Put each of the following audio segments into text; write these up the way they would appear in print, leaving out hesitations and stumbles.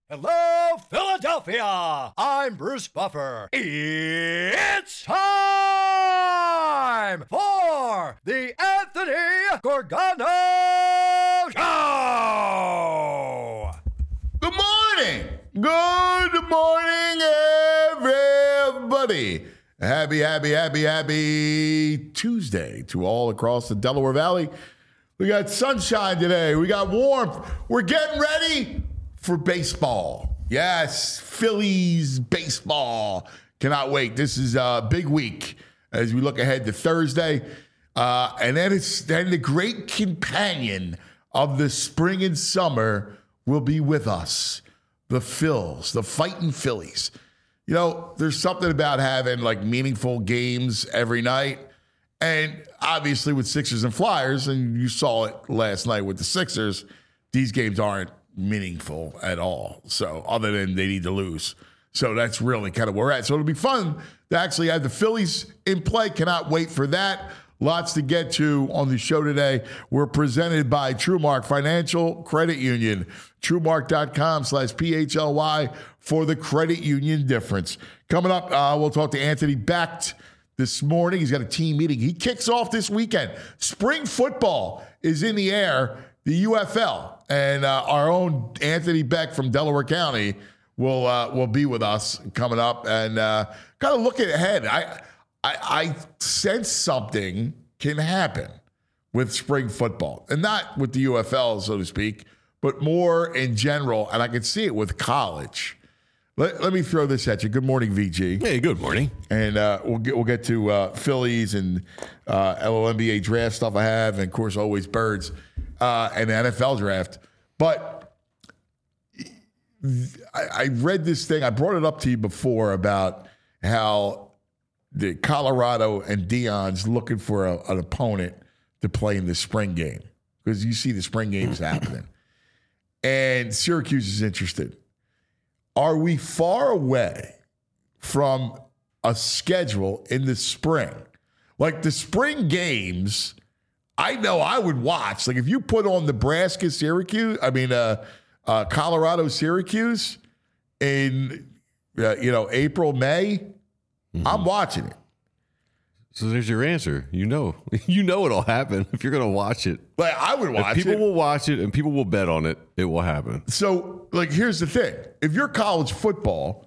Hello, Philadelphia! I'm Bruce Buffer. It's time for the Anthony Gorgano Show! Good morning! Good morning, everybody! Happy Tuesday to all across the Delaware Valley. We got sunshine today. We got warmth. We're getting ready for baseball. Yes, Phillies baseball. Cannot wait. This is a big week as we look ahead to Thursday. And then the great companion of the spring and summer will be with us. The Phils, the fighting Phillies. You know, there's something about having like meaningful games every night. And obviously with Sixers and Flyers, and you saw it last night with the Sixers, these games aren't meaningful at all. So other than they need to lose. So that's really kind of where we're at. So it'll be fun to actually have the Phillies in play. Cannot wait for that. Lots to get to on the show today. We're presented by TrueMark Financial Credit Union. TrueMark.com/PHLY for the credit union difference. Coming up, we'll talk to Anthony Becht this morning. He's got a team meeting. He kicks off this weekend. Spring football is in the air, the UFL. And our own Anthony Becht from Delaware County will be with us coming up and kind of looking ahead. I sense something can happen with spring football, and not with the UFL, so to speak, but more in general. And I can see it with college. Let me throw this at you. Good morning, VG. Hey, good morning. And we'll get to Phillies and LNBA draft stuff I have, and of course always birds and the NFL draft. But I read this thing. I brought it up to you before about how the Colorado and Deion's looking for an opponent to play in the spring game, because you see the spring games happening, and Syracuse is interested. Are we far away from a schedule in the spring? Like the spring games, I know I would watch. Like if you put on Colorado, Syracuse in, April, May, I'm watching it. So there's your answer. You know it'll happen if you're going to watch it. Like I would watch it. People will watch it and people will bet on it. It will happen. So, here's the thing. If you're college football,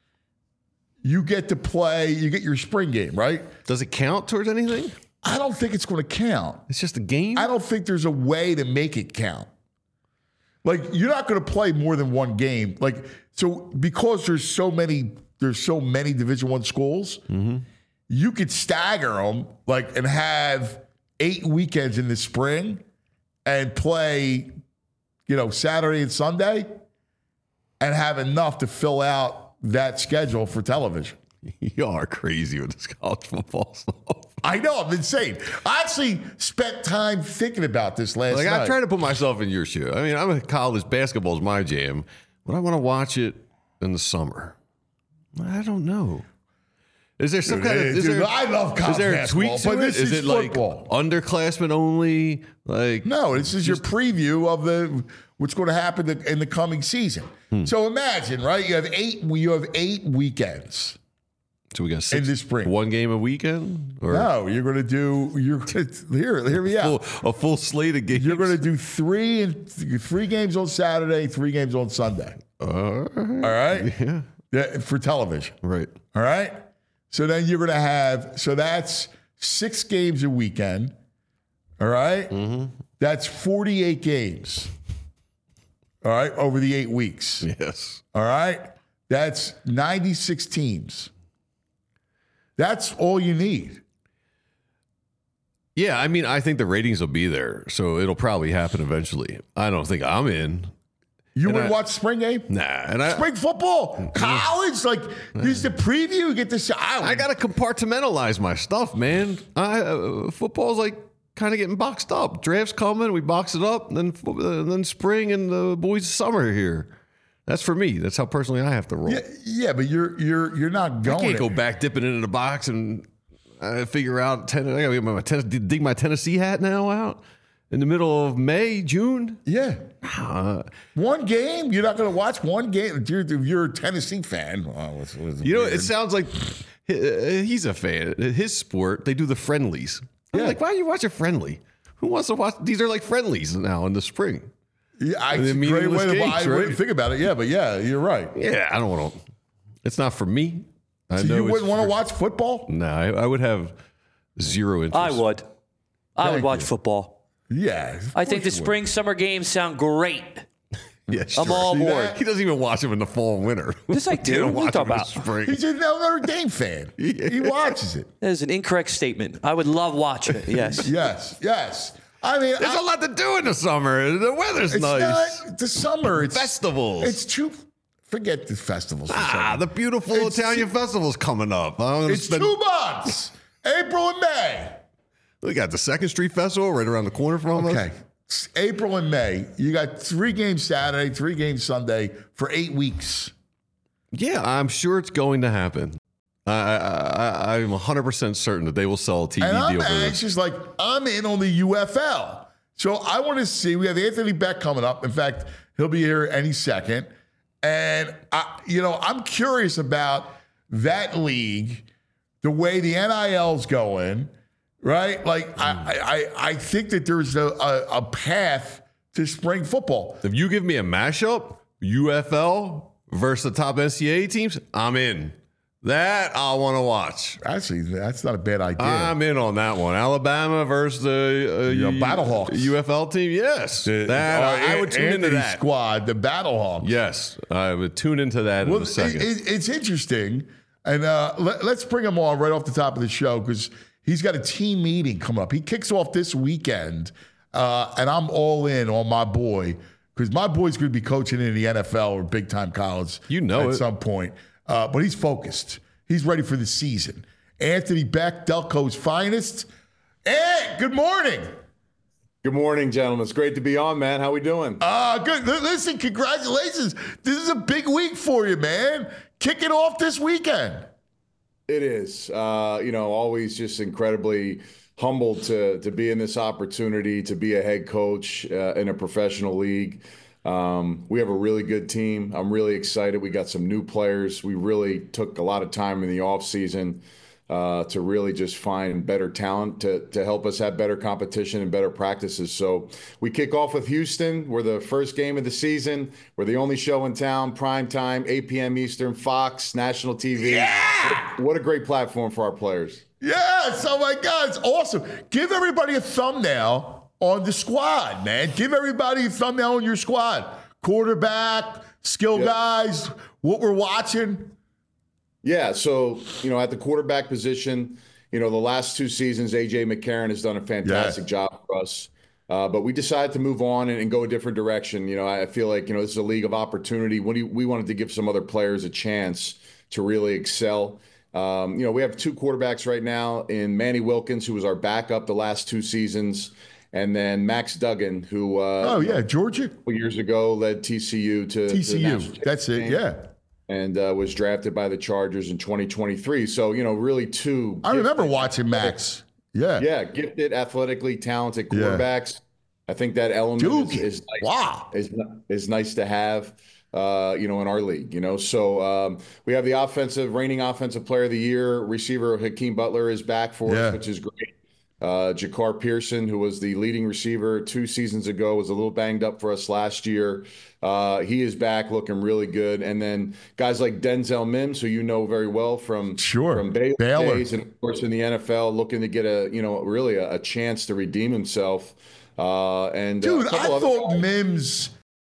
you get to play, you get your spring game, right? Does it count towards anything? I don't think it's going to count. It's just a game? I don't think there's a way to make it count. Like, you're not going to play more than one game. Like, so because there's so many Division I schools, you could stagger them, and have 8 weekends in the spring and play, Saturday and Sunday and have enough to fill out that schedule for television. You are crazy with this college football stuff. I know, I'm insane. I actually spent time thinking about this last night. I'm trying to put myself in your shoe. I mean, I'm a college basketball is my jam, but I want to watch it in the summer. I don't know. Is there some kind of? I love college basketball, but this is football. Underclassmen only? No, this is your preview of what's going to happen in the coming season. So imagine, right? You have 8 weekends. So we got 6 in the spring. 1 game a weekend? Or no, you're going to do. Hear me out. A full slate of games. You're going to do 3 games on Saturday, 3 games on Sunday. All right. Yeah. For television. Right. All right. So then you're going to have, so that's 6 games a weekend, all right? That's 48 games, all right, over the 8 weeks. Yes. All right? That's 96 teams. That's all you need. Yeah, I mean, I think the ratings will be there, so it'll probably happen eventually. I don't think I'm in. You wouldn't watch spring game? Nah. Spring football? College? This is the preview. You get to see. I got to compartmentalize my stuff, man. Football's kind of getting boxed up. Draft's coming. We box it up. And then spring and the boys' summer here. That's for me. That's how personally I have to roll. Yeah, but you're not going. I can't go back dipping into the box and figure out. I got to get dig my Tennessee hat now out. in the middle of May, June. Yeah. One game? You're not going to watch one game? If you're a Tennessee fan. It sounds like he's a fan. His sport, they do the friendlies. I'm like, why do you watch a friendly? Who wants to watch? These are like friendlies now in the spring. Yeah, it's a great way to buy. Right? Think about it. Yeah, but yeah, you're right. Yeah, I don't want to. It's not for me. So you wouldn't want to watch football? No, I would have zero interest. I would. I would watch football. Yeah. I think the spring-summer games sound great. Yeah, I'm all aboard. He doesn't even watch them in the fall and winter. Yes, I do. What are you talking about? Spring. He's a Notre Dame fan. He watches it. That is an incorrect statement. I would love watching it, yes. Yes. I mean, there's a lot to do in the summer. The weather's nice. Not the summer. It's festivals. It's too. Forget the festivals. The beautiful Italian festival's coming up. It's 2 months. April and May. We got the 2nd Street Festival right around the corner from us. Okay. April and May. You got 3 games Saturday, 3 games Sunday for 8 weeks. Yeah, I'm sure it's going to happen. I'm 100% certain that they will sell a TV and deal for this. Anxious, like, I'm in on the UFL. So I want to see. We have Anthony Beck coming up. In fact, he'll be here any second. And, I'm curious about that league, the way the NIL's going, right? Like, I think that there's a path to spring football. If you give me a mashup, UFL versus the top NCAA teams, I'm in. That I want to watch. Actually, that's not a bad idea. I'm in on that one. Alabama versus the Battlehawks UFL team. Yes, I would tune into that squad, the Battlehawks. Yes, I would tune into that in a second. It's interesting, and let's bring him on right off the top of the show because he's got a team meeting coming up. He kicks off this weekend, and I'm all in on my boy because my boy's going to be coaching in the NFL or big time college. At some point. But he's focused. He's ready for the season. Anthony Beck, Delco's finest. Hey, good morning. Good morning, gentlemen. It's great to be on, man. How we doing? Good. Listen, congratulations. This is a big week for you, man. Kicking off this weekend. It is. Always just incredibly humbled to be in this opportunity, to be a head coach in a professional league. We have a really good team. I'm really excited. We got some new players. We really took a lot of time in the offseason to really just find better talent to help us have better competition and better practices. So we kick off with Houston. We're the first game of the season. We're the only show in town, prime time, 8 p.m. Eastern, Fox, national TV. Yeah! What a great platform for our players. Yes. Oh, my God. It's awesome. Give everybody a thumbnail on the squad, man. Give everybody a thumbnail on your squad. Quarterback, skill guys, what we're watching. Yeah, so, at the quarterback position, the last 2 seasons, A.J. McCarron has done a fantastic job for us. But we decided to move on and go a different direction. I feel like, this is a league of opportunity. We wanted to give some other players a chance to really excel. We have 2 quarterbacks right now in Manny Wilkins, who was our backup the last 2 seasons. And then Max Duggan, who Georgia, a couple years ago led TCU to TCU. That's it, yeah. And was drafted by the Chargers in 2023. So really 2. I remember watching Max. Yeah, gifted, athletically talented quarterbacks. I think that element is nice to have. In our league, So we have the reigning offensive player of the year, receiver Hakeem Butler is back for us, which is great. Jakar Pearson, who was the leading receiver 2 seasons ago, was a little banged up for us last year. He is back looking really good. And then guys like Denzel Mims, who you know very well from Baylor days, and of course in the NFL, looking to get a chance to redeem himself. I thought Mims,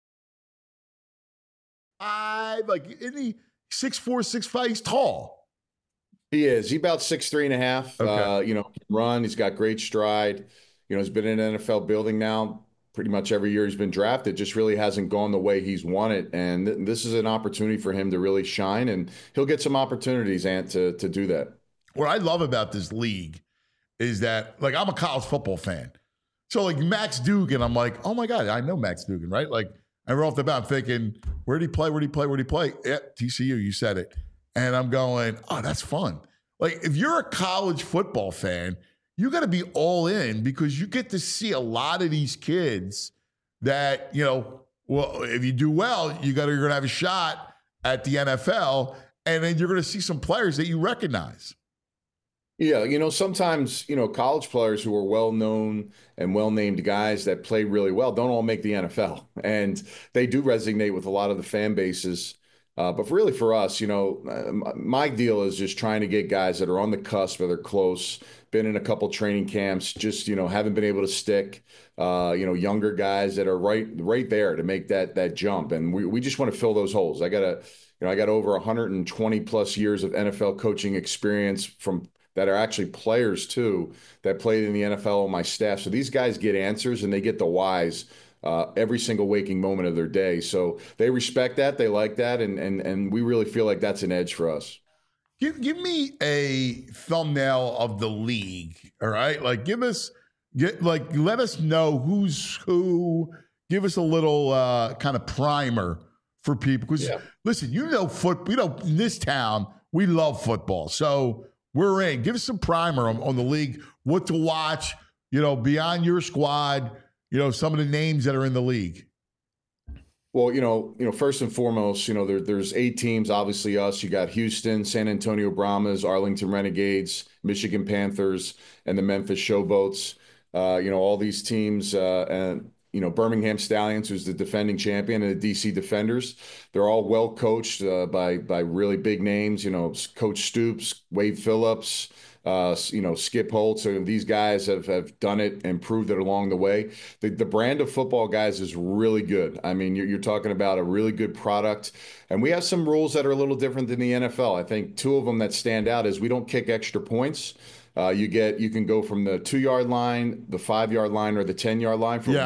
isn't he 6'4", 6'5"? He's tall. He is. He's about 6'3.5". Okay. Can run. He's got great stride. He's been in an NFL building now pretty much every year he's been drafted. Just really hasn't gone the way he's wanted. And this is an opportunity for him to really shine, and he'll get some opportunities, Ant, to do that. What I love about this league is that, I'm a college football fan. So, Max Duggan, I'm like, oh, my God, I know Max Duggan, right? I right off the bat, I'm thinking, where'd he play? Yeah, TCU, you said it. And I'm going, oh, that's fun. If you're a college football fan, you got to be all in because you get to see a lot of these kids that, well, if you do well, you're going to have a shot at the NFL, and then you're going to see some players that you recognize. Yeah, sometimes, college players who are well-known and well-named guys that play really well don't all make the NFL. And they do resonate with a lot of the fan bases. But really for us, my deal is just trying to get guys that are on the cusp, that are close, been in a couple training camps, just, haven't been able to stick, younger guys that are right there to make that jump. And we just want to fill those holes. I got over 120 plus years of NFL coaching experience that are actually players too, that played in the NFL on my staff. So these guys get answers and they get the whys every single waking moment of their day. So they respect that, they like that, and we really feel like that's an edge for us. Give me a thumbnail of the league, all right? Like let us know who's who. Give us a little kind of primer for people. Because listen, football. In this town, we love football. So we're in. Give us some primer on the league, what to watch, beyond your squad, some of the names that are in the league. Well, first and foremost, there's 8 teams, obviously us. You got Houston, San Antonio Brahmas, Arlington Renegades, Michigan Panthers, and the Memphis Showboats. All these teams, and Birmingham Stallions, who's the defending champion, and the DC Defenders. They're all well coached by really big names. Coach Stoops, Wade Phillips, Skip Holtz. So these guys have done it and proved it along the way. The brand of football, guys, is really good. I mean, you're talking about a really good product. And we have some rules that are a little different than the NFL. I think 2 of them that stand out is we don't kick extra points. You can go from the 2-yard line, the 5-yard line, or the 10-yard line for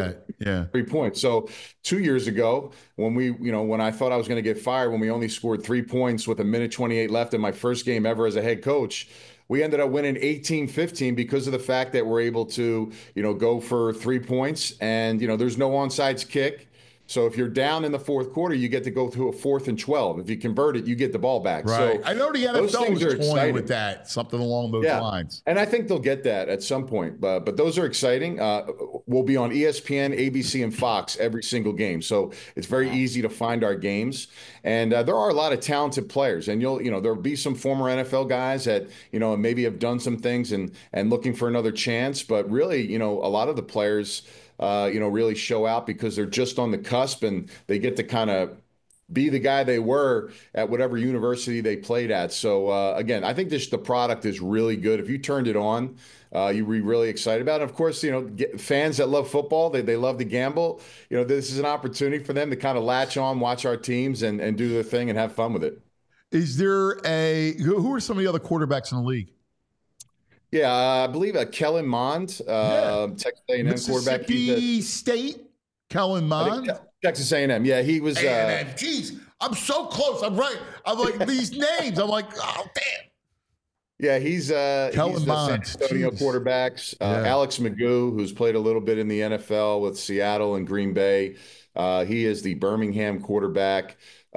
3 points. So 2 years ago, when I thought I was going to get fired, when we only scored 3 points with 1:28 left in my first game ever as a head coach, we ended up winning 18-15 because of the fact that we're able to, go for 3 points, and there's no onside kick. So if you're down in the fourth quarter, you get to go through a 4th and 12. If you convert it, you get the ball back. Right. So I know the NFL was toying with that, something along those lines. And I think they'll get that at some point. But those are exciting. We'll be on ESPN, ABC, and Fox every single game. So it's very easy to find our games. And there are a lot of talented players. And there'll be some former NFL guys that, maybe have done some things and looking for another chance. But really, a lot of the players really show out because they're just on the cusp and they get to kind of be the guy they were at whatever university they played at. So, again, I think the product is really good. If you turned it on, you'd be really excited about it. And of course, fans that love football, they love to gamble. This is an opportunity for them to kind of latch on, watch our teams and do their thing and have fun with it. Is there who are some of the other quarterbacks in the league? Yeah, I believe Kellen Mond, Texas A&M quarterback. Mississippi State, Kellen Mond. Texas A&M. Yeah, he was. A&M. Jeez, I'm so close. I'm right. I'm like these names. I'm like, oh damn. Yeah, he's the San Antonio quarterbacks. Alex McGough, who's played a little bit in the NFL with Seattle and Green Bay. He is the Birmingham quarterback.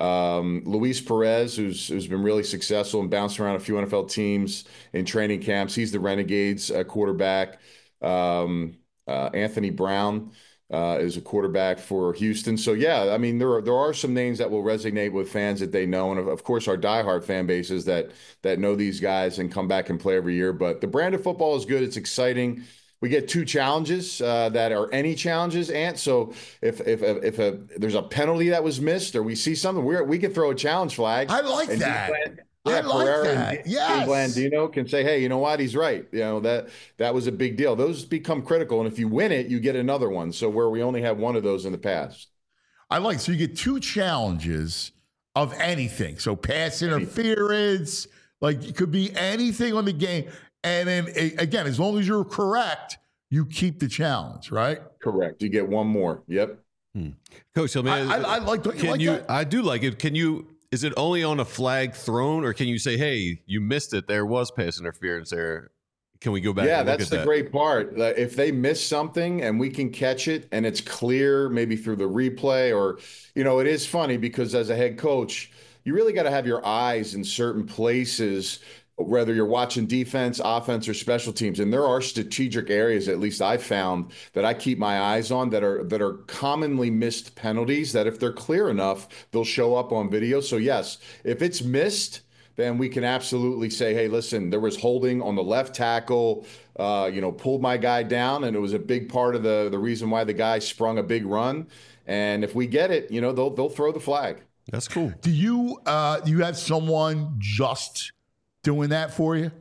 Luis Perez, who's been really successful and bounced around a few NFL teams in training camps. He's the Renegades quarterback. Anthony Brown is a quarterback for Houston. So yeah, I mean there are some names that will resonate with fans that they know, and of course our diehard fan bases that know these guys and come back and play every year. But the brand of football is good. It's exciting. We get 2 challenges that are any challenges, Ant. So if there's a penalty that was missed or we see something, we can throw a challenge flag. I like that. Yeah, Pereira that. And Blandino can say, hey, you know what? He's right. That was a big deal. Those become critical. And if you win it, you get another one. So where we only had one of those in the past. So you get 2 challenges of anything. So pass interference, like it could be anything on the game. And then, again, as long as you're correct, you keep the challenge, right? Correct. You get one more. Yep. Coach, so man, I like that. I do like it. Is it only on a flag thrown, or can you say, hey, you missed it, there was pass interference there? Can we go back and look at that? Yeah, that's the great part. If they miss something and we can catch it and it's clear, maybe through the replay, or, it is funny because as a head coach, you really got to have your eyes in certain places whether you're watching defense, offense, or special teams. And there are strategic areas, at least I found, that I keep my eyes on that are commonly missed penalties that if they're clear enough, they'll show up on video. So yes, if it's missed, then we can absolutely say, hey, listen, there was holding on the left tackle, pulled my guy down, and it was a big part of the reason why the guy sprung a big run. And if we get it, they'll throw the flag. That's cool. Do you have someone just doing that for you?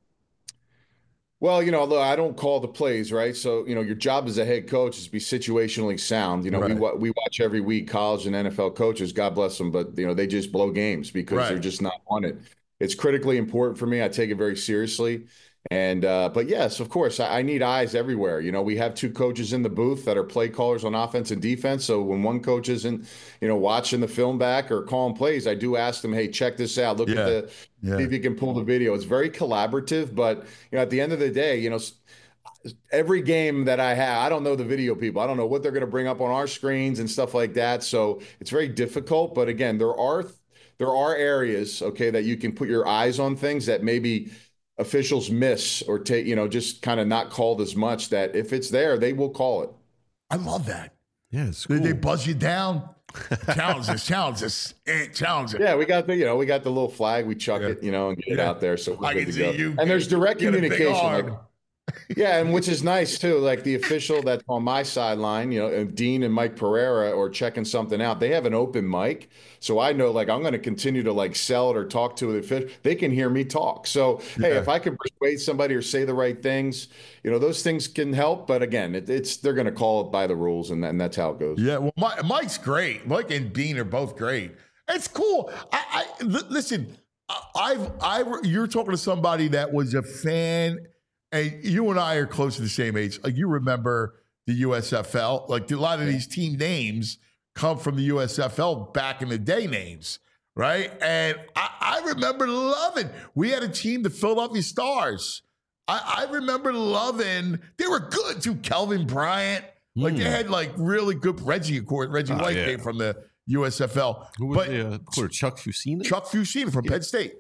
Well, look, I don't call the plays, right? So, your job as a head coach is to be situationally sound. Right. We watch every week college and NFL coaches, God bless them, but, they just blow games because they're just not on it. It's critically important for me. I take it very seriously. And, but yes, of course, I need eyes everywhere. We have 2 coaches in the booth that are play callers on offense and defense. So when one coach isn't, watching the film back or calling plays, I do ask them, hey, check this out. Look at see if you can pull the video. It's very collaborative, but, at the end of the day, every game that I have, I don't know the video people. I don't know what they're going to bring up on our screens and stuff like that. So it's very difficult. But again, there are areas, okay, that you can put your eyes on things that maybe officials miss or take, just kind of not called as much, that if it's there, they will call it. I love that. Yeah, it's cool. They buzz you down. Challenge us. Yeah, we got the little flag. We chuck it, and get it out there. So we're good to go. And there's direct communication. And which is nice too. Like the official that's on my sideline, Dean and Mike Pereira, or checking something out, they have an open mic. So I know, like, I'm going to continue to like sell it or talk to the official. They can hear me talk. So, hey, if I can persuade somebody or say the right things, those things can help. But again, they're going to call it by the rules, and that's how it goes. Yeah, well, Mike's great. Mike and Dean are both great. It's cool. Listen, you're talking to somebody that was a fan. And you and I are close to the same age. Like, you remember the USFL. Like, a lot of these team names come from the USFL back in the day names, right? And I remember loving. We had a team, the Philadelphia Stars. I remember loving. They were good too. Kelvin Bryant. Like, they had like really good Reggie, of course. Reggie White came from the USFL. Who was the quarter? Chuck Fusina? Chuck Fusina from Penn State.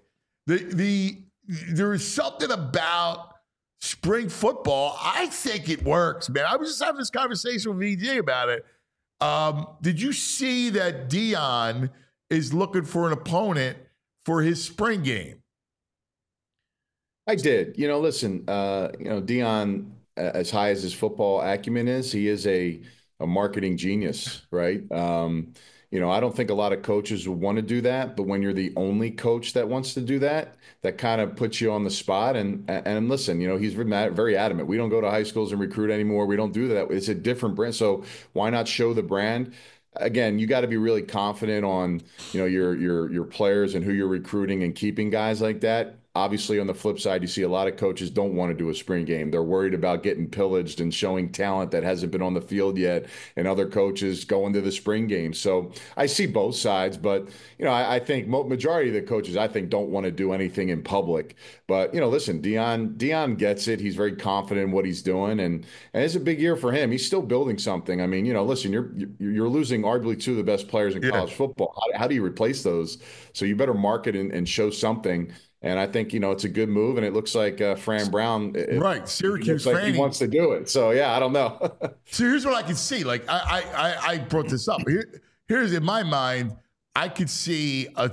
There is something about spring football. I think it works, man. I was just having this conversation with VJ about it. Did you see that Dion is looking for an opponent for his spring game? I did. Listen, Dion, as high as his football acumen is, he is a marketing genius, right? I don't think a lot of coaches would want to do that, but when you're the only coach that wants to do that, that kind of puts you on the spot. And listen, he's very adamant. We don't go to high schools and recruit anymore. We don't do that. It's a different brand. So why not show the brand? Again, you got to be really confident on, your players and who you're recruiting and keeping guys like that. Obviously, on the flip side, you see a lot of coaches don't want to do a spring game. They're worried about getting pillaged and showing talent that hasn't been on the field yet, and other coaches going to the spring game. So I see both sides, but, I think majority of the coaches, I think, don't want to do anything in public. But, listen, Dion gets it. He's very confident in what he's doing, and it's a big year for him. He's still building something. I mean, listen, you're losing arguably 2 of the best players in college football. How do you replace those? So you better market and show something. And I think, it's a good move, and it looks like Fran Brown, Syracuse, like he wants to do it. So, yeah, I don't know. So here's what I can see. Like, I brought this up. Here's in my mind, I could see an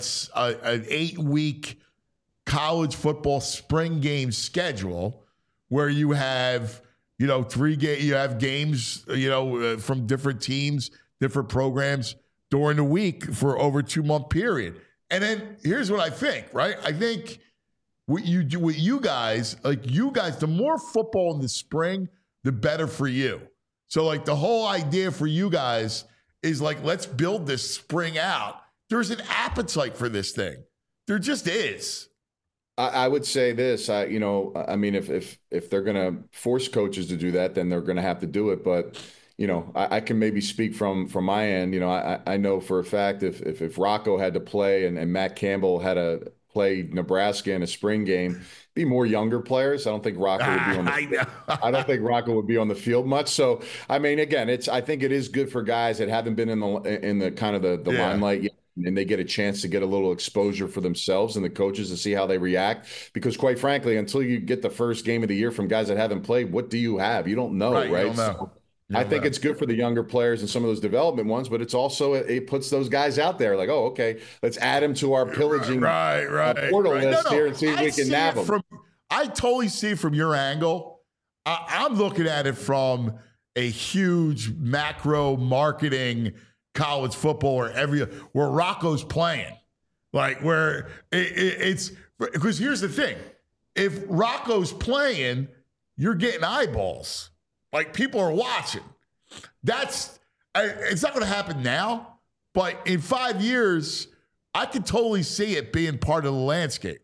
8-week college football spring game schedule where you have, 3 games. You have games, from different teams, different programs during the week for over a 2-month period. And then here's what I think, right? I think what you do with you guys, the more football in the spring, the better for you. So, like, the whole idea for you guys is like, let's build this spring out. There's an appetite for this thing. There just is. I would say this, if they're going to force coaches to do that, then they're going to have to do it. But I can maybe speak from my end. I know for a fact if Rocco had to play and Matt Campbell had to play Nebraska in a spring game, be more younger players. I don't think Rocco would be on the I don't think Rocco would be on the field much. So I mean, again, I think it is good for guys that haven't been in the kind of the limelight yet. and they get a chance to get a little exposure for themselves and the coaches to see how they react. Because quite frankly, until you get the first game of the year from guys that haven't played, what do you have? You don't know, right? You don't know. So I think it's good for the younger players and some of those development ones, but it's also, it puts those guys out there like, oh, okay, let's add them to our pillaging portal list here and see if we can nab them. I totally see it from your angle. I'm looking at it from a huge macro marketing college football where Rocco's playing. Like where it's because here's the thing. If Rocco's playing, you're getting eyeballs. Like people are watching. It's not going to happen now, but in 5 years, I could totally see it being part of the landscape.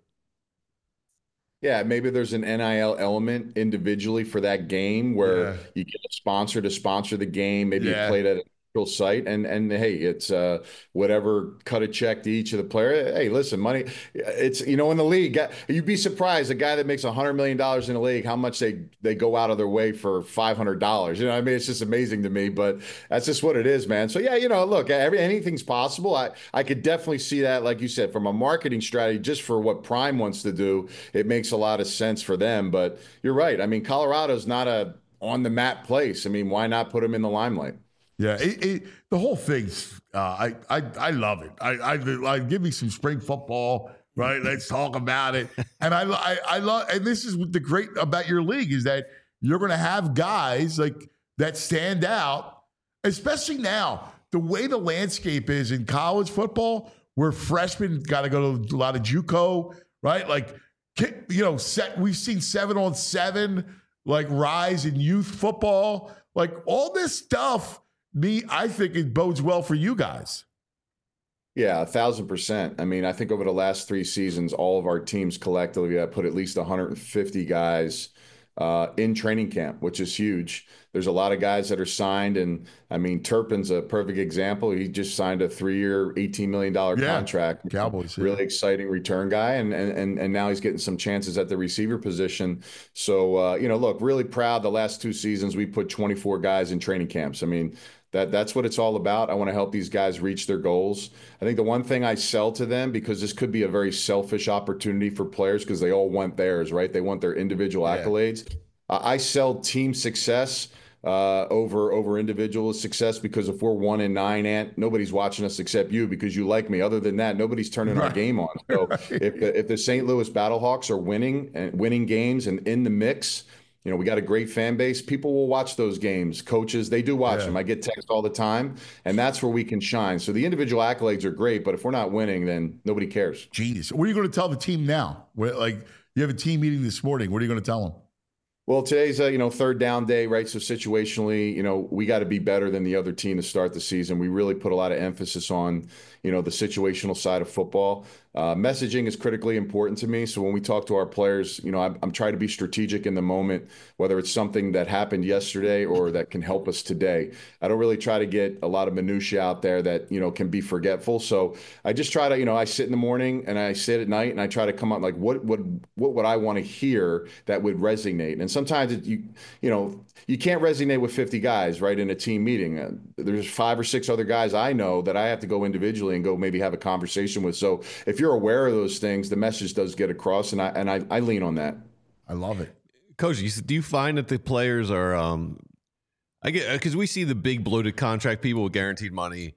Yeah, maybe there's an NIL element individually for that game where you get a sponsor to sponsor the game. Maybe you played at a neutral site, and hey, it's whatever, cut a check to each of the player. Hey, listen, money. It's in the league. You'd be surprised a guy that makes $100 million in the league how much they go out of their way for $500. You know what I mean? It's just amazing to me, but that's just what it is, man. So yeah, look, anything's possible. I could definitely see that, like you said, from a marketing strategy, just for what Prime wants to do, it makes a lot of sense for them. But you're right. I mean, Colorado's not a on the map place. I mean, why not put them in the limelight? Yeah, the whole thing's I love it. I give me some spring football, right? Let's talk about it. And I love, and this is the great about your league is that you're going to have guys like that stand out, especially now the way the landscape is in college football, where freshmen got to go to a lot of JUCO, right? Like we've seen 7-on-7 like rise in youth football, like all this stuff. I think it bodes well for you guys. Yeah, 1,000%. I mean, I think over the last 3 seasons, all of our teams collectively have put at least 150 guys in training camp, which is huge. There's a lot of guys that are signed. And I mean, Turpin's a perfect example. He just signed a 3-year, $18 million contract. Cowboys. Really exciting return guy. And now he's getting some chances at the receiver position. So, look, really proud. The last 2 seasons, we put 24 guys in training camps. I mean, that's what it's all about. I want to help these guys reach their goals. I think the one thing I sell to them, because this could be a very selfish opportunity for players because they all want theirs, right? They want their individual accolades. I sell team success over individual success, because if we're 1-9, Ant, nobody's watching us except you because you like me. Other than that, nobody's turning our game on. So if the St. Louis Battlehawks are winning games and in the mix, we got a great fan base. People will watch those games. Coaches, they do watch them. I get texts all the time, and that's where we can shine. So the individual accolades are great, but if we're not winning, then nobody cares. Jeez. What are you going to tell the team now? You have a team meeting this morning. What are you going to tell them? Well, today's third down day, right? So situationally, we got to be better than the other team to start the season. We really put a lot of emphasis on, the situational side of football. Messaging is critically important to me. So when we talk to our players, I'm trying to be strategic in the moment, whether it's something that happened yesterday or that can help us today. I don't really try to get a lot of minutia out there that, can be forgetful. So I just try to, I sit in the morning and I sit at night and I try to come up like, what would I want to hear that would resonate? And sometimes you can't resonate with 50 guys, right, in a team meeting. There's 5 or 6 other guys I know that I have to go individually and go maybe have a conversation with. So if you're aware of those things, the message does get across, and I lean on that. I love it. Coach, do you find that the players are I get, because we see the big bloated contract people with guaranteed money,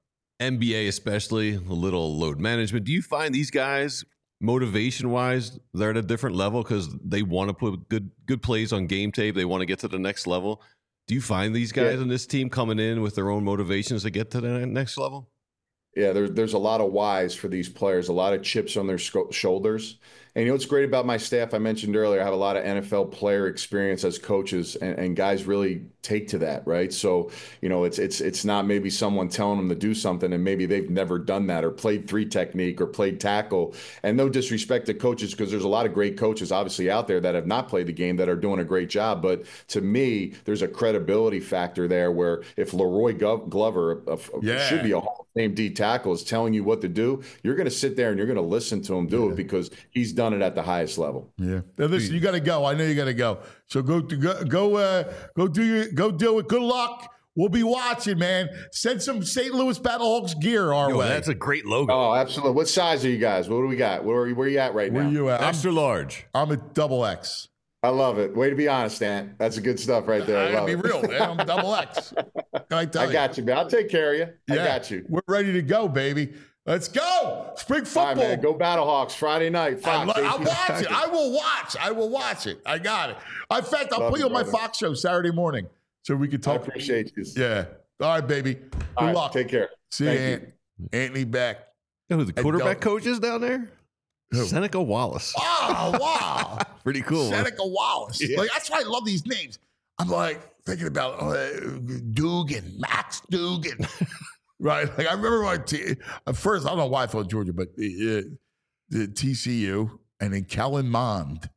NBA especially, a little load management. Do you find these guys, motivation wise, they're at a different level because they want to put good plays on game tape? They want to get to the next level. Do you find these guys on this team coming in with their own motivations to get to the next level? Yeah, there's a lot of whys for these players, a lot of chips on their shoulders. And what's great about my staff, I mentioned earlier, I have a lot of NFL player experience as coaches, and guys really take to that, right? So, it's not maybe someone telling them to do something and maybe they've never done that or played 3 technique or played tackle. And no disrespect to coaches, because there's a lot of great coaches obviously out there that have not played the game that are doing a great job. But to me, there's a credibility factor there where if Leroy Glover should be a Hall of Fame D tackle is telling you what to do, you're going to sit there and you're going to listen to him do it because he's done it at the highest level. Yeah. Now listen, you got to go. I know you got to go. So go deal with. Good luck. We'll be watching, man. Send some St. Louis Battlehawks gear our way. That's a great logo. Oh, absolutely. What size are you guys? What do we got? Where are you at right now? Where you at? Extra large. I'm at double X. I love it. Way to be honest, Ant. That's a good stuff right there. I gotta be real, man. I'm double X. I got you, man. I'll take care of you. Yeah, I got you. We're ready to go, baby. Let's go. Spring football. All right, man. Go Battlehawks Friday night. Fox. I'll watch it. I will watch. I will watch it. I got it. In fact, I'll put you on my Fox show Saturday morning so we can talk. I appreciate you. Yeah. All right, baby. Good luck. Take care. See you, Anthony Beck. You know who the quarterback coach is down there? Who? Seneca Wallace. Oh, wow. Pretty cool. Seneca Wallace. Yeah. Like, that's why I love these names. I'm like thinking about Dugan, Max Dugan. Right? Like, I remember at first, I don't know why I thought Georgia, but the TCU and then Kellen Mond.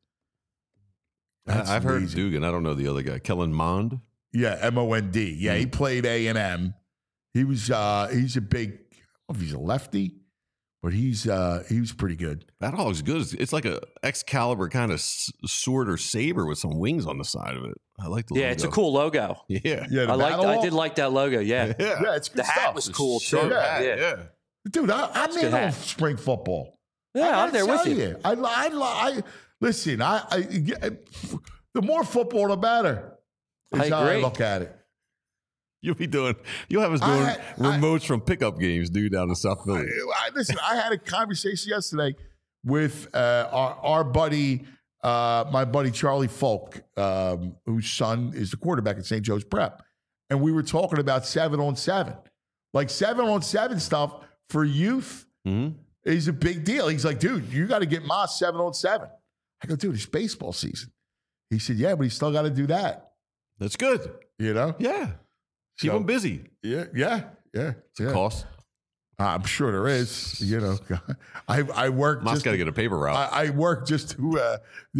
I've heard Dugan. I don't know the other guy. Kellen Mond? Yeah, M-O-N-D. Yeah, he played A&M. He was he's a big, I don't know if he's a lefty, but he was pretty good. That hog's good. It's like a Excalibur kind of sword or saber with some wings on the side of it. I like the logo. Yeah, it's a cool logo. Yeah. I did like that logo. Yeah. Yeah, it's good the stuff. hat was cool too. Yeah. Dude, I'm in on spring football. Yeah, I'm there with you. Listen, the more football, the better. Is how I look at it. You'll have us doing remotes from pickup games, dude, down in South Philly. Listen, I had a conversation yesterday with our buddy, my buddy Charlie Folk, whose son is the quarterback at St. Joe's Prep. And we were talking about 7-on-7. Like 7-on-7 stuff for youth is a big deal. He's like, dude, you got to get Moss 7-on-7. I go, dude, it's baseball season. He said, yeah, but he's still got to do that. That's good. You know? Yeah. Keep them busy. Yeah. It's a cost. I'm sure there is. You know, I work. Moss got to get a paper route. I work just to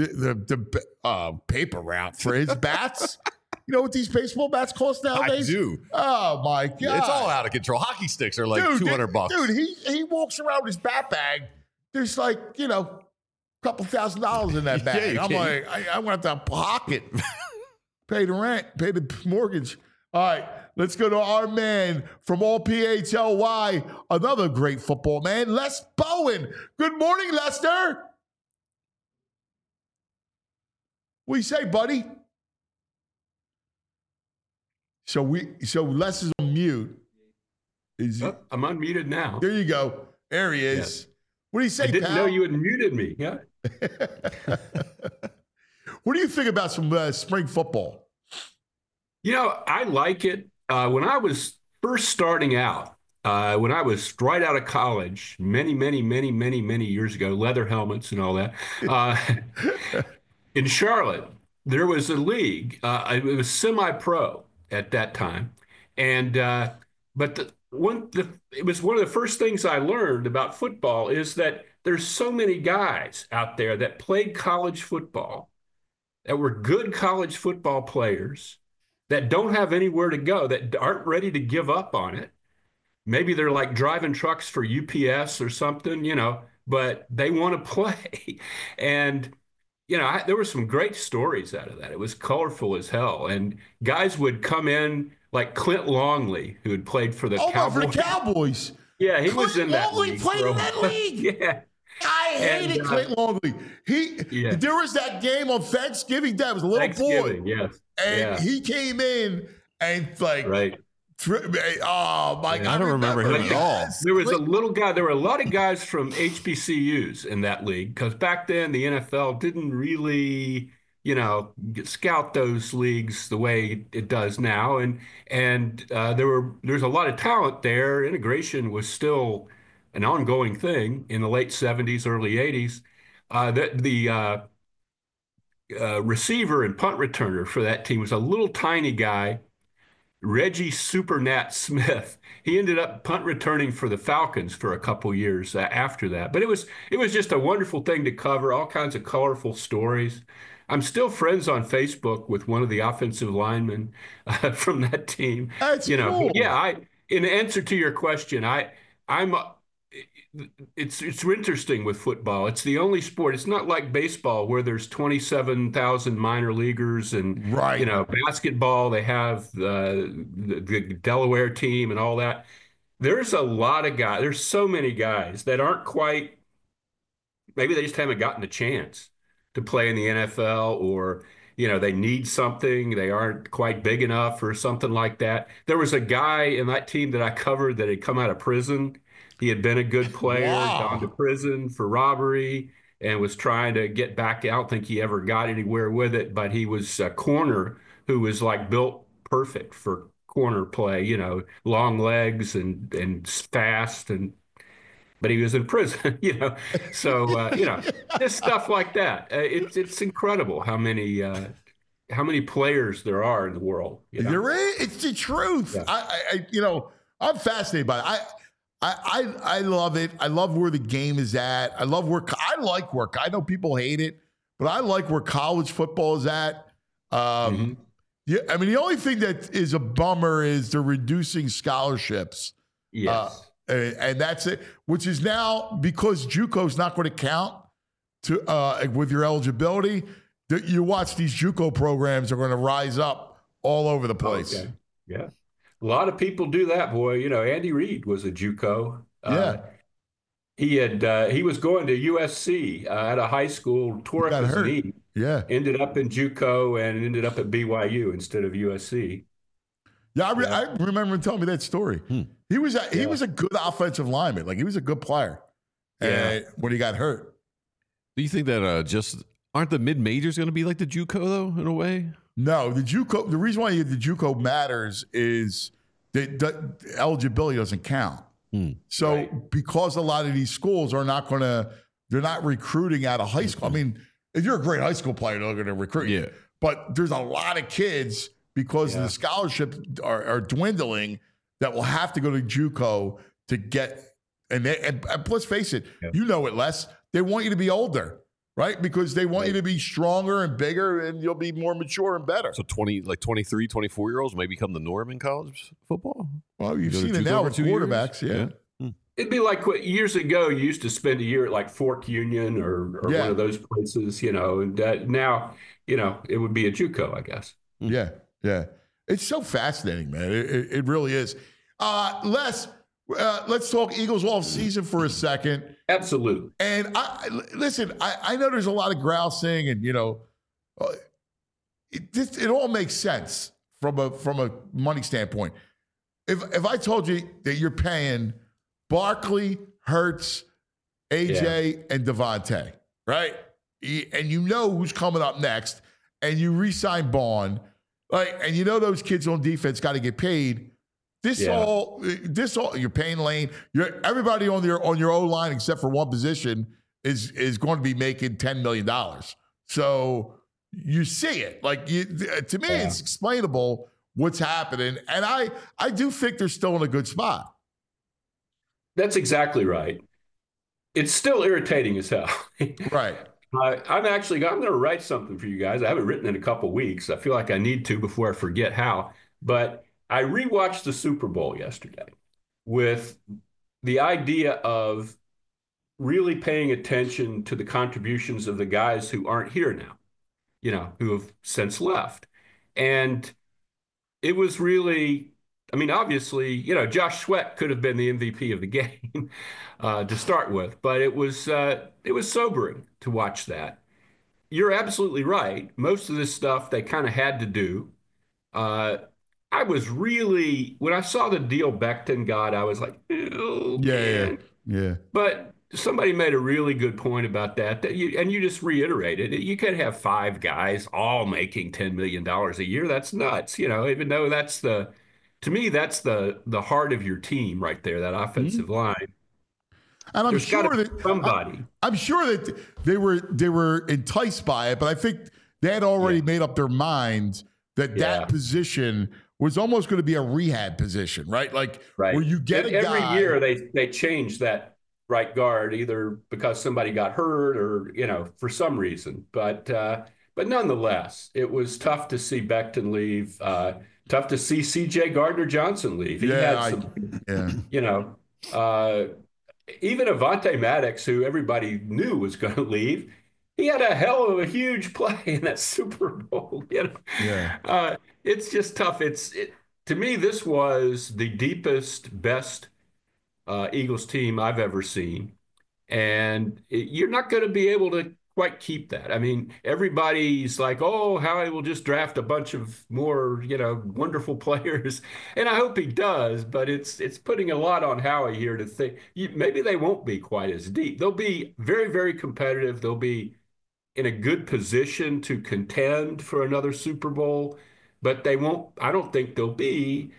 the paper route for his bats. You know what these baseball bats cost nowadays? I do. Oh my god, it's all out of control. Hockey sticks are like $200. Dude, he walks around with his bat bag. There's like a couple $1,000s in that bag. I'm like, I want to pocket, pay the rent, pay the mortgage. All right. Let's go to our man from all PHLY, another great football man, Les Bowen. Good morning, Lester. What do you say, buddy? So Les is on mute. I'm unmuted now. There you go. There he is. Yes. What do you say, I didn't pal? know you had muted me. Yeah. What do you think about some spring football? I like it. When I was first starting out, when I was right out of college, many years ago, leather helmets and all that, in Charlotte, there was a league. It was semi-pro at that time, and it was one of the first things I learned about football is that there's so many guys out there that played college football, that were good college football players, that don't have anywhere to go, that aren't ready to give up on it. Maybe they're like driving trucks for UPS or something, but they want to play. And, there were some great stories out of that. It was colorful as hell. And guys would come in like Clint Longley, who had played for the Cowboys. For the Cowboys. Yeah, he was in that league. Longley played in that league. Yeah. I hated Clint Longley. There was that game on Thanksgiving Day. I was a little boy. Yes. And he came in and right. Oh my God! I don't remember him at all. There was a little guy. There were a lot of guys from HBCUs in that league because back then the NFL didn't really, scout those leagues the way it does now. And there's a lot of talent there. Integration was still an ongoing thing in the late 70s, early 80s. The receiver and punt returner for that team was a little tiny guy, Reggie Supernat Smith. He ended up punt returning for the Falcons for a couple years after that. But it was just a wonderful thing to cover, all kinds of colorful stories. I'm still friends on Facebook with one of the offensive linemen from that team. That's cool. Yeah, in answer to your question, I'm it's interesting with football. It's the only sport. It's not like baseball where there's 27,000 minor leaguers and basketball. They have the Delaware team and all that. There's a lot of guys. There's so many guys that aren't quite. Maybe they just haven't gotten a chance to play in the NFL, or they need something. They aren't quite big enough or something like that. There was a guy in that team that I covered that had come out of prison. He had been a good player, gone to prison for robbery, and was trying to get back. I don't think he ever got anywhere with it, but he was a corner who was like built perfect for corner play, long legs and fast, but he was in prison, So, just stuff like that. It's incredible how many players there are in the world. You're right. It's the truth. Yeah. I'm fascinated by it. I love it. I love where the game is at. I like where I know people hate it, but I like where college football is at. Yeah, I mean, the only thing that is a bummer is they're reducing scholarships. Yes. And that's it, which is now because JUCO is not going to count with your eligibility. You watch these JUCO programs are going to rise up all over the place. Okay. Yeah. A lot of people do that, boy. Andy Reid was a JUCO. He was going to USC at a high school, tore up his knee. Yeah. Ended up in JUCO and ended up at BYU instead of USC. Yeah, I remember him telling me that story. He was a good offensive lineman. Like, he was a good player. When he got hurt. Do you think that aren't the mid majors going to be like the JUCO though, in a way? No, the JUCO. The reason why the JUCO matters is that the eligibility doesn't count. So because a lot of these schools are they're not recruiting out of high school. I mean, if you're a great high school player, they're going to recruit you. But there's a lot of kids because the scholarships are dwindling that will have to go to JUCO to get. And let's face it, you know it, Les. They want you to be older. Right? Because they want you to be stronger and bigger, and you'll be more mature and better. So 23, 24-year-olds may become the norm in college football? Well, you've seen it now with quarterbacks, It'd be like what years ago you used to spend a year at like Fork Union or one of those places, and now, it would be a JUCO, I guess. Yeah. It's so fascinating, man. It really is. Les, let's talk Eagles off season for a second. Absolutely. And I know there's a lot of grousing, and it all makes sense from a money standpoint. If I told you that you're paying Barkley, Hurts, AJ, and Devontae, right? And you know who's coming up next, and you re-sign Bond, and those kids on defense got to get paid. This all you're paying Lane. Everybody on your O line except for one position is going to be making $10 million. So you see it. To me, it's explainable what's happening, and I do think they're still in a good spot. That's exactly right. It's still irritating as hell. Right. I'm going to write something for you guys. I haven't written in a couple of weeks. I feel like I need to before I forget how, but I rewatched the Super Bowl yesterday with the idea of really paying attention to the contributions of the guys who aren't here now, who have since left. And it was really, obviously, Josh Sweat could have been the MVP of the game to start with, but it was sobering to watch that. You're absolutely right. Most of this stuff they kind of had to do. I was really, when I saw the deal Becton got, I was like, oh, man. Yeah. But somebody made a really good point about that and you just reiterated it. You could have 5 guys all making $10 million a year. That's nuts, even though to me, that's the heart of your team right there, that offensive line. And I'm sure that somebody. I'm sure that they were enticed by it, but I think they had already made up their minds that position was almost going to be a rehab position, right? Where you get every year they change that right guard, either because somebody got hurt or for some reason. But nonetheless, it was tough to see Becton leave. Tough to see C.J. Gardner-Johnson leave. He had some, even Avonte Maddox, who everybody knew was going to leave, he had a hell of a huge play in that Super Bowl. It's just tough. To me, this was the deepest, best Eagles team I've ever seen. And you're not going to be able to quite keep that. I mean, everybody's like, oh, Howie will just draft a bunch of more, wonderful players. And I hope he does, but it's putting a lot on Howie here to think maybe they won't be quite as deep. They'll be very, very competitive. They'll be in a good position to contend for another Super Bowl, but I don't think they'll be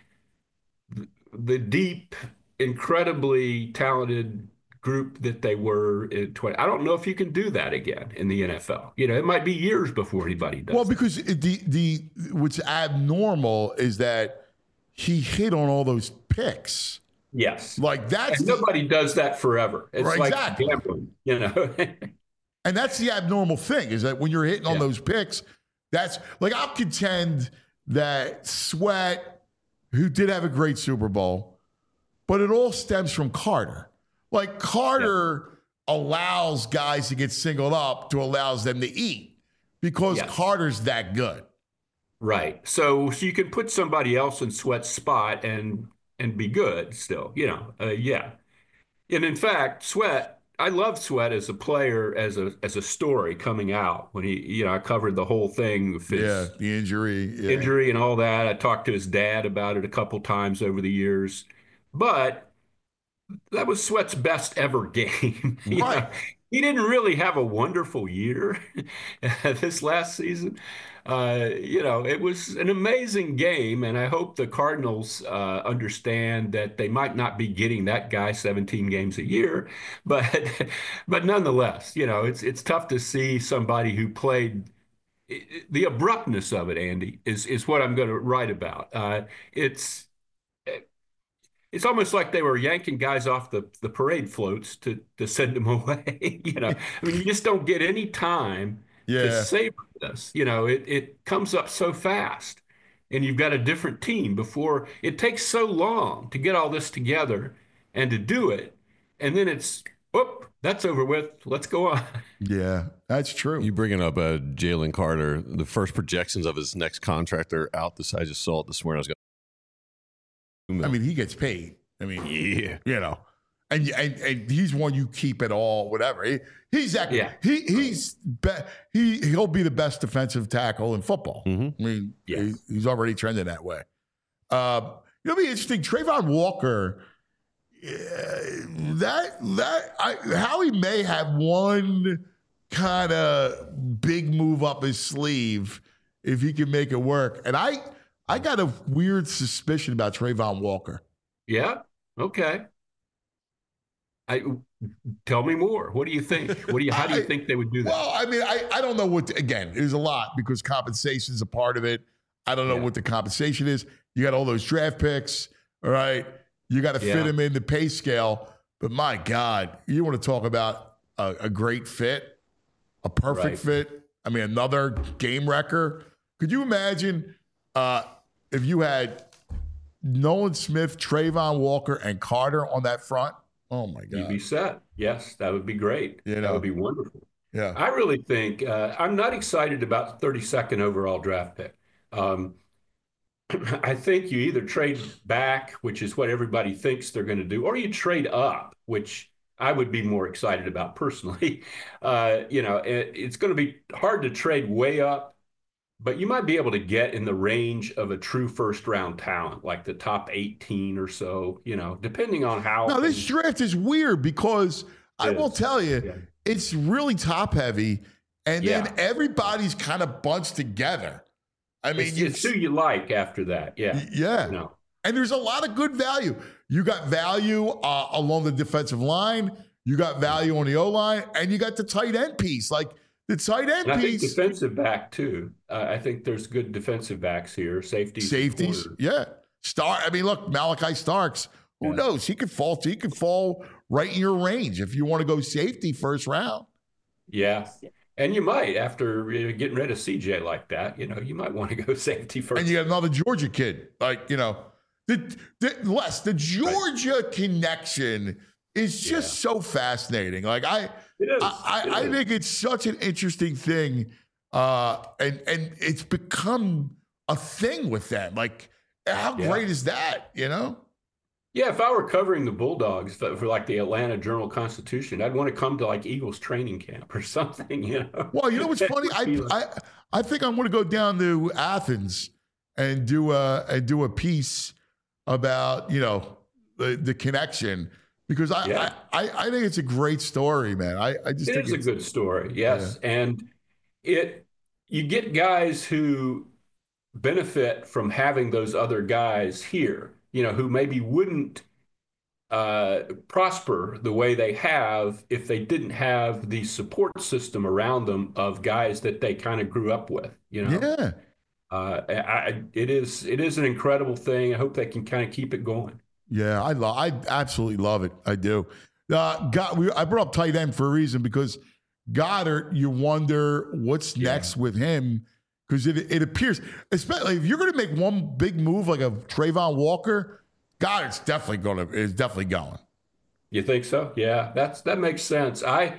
the deep, incredibly talented group that they were in 20. I don't know if you can do that again in the NFL. It might be years before anybody does. Well, because what's abnormal is that he hit on all those picks. Yes. Like that's nobody does that forever. It's right, like exactly. Gambling, And that's the abnormal thing is that when you're hitting on those picks, that's like I'll contend that Sweat, who did have a great Super Bowl, but it all stems from Carter. Like Carter allows guys to get singled up to allows them to eat because Carter's that good. Right. So you can put somebody else in Sweat's spot and be good still, And in fact, Sweat, I love Sweat as a player, as a story coming out when he, I covered the whole thing with his the injury and all that. I talked to his dad about it a couple times over the years, but that was Sweat's best ever game. Right. He didn't really have a wonderful year this last season. It was an amazing game, and I hope the Cardinals understand that they might not be getting that guy 17 games a year, but nonetheless, it's tough to see somebody who played. The abruptness of it, Andy, is what I'm going to write about. It's almost like they were yanking guys off the parade floats to send them away. I mean, you just don't get any time to savor this. It comes up so fast, and you've got a different team before. It takes so long to get all this together and to do it, and then it's, that's over with. Let's go on. Yeah, that's true. You bringing up Jalen Carter, the first projections of his next contract are out. I just saw it this morning. I mean, he gets paid. I mean, and he's one you keep at all, whatever. He's he'll be the best defensive tackle in football. Mm-hmm. I mean, he's already trending that way. It'll be interesting. Trayvon Walker, Howie may have one kind of big move up his sleeve if he can make it work, and I got a weird suspicion about Trayvon Walker. Yeah. Okay. Tell me more. What do you think? How do you think they would do that? Well, I mean, I don't know again, there's a lot because compensation is a part of it. I don't know what the compensation is. You got all those draft picks. All right. You got to fit them in the pay scale. But my God, you want to talk about a great fit, a perfect fit. I mean, another game wrecker. Could you imagine if you had Nolan Smith, Trayvon Walker, and Carter on that front? Oh, my God. You'd be set. Yes, that would be great. That would be wonderful. Yeah. I really think I'm not excited about the 32nd overall draft pick. I think you either trade back, which is what everybody thinks they're going to do, or you trade up, which I would be more excited about personally. It's going to be hard to trade way up. But you might be able to get in the range of a true first-round talent, like the top 18 or so, depending on how. Now, this draft is weird because I will tell you, it's really top-heavy, and then everybody's kind of bunched together. I mean, it's who you like after that. Yeah. Yeah. And there's a lot of good value. You got value along the defensive line. You got value on the O-line, and you got the tight end piece. Like, the tight end piece. I think defensive back, too. I think there's good defensive backs here. Safeties. Yeah. Look, Malachi Starks, who knows? He could fall right in your range if you want to go safety first round. Yeah. And you might, after getting rid of CJ like that, you might want to go safety first. And you got another Georgia kid. Like, the Georgia connection is just so fascinating. Like I think it's such an interesting thing, and it's become a thing with them. Like, how great is that? You know? Yeah, if I were covering the Bulldogs for like the Atlanta Journal-Constitution, I'd want to come to like Eagles training camp or something, you know? Well, you know what's funny? I think I'm going to go down to Athens and do a piece about, you know, the connection, because I think it's a great story, man. I just think it's a good story. Yes. Yeah. And you get guys who benefit from having those other guys here, you know, who maybe wouldn't prosper the way they have if they didn't have the support system around them of guys that they kind of grew up with, you know? Yeah. It is an incredible thing. I hope they can kind of keep it going. Yeah, I absolutely love it. I do. I brought up tight end for a reason, because Goddard, you wonder what's next with him, because it appears, especially if you're going to make one big move like a Trayvon Walker, Goddard's definitely going. You think so? Yeah, that makes sense. I'm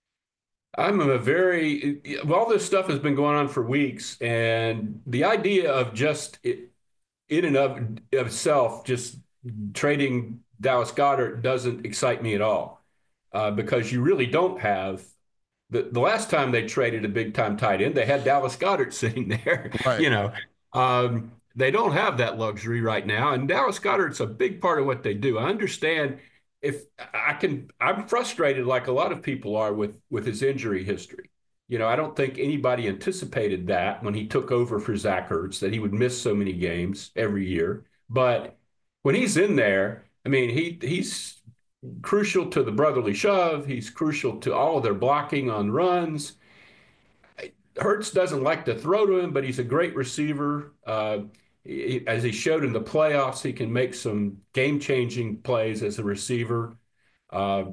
all this stuff has been going on for weeks, and the idea of just in and of itself just trading Dallas Goedert doesn't excite me at all, because you really don't have the last time they traded a big time tight end, they had Dallas Goedert sitting there. Right. You know, they don't have that luxury right now, and Dallas Goedert's a big part of what they do. I understand I'm frustrated like a lot of people are with his injury history. You know, I don't think anybody anticipated that when he took over for Zach Ertz, that he would miss so many games every year. But when he's in there, I mean, he's crucial to the brotherly shove. He's crucial to all of their blocking on runs. Hurts doesn't like to throw to him, but he's a great receiver. As he showed in the playoffs, he can make some game-changing plays as a receiver. I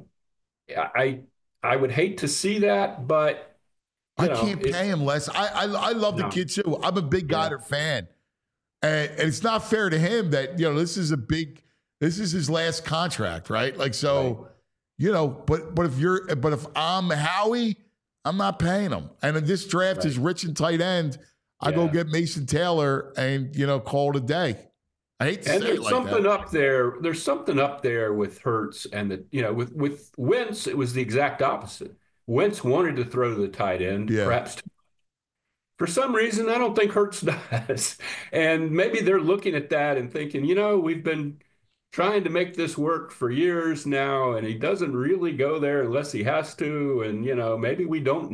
would hate to see that, but I can't pay him less. I love the kid too. I'm a big Goddard fan, and it's not fair to him that, you know, this is his last contract, right? Like, so, right. You know, but if I'm Howie, I'm not paying him. And if this draft is rich in tight end, I go get Mason Taylor and, you know, call it a day. I hate to say it like that. There's something up there with Hurts and with Wentz, it was the exact opposite. Wentz wanted to throw to the tight end, perhaps. For some reason, I don't think Hurts does. And maybe they're looking at that and thinking, you know, we've been trying to make this work for years now, and he doesn't really go there unless he has to. And, you know, maybe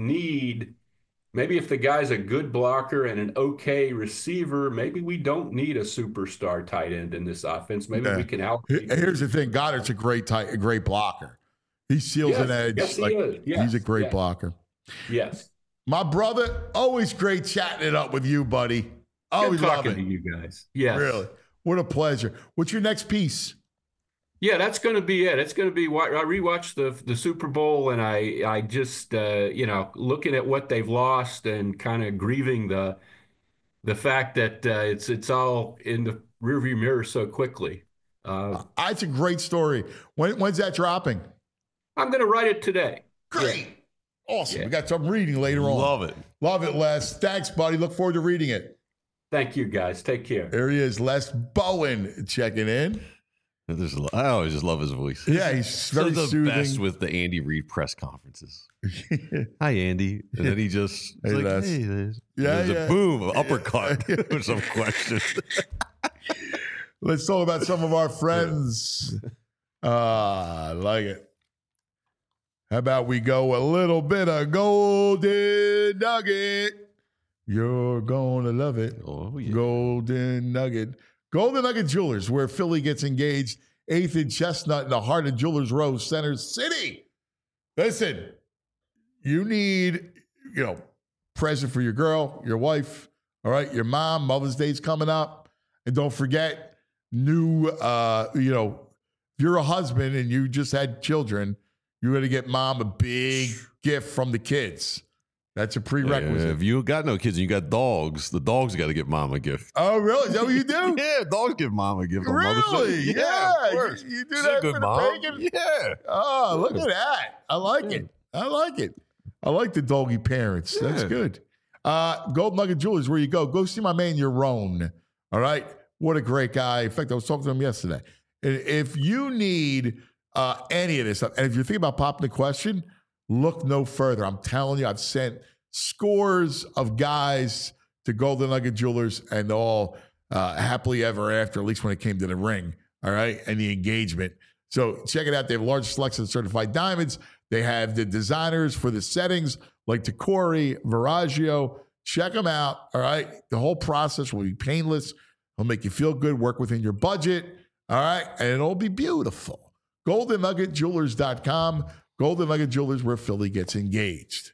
if the guy's a good blocker and an okay receiver, maybe we don't need a superstar tight end in this offense. Maybe we can help. Here's the thing. Goddard's a great blocker. He seals an edge. Yes, he is. Yes, he's a great blocker. Yes. My brother, always great chatting it up with you, buddy. Always good talking to you guys. Yes. Really. What a pleasure. What's your next piece? Yeah, that's going to be it. It's going to be, I rewatched the Super Bowl, and I just, looking at what they've lost and kind of grieving the fact that it's all in the rearview mirror so quickly. It's a great story. When's that dropping? I'm going to write it today. Great. Yeah. Awesome. Yeah. We got some reading later on. Love it. Love it, Les. Thanks, buddy. Look forward to reading it. Thank you, guys. Take care. There he is, Les Bowen, checking in. I always just love his voice. Yeah, he's very soothing. Best with the Andy Reid press conferences. Hi, Andy. And then he just hey, like, hey, a boom, uppercut with some questions. Let's talk about some of our friends. I like it. How about we go a little bit of Golden Nugget? You're going to love it. Oh, yeah. Golden Nugget. Golden Nugget Jewelers, where Philly gets engaged. 8th and Chestnut in the heart of Jewelers Row, Center City. Listen, you need, present for your girl, your wife, all right, your mom. Mother's Day's coming up. And don't forget, if you're a husband and you just had children, you're going to get mom a big gift from the kids. That's a prerequisite. If you got no kids and you got dogs, the dogs got to get mom a gift. Oh, really? Is that what you do? Yeah, dogs give mom a gift. Really? Yeah, of course. You do She's that a good for mom. the bacon? Yeah. Oh, look at that. I like it. I like the doggy parents. That's good. Gold Nugget Jewelers, where you go. Go see my man, Yaron. All right? What a great guy. In fact, I was talking to him yesterday. If you need any of this stuff, and if you're thinking about popping the question, look no further. I'm telling you, I've sent scores of guys to Golden Nugget Jewelers and all happily ever after, at least when it came to the ring, all right, and the engagement. So check it out. They have a large selection of certified diamonds. They have the designers for the settings like Tacori, Veragio. Check them out, all right? The whole process will be painless. It'll make you feel good, work within your budget, all right? And it'll be beautiful. GoldenNuggetJewelers.com. Golden Nugget Jewelers, where Philly gets engaged.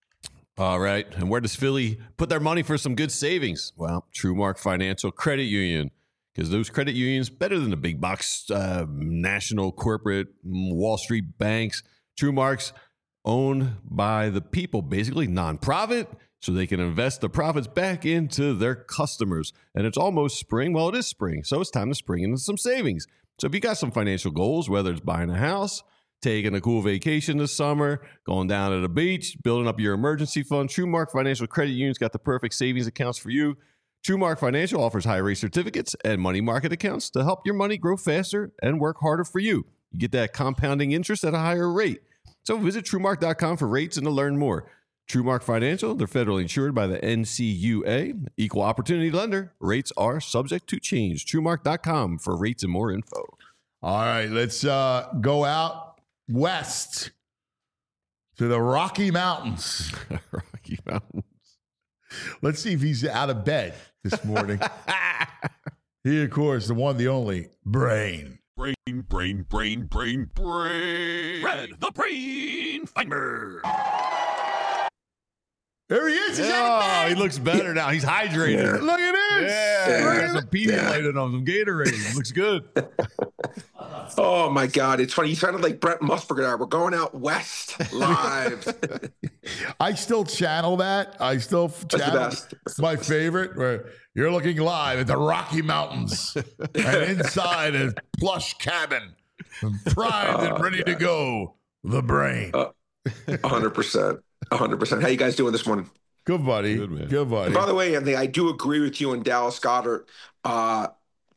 All right. And where does Philly put their money for some good savings? Well, TrueMark Financial Credit Union, because those credit unions, better than the big box national corporate Wall Street banks. TrueMark's owned by the people, basically nonprofit, so they can invest the profits back into their customers. And it's almost spring. Well, it is spring, so it's time to spring into some savings. So if you got some financial goals, whether it's buying a house, taking a cool vacation this summer, going down to the beach, building up your emergency fund, TrueMark Financial Credit Union's got the perfect savings accounts for you. TrueMark Financial offers high-rate certificates and money market accounts to help your money grow faster and work harder for you. You get that compounding interest at a higher rate. So visit TrueMark.com for rates and to learn more. TrueMark Financial, they're federally insured by the NCUA. Equal opportunity lender. Rates are subject to change. TrueMark.com for rates and more info. All right, let's go out west to the Rocky Mountains. Rocky Mountains. Let's see if he's out of bed this morning. He, of course, the one, the only, Brain. Red, the Brain Finder. There he is. He's out of bed. He looks better now. He's hydrated. Yeah. Look at this. Yeah. Some Pedialyte on some Gatorade. Looks good. Oh, my God. It's funny. You sounded like Brent Musburger. We're going out west live. I still channel that. I still channel my favorite, where you're looking live at the Rocky Mountains and inside a plush cabin, primed and ready to go, the Brain. 100%. 100%. How you guys doing this morning? Good, buddy. Good, buddy. And by the way, Anthony, I do agree with you on Dallas Goedert. I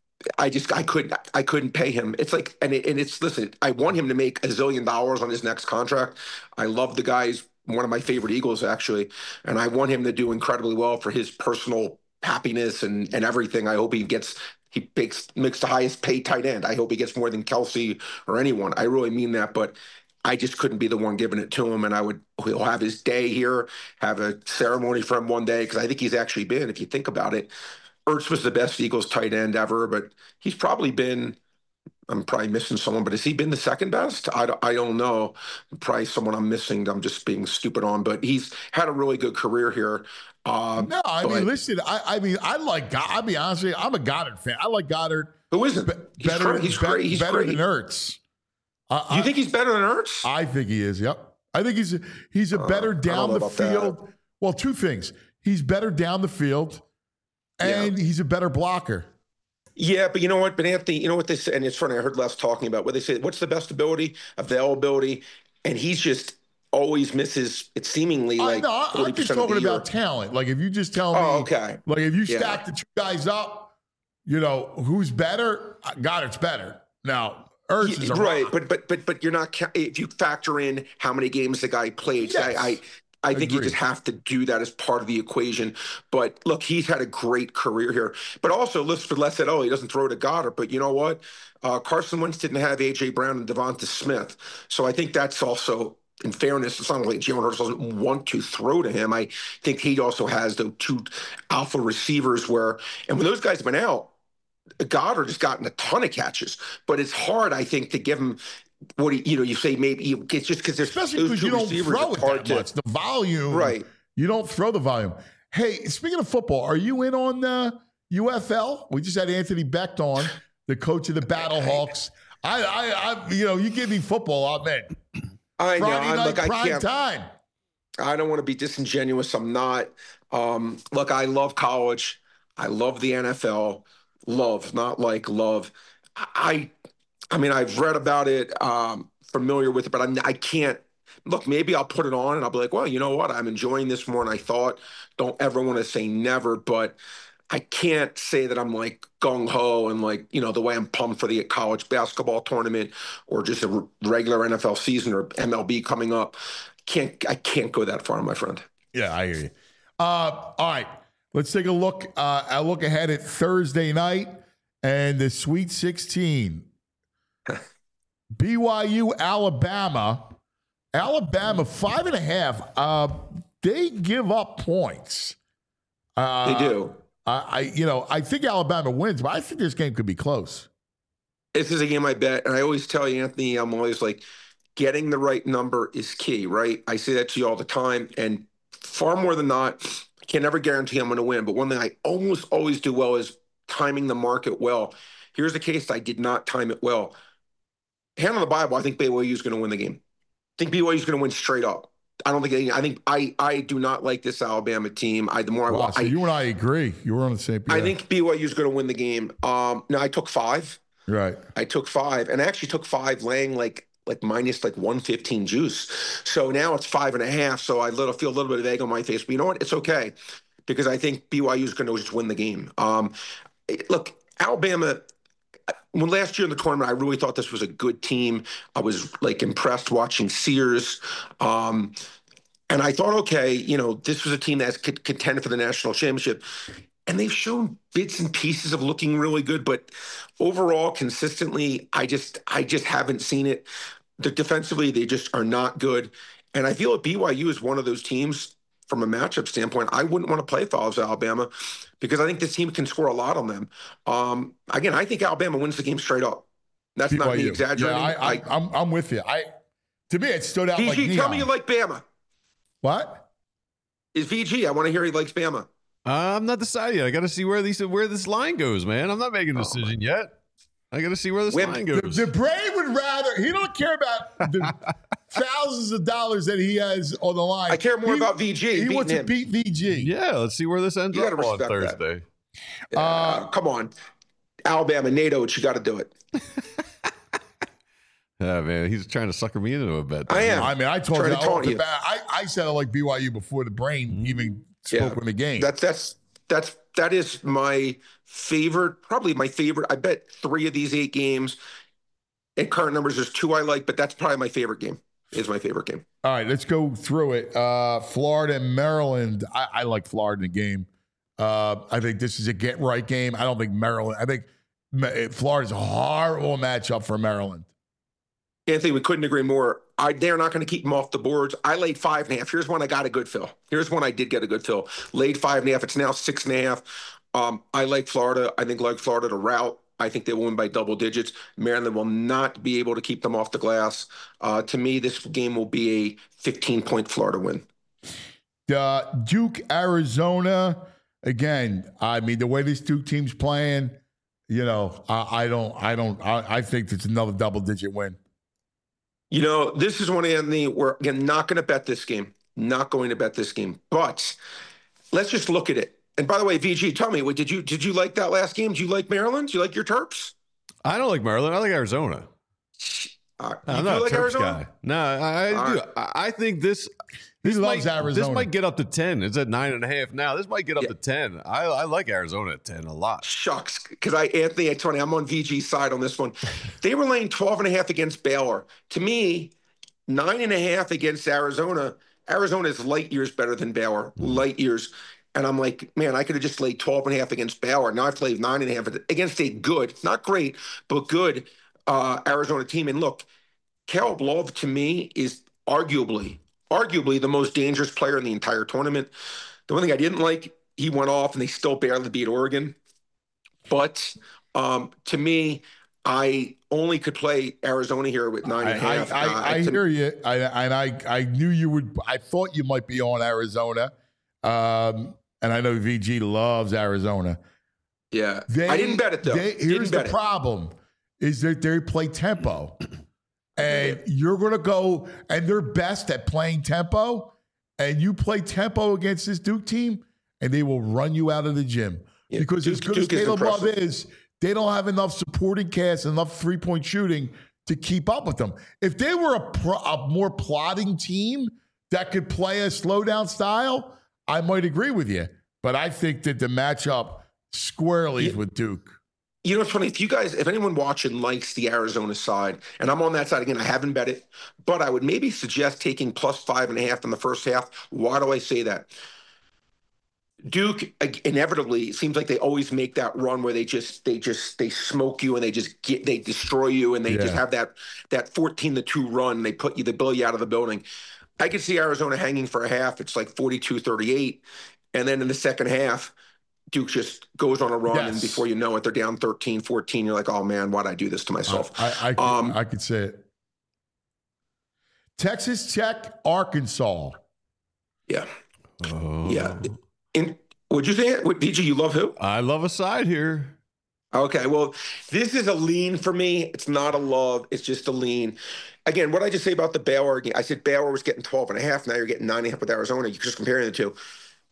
couldn't pay him. It's like, listen, I want him to make $1 zillion on his next contract. I love the guy. He's one of my favorite Eagles, actually. And I want him to do incredibly well for his personal happiness and everything. I hope he makes the highest paid tight end. I hope he gets more than Kelsey or anyone. I really mean that, but I just couldn't be the one giving it to him. And he'll have his day here, have a ceremony for him one day. Cause I think he's actually been, if you think about it, Ertz was the best Eagles tight end ever, but he's probably been, I'm probably missing someone, but has he been the second best? I don't know. Probably someone I'm missing. I'm just being stupid on, but he's had a really good career here. No, I mean, listen, I mean, I like, I'll be honest with you, I'm a Goddard fan. I like Goddard. Who isn't? He's great. He's better than Ertz. You think he's better than Ertz? I think he is. Yep. I think he's a better down the field. That. Well, two things. He's better down the field, and he's a better blocker. Yeah, but you know what? But Anthony, you know what they say, and it's funny. I heard Les talking about what they say. What's the best ability? Availability, and he's just always misses. It's seemingly like I'm just talking about talent. Like if you just tell me, okay. Like if you stack the two guys up, you know who's better? Goddard's better now. Ertz is right, but you're not if you factor in how many games the guy played. Yes. I think you just have to do that as part of the equation. But look, he's had a great career here. But also, Les said, he doesn't throw to Goddard. But you know what? Carson Wentz didn't have A.J. Brown and Devonta Smith. So I think that's also, in fairness, it's not like Jalen Hurts doesn't want to throw to him. I think he also has the two alpha receivers and when those guys have been out, Goddard has gotten a ton of catches, but it's hard, I think, to give him what you say. Maybe it's just because there's especially because you don't throw it that much. The volume, right? You don't throw the volume. Hey, speaking of football, are you in on UFL? We just had Anthony Becht on, the coach of the Battlehawks. I you give me football, I'm in. I know. Friday night prime time. I don't want to be disingenuous. I'm not. Look, I love college. I love the NFL. Love, not like love. I mean, I've read about it, familiar with it, but I can't. Look, maybe I'll put it on and I'll be like, well, you know what? I'm enjoying this more than I thought. Don't ever want to say never, but I can't say that I'm like gung ho and like, the way I'm pumped for the college basketball tournament or just a regular NFL season or MLB coming up. I can't go that far, my friend. Yeah, I hear you. All right, let's take a look. A look ahead at Thursday night and the Sweet 16. BYU, Alabama. Alabama 5.5. They give up points. They do. I think Alabama wins, but I think this game could be close. This is a game I bet, and I always tell you, Anthony, I'm always like, getting the right number is key, right? I say that to you all the time, and far more than not, I can never guarantee I'm going to win, but one thing I almost always do well is timing the market well. Here's the case I did not time it well. Hand on the Bible, I think BYU is going to win the game. I think BYU is going to win straight up. I do not like this Alabama team. So you and I agree. You were on the same page. I think BYU is going to win the game. Now I took 5. Right. I took 5, and I actually took 5 laying like minus 115 juice. So now it's 5.5. So I feel a little bit of egg on my face, but you know what? It's okay because I think BYU is going to just win the game. Look, Alabama. When last year in the tournament, I really thought this was a good team. I was impressed watching Sears. And I thought, okay, this was a team that's contended for the national championship. And they've shown bits and pieces of looking really good, but overall, consistently, I just haven't seen it. Defensively, they just are not good. And I feel that BYU is one of those teams from a matchup standpoint, I wouldn't want to play follows Alabama because I think this team can score a lot on them. Again, I think Alabama wins the game straight up. That's BYU. Not me exaggerating. Yeah, I'm with you. To me, it stood out VG, like neon. Tell me you like Bama. What? Is VG? I want to hear he likes Bama. I'm not decided yet. I got to see where this line goes, man. I'm not making a decision yet. I got to see where this line goes. The Brain would rather. He don't care about the thousands of dollars that he has on the line. I care more about VG. He wants to beat VG. Yeah, let's see where this ends up on Thursday. Come on, Alabama, NATO, you got to do it. Yeah, man, he's trying to sucker me into a bet. I am. I mean, I told you off the bat. I said I like BYU before the Brain even spoke in the game. That is my favorite, probably my favorite. I bet 3 of these 8 games. In current numbers, there's 2 I like, but that's probably my favorite game. Is my favorite game. All right, let's go through it. Florida and Maryland. I like Florida in the game. I think this is a get-right game. I don't think Maryland. I think Florida's a horrible matchup for Maryland. Anthony, we couldn't agree more. They're not going to keep them off the boards. I laid 5.5. Here's one I got a good fill. Here's one I did get a good fill. Laid 5.5. It's now 6.5. I like Florida. I think like Florida to rout. I think they will win by double digits. Maryland will not be able to keep them off the glass. To me, this game will be a 15-point Florida win. Duke, Arizona. Again, I mean, the way this Duke team's playing, I think it's another double-digit win. This is one, Anthony, we're again not going to bet this game. Not going to bet this game. But let's just look at it. And by the way, VG, tell me, did you like that last game? Do you like Maryland? Do you like your Terps? I don't like Maryland. I like Arizona. I'm not a Terps Arizona guy. No, I do. I think this loves Arizona. This might get up to 10. It's at 9.5 now. This might get up to 10. I like Arizona at 10 a lot. Shucks, because Anthony, Tony, I'm on VG's side on this one. They were laying 12.5 against Baylor. To me, 9.5 against Arizona. Arizona is light years better than Baylor. Light years. And I'm like, man, I could have just laid 12.5 against Baylor. Now I've laid 9.5 against a good, not great, but good Arizona team. And look, Caleb Love to me is arguably the most dangerous player in the entire tournament. The one thing I didn't like, he went off and they still barely beat Oregon. But to me, I only could play Arizona here with 9.5. I hear you. I knew you would. I thought you might be on Arizona. And I know VG loves Arizona. Yeah. I didn't bet it, though. Here's the problem, is that they play tempo. And you're going to go, and they're best at playing tempo. and you play tempo against this Duke team, and they will run you out of the gym. Yeah, Because as good as Caleb Love is, they don't have enough supporting cast, enough three-point shooting to keep up with them. If they were a more plotting team that could play a slow-down style, I might agree with you. But I think that the matchup squarely is with Duke. You know, it's funny. If anyone watching likes the Arizona side, and I'm on that side again, I haven't bet it, but I would maybe suggest taking plus 5.5 in the first half. Why do I say that? Duke inevitably, it seems like they always make that run where they smoke you and they destroy you and they just have that 14-2 run. They blow you out of the building. I could see Arizona hanging for a half. It's like 42-38, and then in the second half, Duke just goes on a run, and before you know it, they're down 13-14. You're like, oh man, why'd I do this to myself? I could say it. Texas Tech, Arkansas. Yeah. Yeah. Would you say it? DJ, you love who? I love a side here. Okay, well, this is a lean for me. It's not a love. It's just a lean. Again, what I just say about the Baylor game, I said Baylor was getting 12.5. Now you're getting 9.5 with Arizona. You're just comparing the two.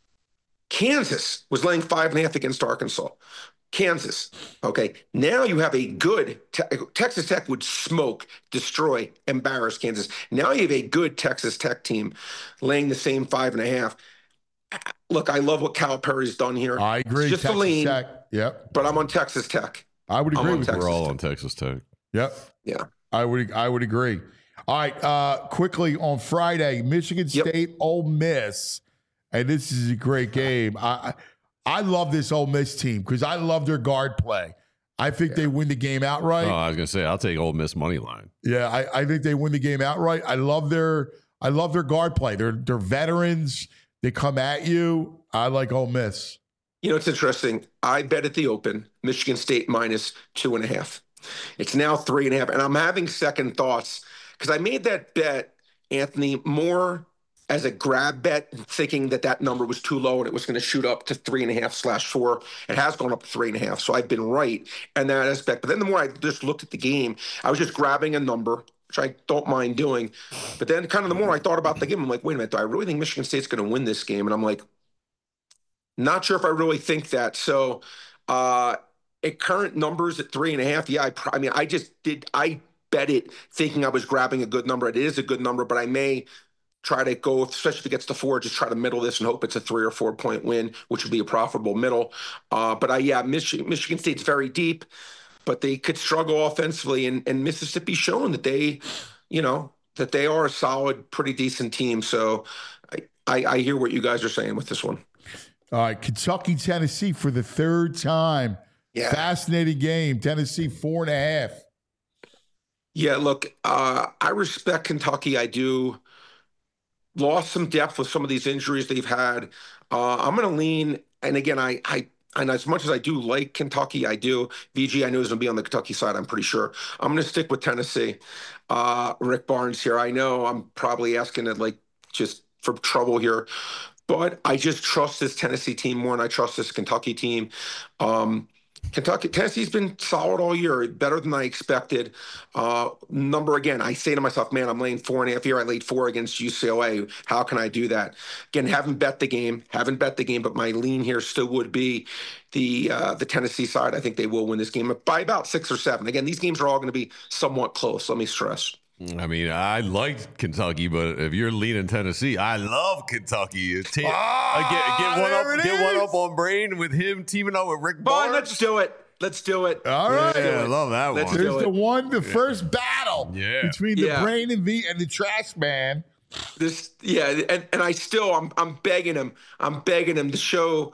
Kansas was laying 5.5 against Arkansas. Kansas. Okay. Now you have a good Texas Tech would smoke, destroy, embarrass Kansas. Now you have a good Texas Tech team laying the same 5.5. Look, I love what Calipari's done here. I agree. It's just Texas a lean. Tech. Yep. But I'm on Texas Tech. I would agree with you. We're all on Texas Tech. Yep. Yeah. I would agree. All right. Quickly on Friday, Michigan State, Ole Miss. And this is a great game. I love this Ole Miss team because I love their guard play. I think they win the game outright. Oh, I was gonna say I'll take Ole Miss money line. Yeah, I think they win the game outright. I love their guard play. They're veterans. They come at you. I like Ole Miss. You know, it's interesting. I bet at the open, Michigan State minus 2.5. It's now 3.5. And I'm having second thoughts because I made that bet, Anthony, more as a grab bet, thinking that number was too low and it was going to shoot up to 3.5/4. It has gone up to 3.5. So I've been right in that aspect. But then the more I just looked at the game, I was just grabbing a number, which I don't mind doing. But then kind of the more I thought about the game, I'm like, wait a minute, do I really think Michigan State's going to win this game? And I'm like, not sure if I really think that. So at current numbers at 3.5, yeah, I bet it thinking I was grabbing a good number. It is a good number, but I may try to go, especially if it gets to 4, just try to middle this and hope it's a 3 or 4 point win, which would be a profitable middle. Michigan State's very deep, but they could struggle offensively. And Mississippi's shown that they are a solid, pretty decent team. So I hear what you guys are saying with this one. All right, Kentucky, Tennessee for the third time. Yeah. Fascinating game. Tennessee 4.5. Yeah, look, I respect Kentucky. I do. Lost some depth with some of these injuries they've had. I'm going to lean, and again, and as much as I do like Kentucky, I do. VG, I know is going to be on the Kentucky side, I'm pretty sure. I'm going to stick with Tennessee. Rick Barnes here. I know I'm probably asking it just for trouble here, but I just trust this Tennessee team more than I trust this Kentucky team. Tennessee's been solid all year, better than I expected. Again, I say to myself, man, I'm laying 4.5 here. I laid 4 against UCLA. How can I do that? Again, haven't bet the game, but my lean here still would be the Tennessee side. I think they will win this game by about 6 or 7. Again, these games are all going to be somewhat close. Let me stress. I mean, I like Kentucky, but if you're leaning Tennessee, I love Kentucky. Get one up on Brain with him teaming up with Rick Barnes. Let's do it. All right. Yeah, I love that one. There's the first battle between the Brain and the Trash Man. And I'm begging him. I'm begging him to show,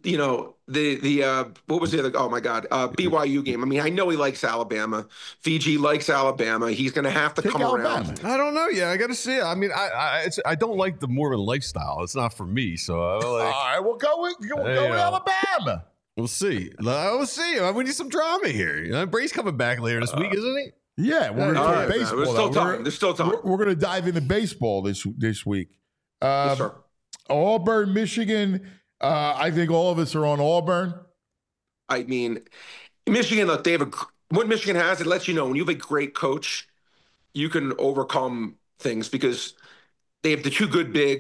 what was the other? Oh my God, BYU game. I mean, I know he likes Alabama. VG likes Alabama. He's going to have to come around. I don't know. Yeah, I got to see it. I mean, I don't like the Mormon lifestyle. It's not for me. So all right, we'll go with Alabama. We'll see. We'll see. We need some drama here. Bray's coming back later this week, isn't he? Yeah, we're going to talk baseball. There's still time. We're going to dive into baseball this week. Yes, sir. Auburn, Michigan. I think all of us are on Auburn. I mean, Michigan, look, what Michigan has, it lets you know when you have a great coach, you can overcome things because they have the 2 good bigs.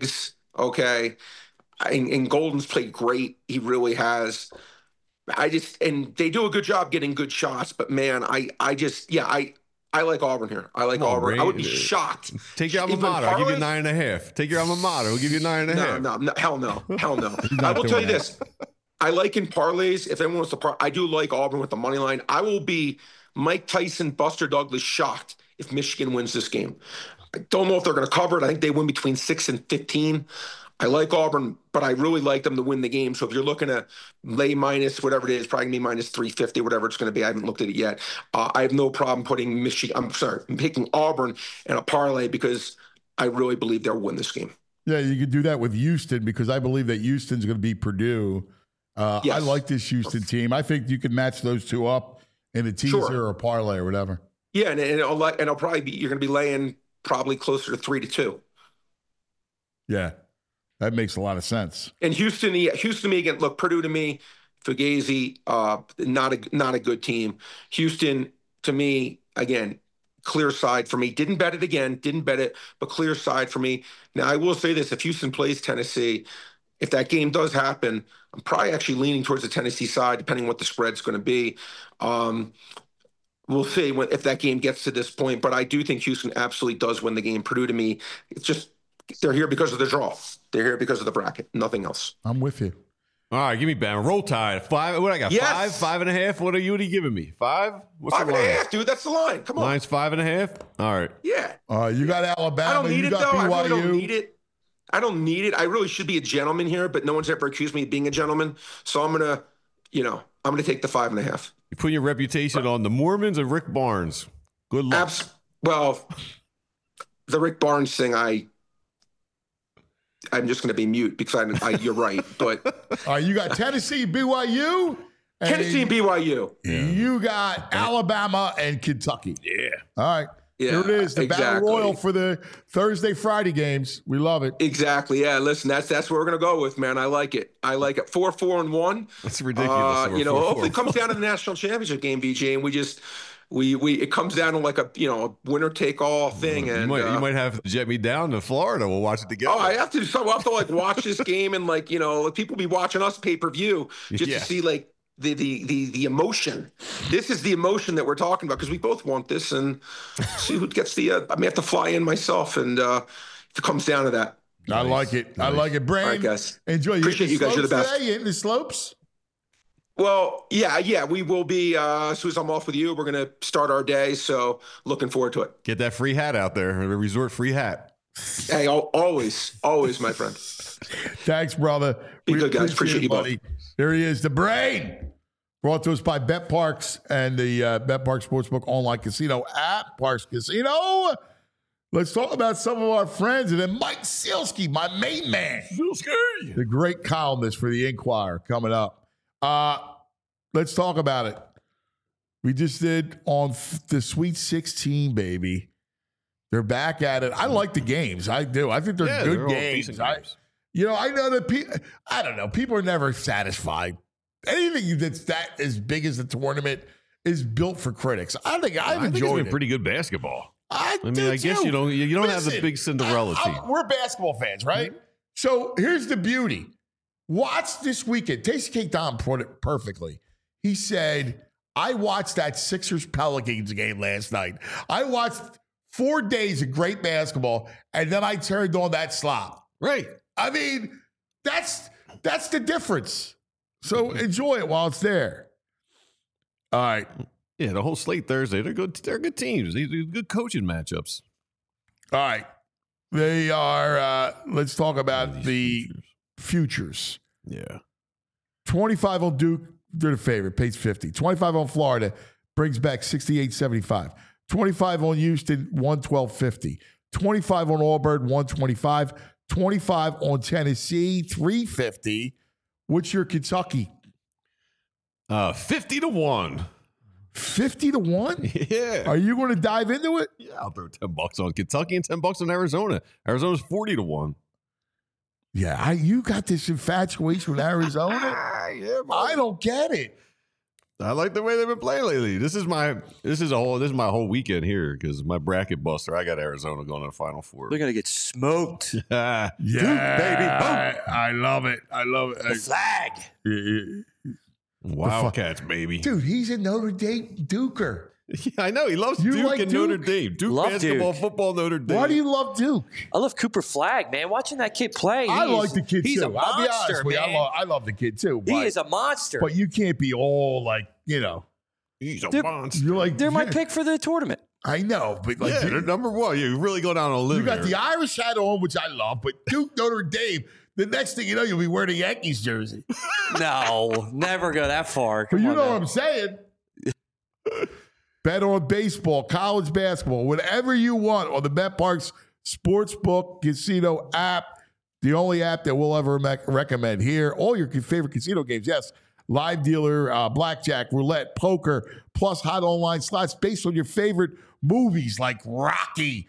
Okay. And Golden's played great. He really has. And they do a good job getting good shots, but man, I like Auburn here. I like Auburn. I would be shocked. Take your alma mater. I'll give you 9.5. Take your alma mater. We'll give you 9.5. No, hell no. I will tell you this. I like in parlays, if anyone wants to I do like Auburn with the money line. I will be Mike Tyson, Buster Douglas shocked if Michigan wins this game. I don't know if they're going to cover it. I think they win between 6 and 15. I like Auburn, but I really like them to win the game. So if you're looking at lay minus whatever it is, probably going to be minus 350, whatever it's going to be. I haven't looked at it yet. I have no problem putting I'm picking Auburn in a parlay because I really believe they'll win this game. Yeah, you could do that with Houston because I believe that Houston's going to beat Purdue. Yes. I like this Houston team. I think you could match those two up in a teaser or a parlay or whatever. Yeah, and it'll probably be, you're going to be laying probably closer to 3-2. Yeah, that makes a lot of sense. And Houston to me again. Look, Purdue to me, Fugazi, not a good team. Houston to me again, clear side for me. Didn't bet it, but clear side for me. Now I will say this: if Houston plays Tennessee, if that game does happen, I'm probably actually leaning towards the Tennessee side, depending on what the spread's going to be. We'll see if that game gets to this point, but I do think Houston absolutely does win the game. Purdue to me, it's just they're here because of the draw. They're here because of the bracket, nothing else. I'm with you. All right, give me Bama. Roll Tide. 5. What I got? Yes. 5, 5.5. What are you giving me? 5? What's 5.5, dude. That's the line. Come on. Line's 5.5. All right. Yeah. You got Alabama. I don't need you it got though. BYU. I really don't need it. I really should be a gentleman here, but no one's ever accused me of being a gentleman. So I'm gonna take the 5.5. You put your reputation on the Mormons and Rick Barnes. Good luck. Well, the Rick Barnes thing, I'm just going to be mute because you're right. But you got Tennessee, BYU. Tennessee and BYU. You got Alabama and Kentucky. Yeah. All right. Yeah, here it is, the Battle Royal for the Thursday, Friday games. We love it. Exactly. Yeah. Listen, that's what we're gonna go with, man. I like it. 4-4-1. That's ridiculous. Hopefully it comes down to the national championship game, BJ, and we it comes down to like a winner take all thing. And you might have to jet me down to Florida. We'll watch it together. Oh, I have to. So we'll have to like watch this game and people be watching us pay-per-view just to see like the emotion. This is the emotion that we're talking about because we both want this and see who gets the. I may have to fly in myself, and if it comes down to that, I like it. Nice. I like it, Brain. All right, guys. Enjoy. Appreciate you guys. You're the best. Today? You hitting the slopes? Well, yeah, we will be. As soon as I'm off with you, we're gonna start our day. So looking forward to it. Get that free hat out there. A resort free hat. Hey, always, my friend. Thanks, brother. Be good, guys. Appreciate you, buddy. There he is, the Brain. Brought to us by Bet Parks and the Bet Parks Sportsbook online casino at Parks Casino. Let's talk about some of our friends. And then Mike Sielski, my main man. Sielski. The great columnist for the Inquirer coming up. Let's talk about it. We just did on the Sweet 16, baby. They're back at it. I like the games. I do. I think they're good games. I know that I don't know. People are never satisfied. Anything that's that as big as the tournament is built for critics. I think it's been pretty good basketball. I guess you don't have the big Cinderella team. We're basketball fans, right? Mm-hmm. So here's the beauty. Watch this weekend. Tasty Cake Don put it perfectly. He said, I watched that Sixers-Pelicans game last night. I watched 4 days of great basketball, and then I turned on that slop. Right. I mean, that's the difference. So enjoy it while it's there. All right. Yeah, the whole slate Thursday. They're good. They're good teams. These are good coaching matchups. All right. They are. Let's talk about the futures. Yeah. 25 on Duke. They're the favorite. Pays 50. 25 on Florida. Brings back 68.75. 25 on Houston. 112.50. 25 on Auburn. 125. 25 on Tennessee. 350. What's your Kentucky? 50-1. 50-1? Yeah. Are you going to dive into it? Yeah, I'll throw $10 on Kentucky and $10 on Arizona. Arizona's 40-1. Yeah, you got this infatuation with Arizona. Yeah, I don't get it. I like the way they've been playing lately. This is my whole weekend here because my bracket buster. I got Arizona going to the Final Four. They're gonna get smoked. Yeah, Duke, baby. I love it. I love it. The flag. Wildcats, baby. Dude, he's a Notre Dame Duker. Yeah, I know. He loves Duke like and Duke? Notre Dame. Duke Love basketball, Duke. football, Notre Dame. Why do you love Duke? I love Cooper Flag, man. Watching that kid play. I like the kid he's too. A monster, I'll be honest with you. man. I love the kid too. He is a monster. But you can't be all like, He's a They're- monster. you're like, They're my pick for the tournament. I know, but like, Yeah, they're number one. You really go down on a limb. you got here. the Irish hat on, which I love, but Duke, Notre Dame, the next thing you know, you'll be wearing a Yankees jersey. No, never go that far. But Come you on, know man. what I'm saying. Bet on baseball, college basketball, whatever you want on the BetParx Sportsbook Casino app. The only app that we'll ever recommend here. All your favorite casino games, yes. Live dealer, blackjack, roulette, poker, plus hot online slots based on your favorite movies like Rocky,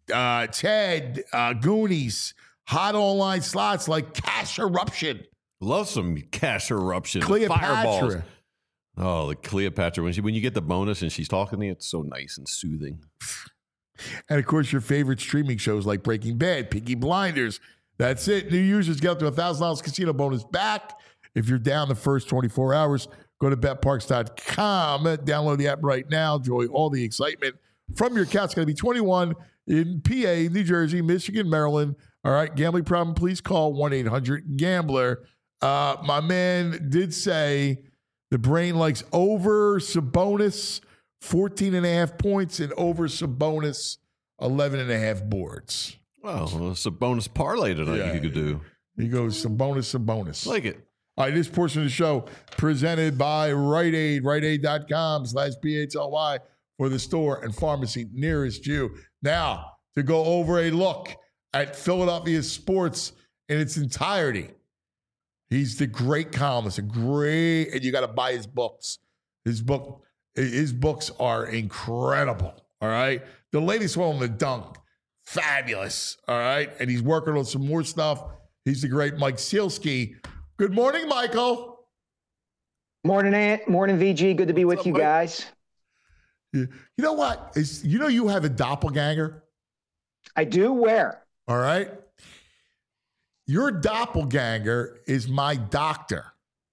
Ted, Goonies, hot online slots like Cash Eruption. Love some cash eruption. Cleopatra. Fireballs. Oh, the Cleopatra. When you get the bonus and she's talking to you, it's so nice and soothing. And of course, your favorite streaming shows like Breaking Bad, Peaky Blinders. That's it. New users get up to $1,000 casino bonus back if you're down the first 24 hours. Go to betparks.com. Download the app right now. Enjoy all the excitement from your account. It's going to be 21 in PA, New Jersey, Michigan, Maryland. All right. Gambling problem, please call 1-800-GAMBLER. My man did say the brain likes over Sabonis 14.5 points and over Sabonis 11.5 boards. Well, it's a bonus parlay tonight you could do. He goes Sabonis. Like it. All right, this portion of the show presented by Rite Aid, riteaid.com/BHLY for the store and pharmacy nearest you. Now, to go over a look at Philadelphia sports in its entirety. He's the great columnist, and you got to buy his books. His books are incredible. All right. The latest one on the dunk, fabulous. All right. And he's working on some more stuff. He's the great Mike Sielski. Good morning, Michael. Morning, Ant. Morning, VG. Good to be with you Mike? guys. You know what? You have a doppelganger? I do. Where? All right. Your doppelganger is my doctor.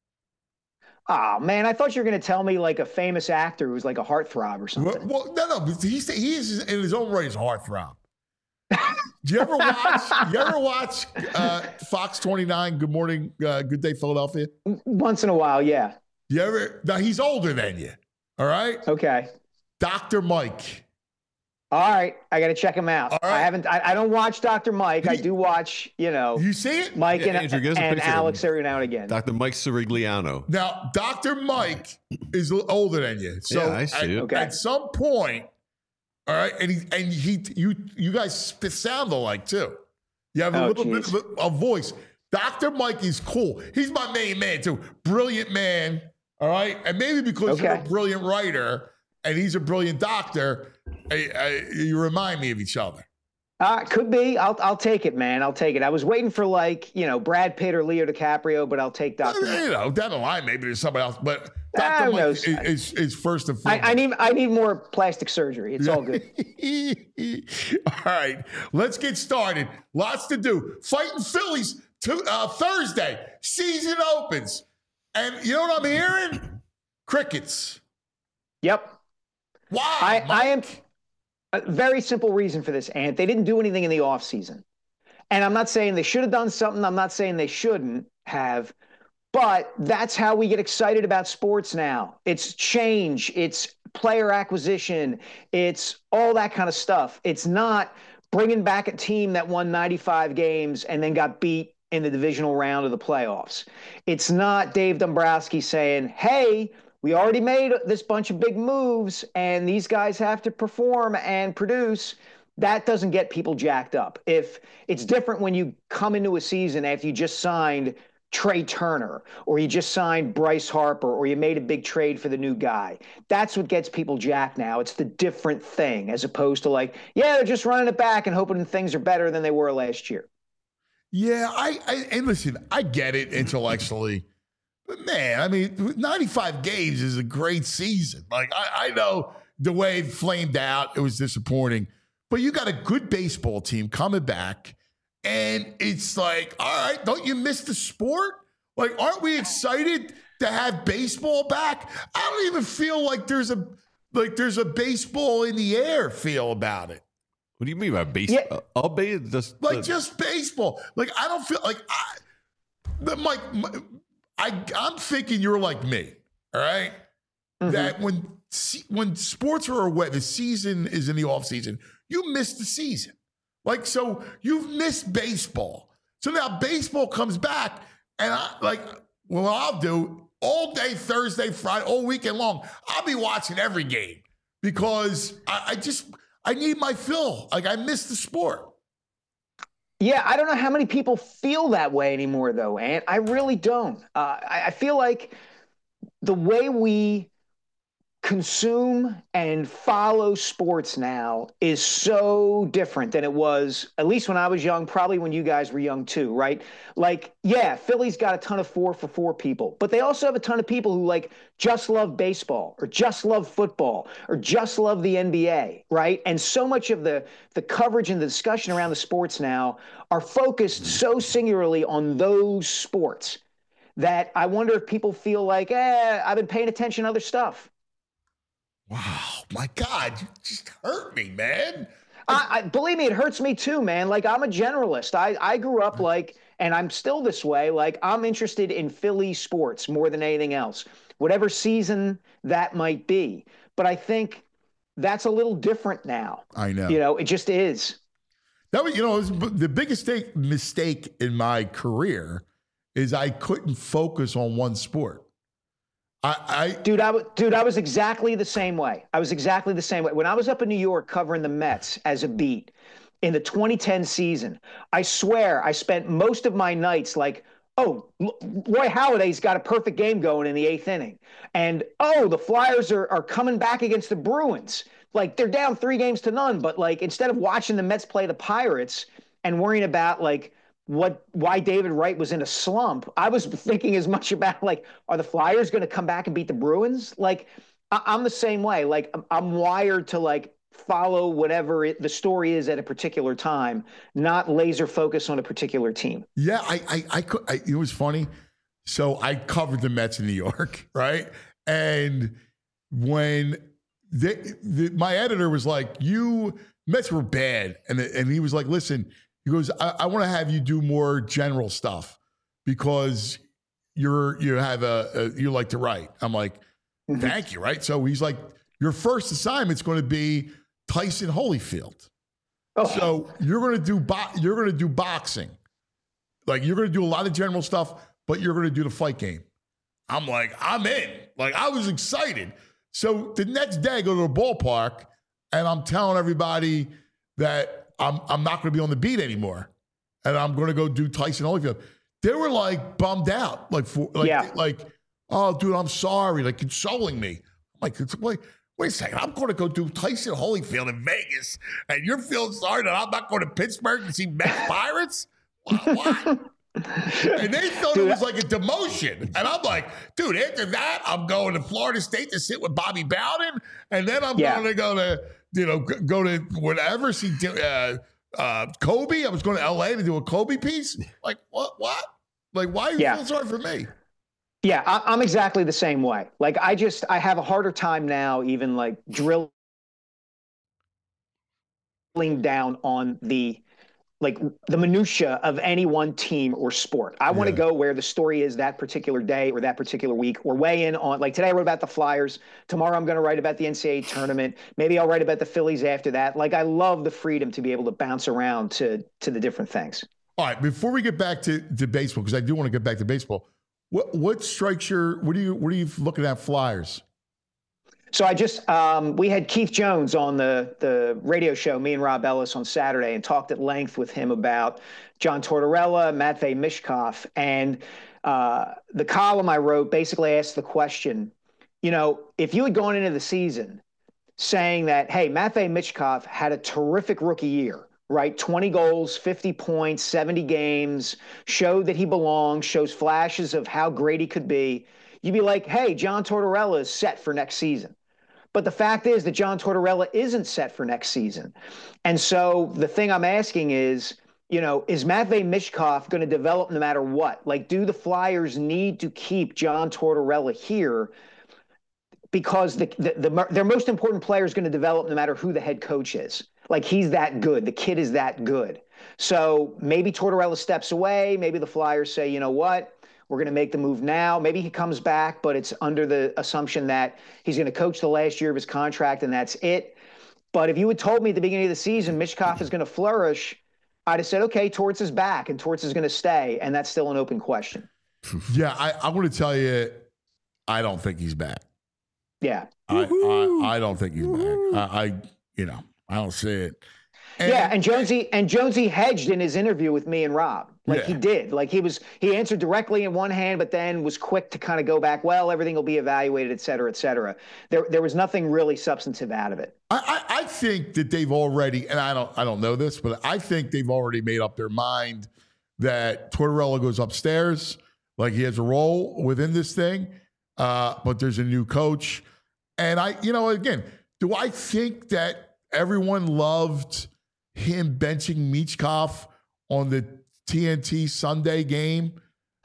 Oh, man, I thought you were going to tell me like a famous actor who's like a heartthrob or something. Well, no. He is in his own right a heartthrob. Do you ever watch Fox 29, Good Morning, Good Day, Philadelphia? Once in a while, yeah. Now, he's older than you. All right? Okay. Dr. Mike. All right. I got to check him out. All right. I don't watch Dr. Mike. I do watch, You see it? Mike Yeah, Andrew, give us a and picture of Alex him. every now and again. Dr. Mike Sirigliano. Now, Dr. Mike is older than you. So Yeah, I see it. Okay. At some point, all right, you guys sound alike too. You have a little bit of a voice. Dr. Mike is cool. He's my main man too. Brilliant man. All right. And maybe because you're a brilliant writer and he's a brilliant doctor, you remind me of each other. Could be. I'll take it, man. I'll take it. I was waiting for Brad Pitt or Leo DiCaprio, but I'll take Dr. Mike. Down the line, maybe there's somebody else. But Dr. Mike is first and foremost. I need more plastic surgery. It's all good. All right, let's get started. Lots to do. Fighting Phillies Thursday. Season opens. And you know what I'm hearing? Crickets. Yep. Why? I am a very simple reason for this, Ant. They didn't do anything in the offseason. And I'm not saying they should have done something. I'm not saying they shouldn't have. But that's how we get excited about sports now. It's change. It's player acquisition. It's all that kind of stuff. It's not bringing back a team that won 95 games and then got beat in the divisional round of the playoffs. It's not Dave Dombrowski saying, hey, we already made this bunch of big moves and these guys have to perform and produce. That doesn't get people jacked up. If it's different when you come into a season after you just signed Trey Turner, or you just signed Bryce Harper, or you made a big trade for the new guy. That's what gets people jacked now. It's the different thing, as opposed to they're just running it back and hoping things are better than they were last year. Yeah, and listen, I get it intellectually. But man, I mean, 95 games is a great season. Like, I know the way it flamed out, it was disappointing. But you got a good baseball team coming back, and it's like, all right, don't you miss the sport? Like, aren't we excited to have baseball back? I don't even feel like there's a baseball in the air feel about it. What do you mean by baseball? Yeah. Just baseball. Like, I don't feel like I'm thinking you're like me, all right? Mm-hmm. That when sports are away, the season is in the off season, you miss the season. Like, so you've missed baseball. So now baseball comes back, and what I'll do all day, Thursday, Friday, all weekend long, I'll be watching every game because I need my fill. Like, I miss the sport. Yeah, I don't know how many people feel that way anymore, though, Ant. I really don't. I feel like the way we consume and follow sports now is so different than it was, at least when I was young, probably when you guys were young too, right? Like, yeah, Philly's got a ton of 4-for-4 people, but they also have a ton of people who like just love baseball or just love football or just love the NBA, right? And so much of the coverage and the discussion around the sports now are focused so singularly on those sports that I wonder if people feel like, I've been paying attention to other stuff. Wow, my God, you just hurt me, man. I believe me, it hurts me too, man. Like, I'm a generalist. I grew up like, and I'm still this way, like, I'm interested in Philly sports more than anything else, whatever season that might be. But I think that's a little different now. I know. It just is. That was, the biggest mistake in my career is I couldn't focus on one sport. Dude, I was exactly the same way. When I was up in New York covering the Mets as a beat in the 2010 season, I swear I spent most of my nights like, oh, Roy Halladay's got a perfect game going in the 8th inning. And, oh, the Flyers are coming back against the Bruins. Like, they're down 3-0, but like, instead of watching the Mets play the Pirates and worrying about like, why David Wright was in a slump, I was thinking as much about like, are the Flyers going to come back and beat the Bruins? Like, I'm the same way. Like, I'm wired to like follow whatever the story is at a particular time, not laser focus on a particular team. Yeah, it was funny. So I covered the Mets in New York, right? And when my editor was like, Mets were bad. And he was like, listen, he goes, I want to have you do more general stuff because you like to write. I'm like, thank you, right? So he's like, your first assignment's going to be Tyson Holyfield. Oh. So you're going to do boxing. Like, you're going to do a lot of general stuff, but you're going to do the fight game. I'm like, I'm in. Like, I was excited. So the next day I go to the ballpark and I'm telling everybody that I'm not going to be on the beat anymore, and I'm going to go do Tyson Holyfield. They were like bummed out, like, oh, dude, I'm sorry, like consoling me. I'm like, wait a second, I'm going to go do Tyson Holyfield in Vegas, and you're feeling sorry that I'm not going to Pittsburgh to see Mets Pirates? What? And they thought it was like a demotion, and I'm like, dude, after that, I'm going to Florida State to sit with Bobby Bowden, and then I'm going to go to. Go to whatever, see Kobe. I was going to LA to do a Kobe piece. Like, what? Like, why are you feeling sorry for me? Yeah, I'm exactly the same way. Like, I have a harder time now even like drilling down on the minutia of any one team or sport. I want to go where the story is that particular day or that particular week, or weigh in on, like, today I wrote about the Flyers. Tomorrow I'm going to write about the NCAA tournament. Maybe I'll write about the Phillies after that. Like, I love the freedom to be able to bounce around to the different things. All right, before we get back to baseball, because I do want to get back to baseball, what strikes what are you looking at Flyers? So we had Keith Jones on the radio show, me and Rob Ellis, on Saturday, and talked at length with him about John Tortorella, Matvei Michkov. And the column I wrote basically asked the question, if you had gone into the season saying that, hey, Matvei Michkov had a terrific rookie year, right? 20 goals, 50 points, 70 games, showed that he belongs, shows flashes of how great he could be, you'd be like, hey, John Tortorella is set for next season. But the fact is that John Tortorella isn't set for next season. And so the thing I'm asking is, is Matvei Michkov going to develop no matter what? Like, do the Flyers need to keep John Tortorella here? Because their most important player is going to develop no matter who the head coach is. Like, he's that good. The kid is that good. So maybe Tortorella steps away. Maybe the Flyers say, you know what? We're going to make the move now. Maybe he comes back, but it's under the assumption that he's going to coach the last year of his contract, and that's it. But if you had told me at the beginning of the season Michkov is going to flourish, I'd have said, okay, Torts is back, and Torts is going to stay, and that's still an open question. Yeah, I want to tell you, I don't think he's back. Yeah. I don't think he's back. I don't see it. And Jonesy hedged in his interview with me and Rob. He did. Like, he answered directly in one hand, but then was quick to kind of go back, well, everything will be evaluated, et cetera, et cetera. There was nothing really substantive out of it. I think that they've already, and I don't know this, but I think they've already made up their mind that Tortorella goes upstairs, like he has a role within this thing, but there's a new coach. And again, do I think that everyone loved him benching Michkov on the TNT Sunday game?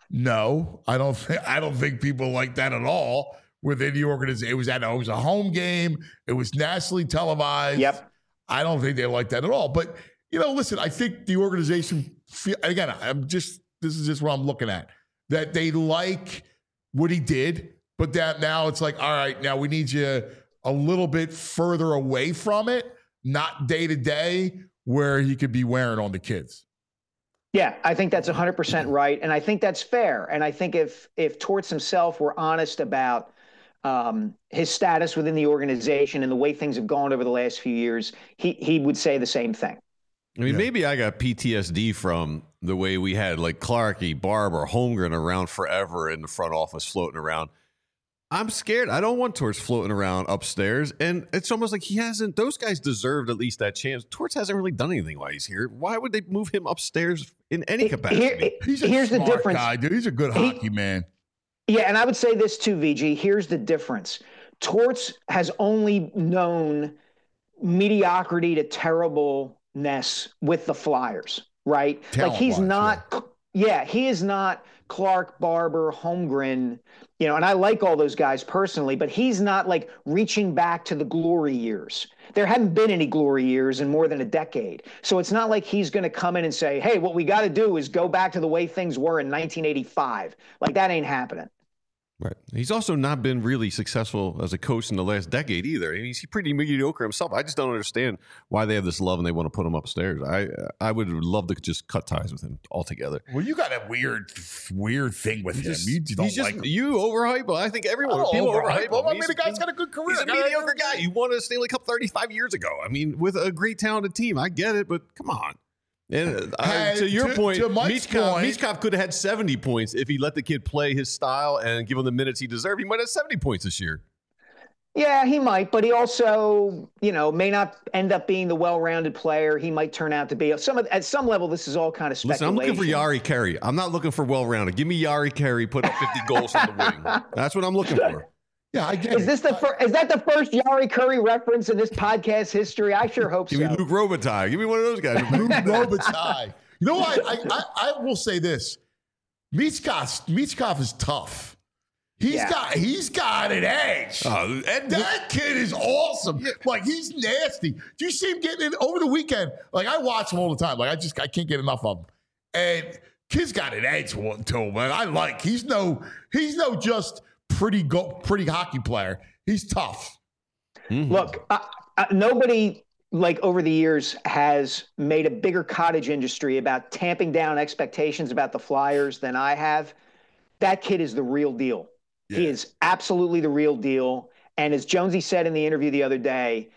No, I don't think people like that at all within the organization. It was a home game. It was nationally televised. Yep. I don't think they like that at all. But listen, I think the organization this is just what I'm looking at, that they like what he did, but that now it's like, all right, now we need you a little bit further away from it, not day to day where he could be wearing on the kids. Yeah, I think that's 100% right. And I think that's fair. And I think if Torts himself were honest about his status within the organization and the way things have gone over the last few years, he would say the same thing. I mean, maybe I got PTSD from the way we had like Clarkey, Barber, Holmgren around forever in the front office floating around. I'm scared. I don't want Torts floating around upstairs. And it's almost like those guys deserved at least that chance. Torts hasn't really done anything while he's here. Why would they move him upstairs in any capacity? Here's the difference. Guy, dude. He's a good hockey man. Yeah, and I would say this too, VG. Here's the difference. Torts has only known mediocrity to terribleness with the Flyers, right? Like he is not Clark, Barber, Holmgren, and I like all those guys personally, but he's not like reaching back to the glory years. There haven't been any glory years in more than a decade. So it's not like he's going to come in and say, hey, what we got to do is go back to the way things were in 1985. Like, that ain't happening. Right. He's also not been really successful as a coach in the last decade either. I mean, he's pretty mediocre himself. I just don't understand why they have this love and they want to put him upstairs. I would love to just cut ties with him altogether. Well, you got a weird thing with him. You don't like him. You overhype him. I think everyone people overhype him. I mean, the guy's got a good career. He's a mediocre guy. You won a Stanley Cup 35 years ago. I mean, with a great talented team. I get it, but come on. And to your point, Michkov could have had 70 points if he let the kid play his style and give him the minutes he deserved. He might have 70 points this year. Yeah, he might, but he also, may not end up being the well-rounded player he might turn out to be. At some level, this is all kind of speculation. Listen, I'm looking for Jari Kurri. I'm not looking for well-rounded. Give me Jari Kurri, put up 50 goals on the wing. That's what I'm looking for. Yeah, I get it. Is that the first Jari Kurri reference in this podcast history? I sure hope so. Give me Luc Robitaille. Give me one of those guys. Luc Robitaille. You know what? I will say this. Michkov is tough. He's got an edge. That kid is awesome. Yeah. Like, he's nasty. Do you see him getting in over the weekend? Like, I watch him all the time. Like, I can't get enough of him. And kid's got an edge to him, man. He's no just pretty hockey player. He's tough. Mm-hmm. Look, nobody over the years has made a bigger cottage industry about tamping down expectations about the Flyers than I have. That kid is the real deal. Yeah. He is absolutely the real deal. And as Jonesy said in the interview the other day,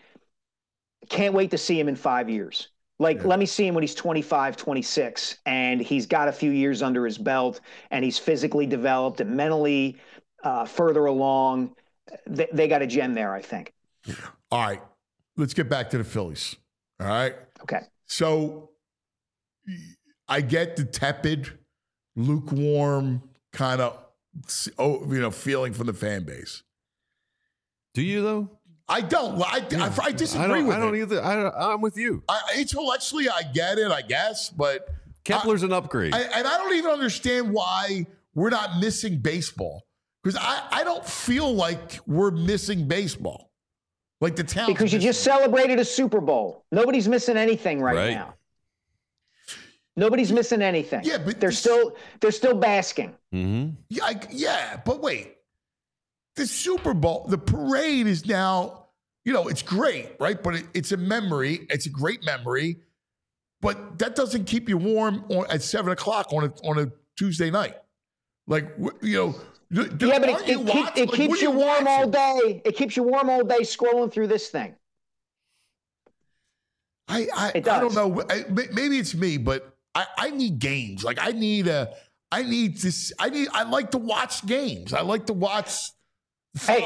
can't wait to see him in 5 years. Let me see him when he's 25, 26, and he's got a few years under his belt, and he's physically developed and mentally further along. They got a gem there, I think. All right. Let's get back to the Phillies. All right. Okay. So I get the tepid, lukewarm kind of feeling from the fan base. Do you though? I don't. I disagree with it. I don't either. I'm with you. Intellectually, I get it, I guess, but Kepler's an upgrade. And I don't even understand why we're not missing baseball. Because I don't feel like we're missing baseball. Like the town. Because you just celebrated a Super Bowl. Nobody's missing anything right now. Nobody's missing anything. Yeah, but they're still basking. Mm-hmm. Yeah, but wait. The Super Bowl, the parade is now, it's great, right? But it's a memory. It's a great memory. But that doesn't keep you warm at 7:00 on a Tuesday night. Like, but it keeps you warm all day. It keeps you warm all day scrolling through this thing. I don't know. Maybe it's me, but I need games. Like I like to watch games. I like to watch. Hey,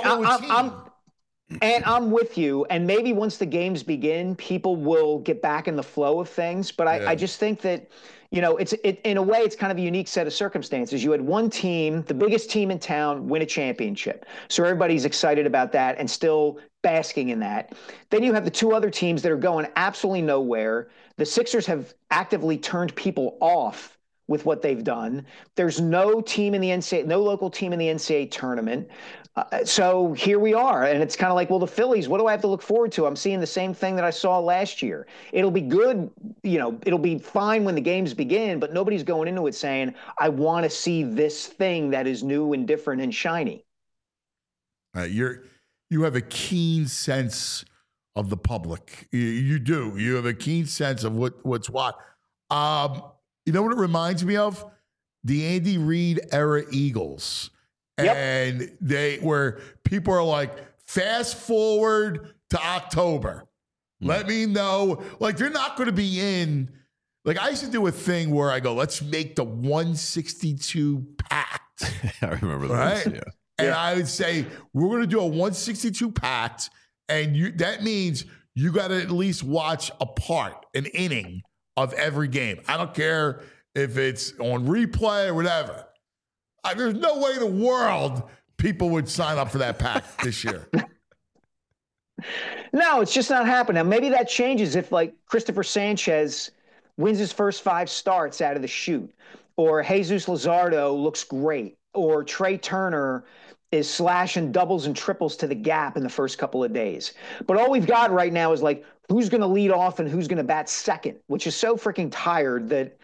I'm with you. And maybe once the games begin, people will get back in the flow of things. But I just think that, in a way, it's kind of a unique set of circumstances. You had one team, the biggest team in town, win a championship. So everybody's excited about that and still basking in that. Then you have the two other teams that are going absolutely nowhere. The Sixers have actively turned people off with what they've done. There's no local team in the NCAA tournament. So here we are. And it's kind of like, well, the Phillies, what do I have to look forward to? I'm seeing the same thing that I saw last year. It'll be good. It'll be fine when the games begin, but nobody's going into it saying, I want to see this thing that is new and different and shiny. You have a keen sense of the public. You do. You have a keen sense of what's what. You know what it reminds me of? The Andy Reid era Eagles. Yep. And where people are like, fast forward to October. Let me know. Like, they're not going to be in. Like, I used to do a thing where I go, let's make the 162 pact. I remember that. Right? Yeah. And I would say, we're going to do a 162 pact. And that means you got to at least watch an inning of every game. I don't care if it's on replay or whatever. There's no way in the world people would sign up for that pact this year. No, it's just not happening. Now, maybe that changes if, like, Christopher Sanchez wins his first 5 starts out of the chute, or Jesus Luzardo looks great, or Trey Turner is slashing doubles and triples to the gap in the first couple of days. But all we've got right now is, like, who's going to lead off and who's going to bat second, which is so freaking tired that,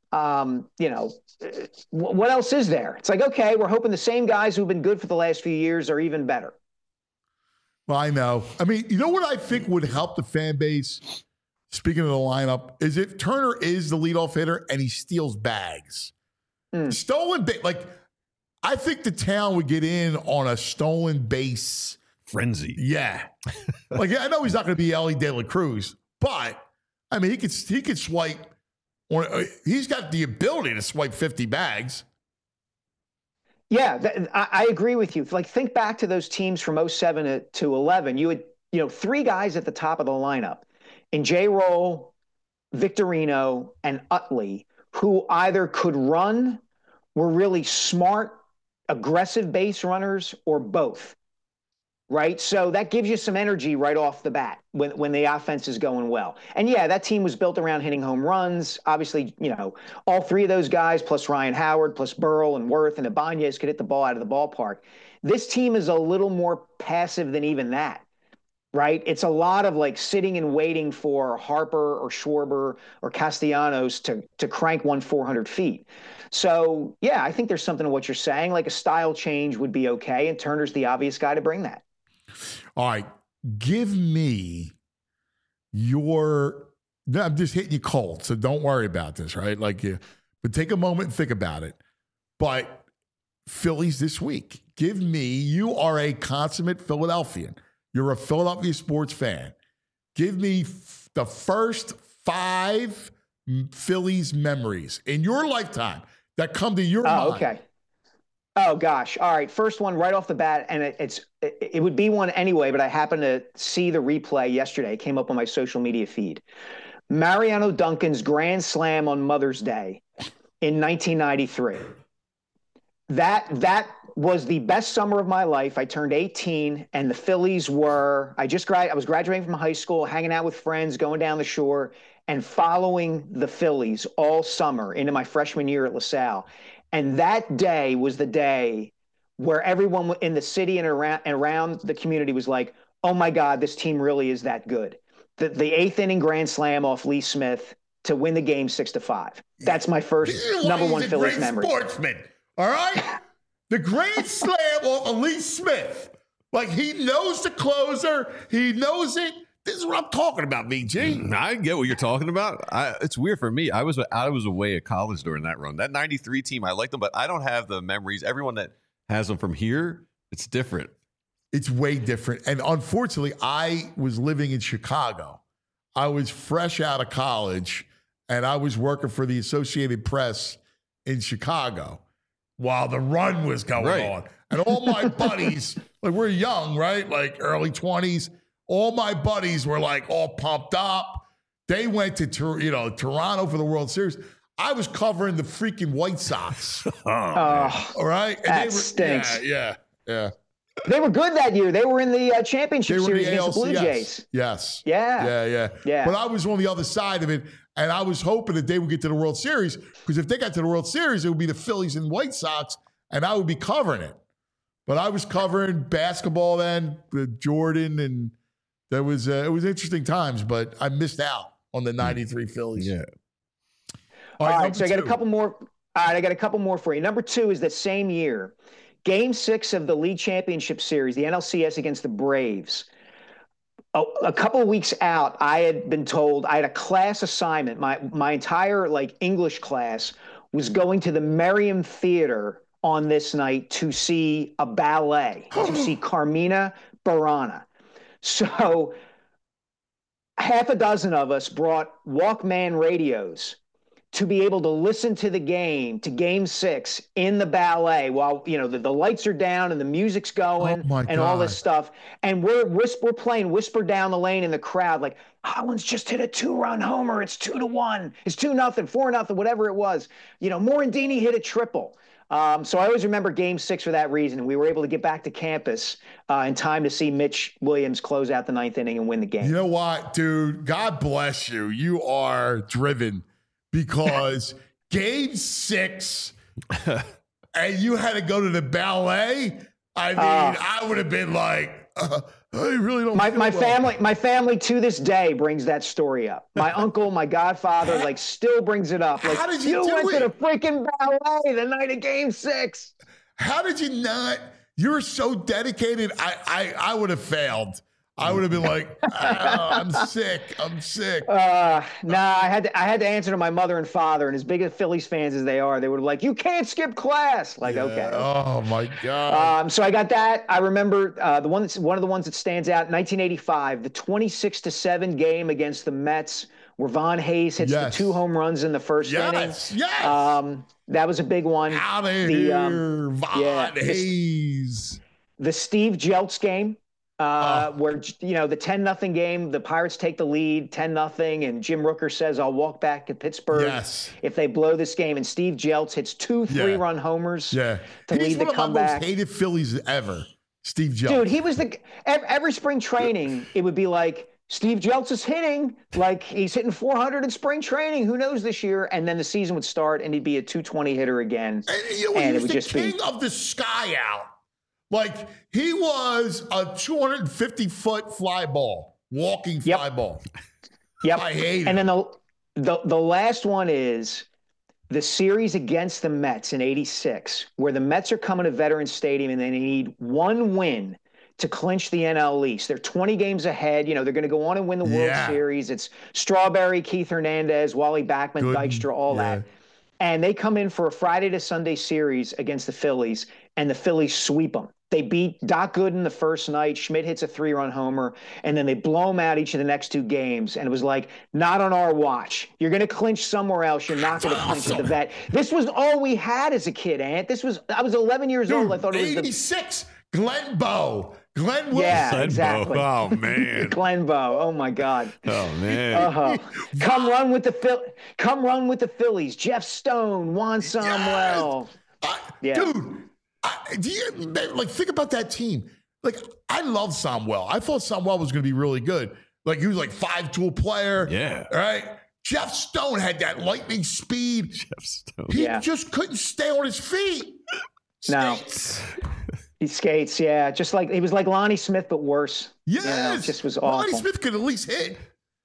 what else is there? It's like, okay, we're hoping the same guys who've been good for the last few years are even better. Well, I know. I mean, you know what I think would help the fan base, speaking of the lineup, is if Turner is the leadoff hitter and he steals bags. Stolen base. Like, I think the town would get in on a stolen base frenzy. Yeah. Like, I know he's not going to be Ellie De La Cruz, but, I mean, he could swipe. He's got the ability to swipe 50 bags. Yeah, I agree with you. Like, think back to those teams from 07 to 11. You had, 3 guys at the top of the lineup in J-Roll, Victorino, and Utley, who either could run, were really smart, aggressive base runners, or both. Right. So that gives you some energy right off the bat when the offense is going well. And yeah, that team was built around hitting home runs. Obviously, all 3 of those guys, plus Ryan Howard, plus Burrell and Worth and Ibanez could hit the ball out of the ballpark. This team is a little more passive than even that. Right. It's a lot of like sitting and waiting for Harper or Schwarber or Castellanos to crank 400 feet. So, yeah, I think there's something to what you're saying. Like a style change would be okay. And Turner's the obvious guy to bring that. All right, give me I'm just hitting you cold, so don't worry about this, right? But take a moment and think about it. But Phillies this week, you are a consummate Philadelphian. You're a Philadelphia sports fan. Give me the first 5 Phillies memories in your lifetime that come to your mind. Okay. Oh, gosh. All right. First one right off the bat, and it would be one anyway, but I happened to see the replay yesterday. It came up on my social media feed. Mariano Duncan's grand slam on Mother's Day in 1993. That was the best summer of my life. I turned 18, and the Phillies were. I was graduating from high school, hanging out with friends, going down the shore, and following the Phillies all summer into my freshman year at LaSalle. And that day was the day where everyone in the city and around the community was like, "Oh my God, this team really is that good." The eighth inning grand slam off Lee Smith to win the game 6-5. That's my first number one Phillies memory. Sportsman, all right? The grand slam off of Lee Smith. Like, he knows the closer. He knows it. This is what I'm talking about, VG. I get what you're talking about. It's weird for me. I was away at college during that run. That 93 team, I liked them, but I don't have the memories. Everyone that has them from here, it's different. It's way different. And unfortunately, I was living in Chicago. I was fresh out of college, and I was working for the Associated Press in Chicago while the run was going on. And all my buddies, like, we're young, right? Like early 20s. All my buddies were like all pumped up. They went to Toronto for the World Series. I was covering the freaking White Sox. All right? And that stinks. Yeah. They were good that year. They were in the championship series against the Blue Jays. Yes. Yeah. But I was on the other side of it, and I was hoping that they would get to the World Series, because if they got to the World Series, it would be the Phillies and White Sox, and I would be covering it. But I was covering basketball then with Jordan, and it was interesting times, but I missed out on the 93 Phillies. Yeah. All right, so I got a couple more. All right, I got a couple more for you. Number 2 is the same year. Game 6 of the league championship series, the NLCS against the Braves. A couple of weeks out, I had been told I had a class assignment. My entire English class was going to the Merriam Theater on this night to see a ballet, to see Carmina Burana. So half a dozen of us brought Walkman radios to be able to listen to the game, to Game 6 in the ballet while, the lights are down and the music's going and all this stuff. And we're playing Whisper Down the Lane in the crowd, like, Hollins just hit a 2-run homer. It's 2-1. It's 2-0, 4-0, whatever it was. Morandini hit a triple. So I always remember Game 6 for that reason. We were able to get back to campus in time to see Mitch Williams close out the 9th inning and win the game. You know what, dude? God bless you. You are driven. Because Game 6, and you had to go to the ballet. I mean, I would have been like, I really don't. My family to this day brings that story up. My uncle, my godfather, still brings it up. Like, how did you went to the freaking ballet the night of Game 6. How did you not? You're so dedicated. I would have failed. I would have been like, I'm sick. I had to answer to my mother and father, and as big as Phillies fans as they are, they were like, you can't skip class. Okay. Oh my God. So I got that. I remember one of the ones that stands out, 1985, the 26-7 game against the Mets, where Von Hayes hits the 2 home runs in the first inning. Yes. That was a big one. Out of here, Von Hayes. The Steve Jeltz game. Where the 10-0 game, the Pirates take the lead 10-0, and Jim Rooker says, "I'll walk back to Pittsburgh if they blow this game." And Steve Jeltz hits 2 3-run homers to lead the comeback. He's one of my most hated Phillies ever, Steve Jeltz. Dude, he was every spring training. It would be like, Steve Jeltz is hitting, like he's hitting 400 in spring training. Who knows this year? And then the season would start, and he'd be a 220 hitter again. And it would just be king of the sky out. Like, he was a 250-foot fly ball, walking fly ball. Yep. I hate it. And then the last one is the series against the Mets in '86, where the Mets are coming to Veterans Stadium and they need one win to clinch the NL East. They're 20 games ahead. They're going to go on and win the World Series. It's Strawberry, Keith Hernandez, Wally Backman, Dykstra, all that. And they come in for a Friday to Sunday series against the Phillies, and the Phillies sweep them. They beat Doc Gooden the first night. Schmidt hits a 3-run homer, and then they blow them out each of the next 2 games. And it was like, not on our watch. You're going to clinch somewhere else. You're not going to clinch at the Vet. This was all we had as a kid, Ant. I was 11 years old. I thought it was 86. Glenn Bowe Glenn Wilson. Yeah, exactly. Oh, man. Glenn Bowe. Oh, my God. Oh, man. Come run with the Phillies. Jeff Stone, Juan Samuel. Dude, do you think about that team? Like, I love Samuel. I thought Samuel was going to be really good. Like, he was like 5-tool player. Yeah. Right? Jeff Stone had that lightning speed. Jeff Stone. He just couldn't stay on his feet. No. He skates, yeah. Just like he was like Lonnie Smith, but worse. Yes. Just was awful. Lonnie Smith could at least hit.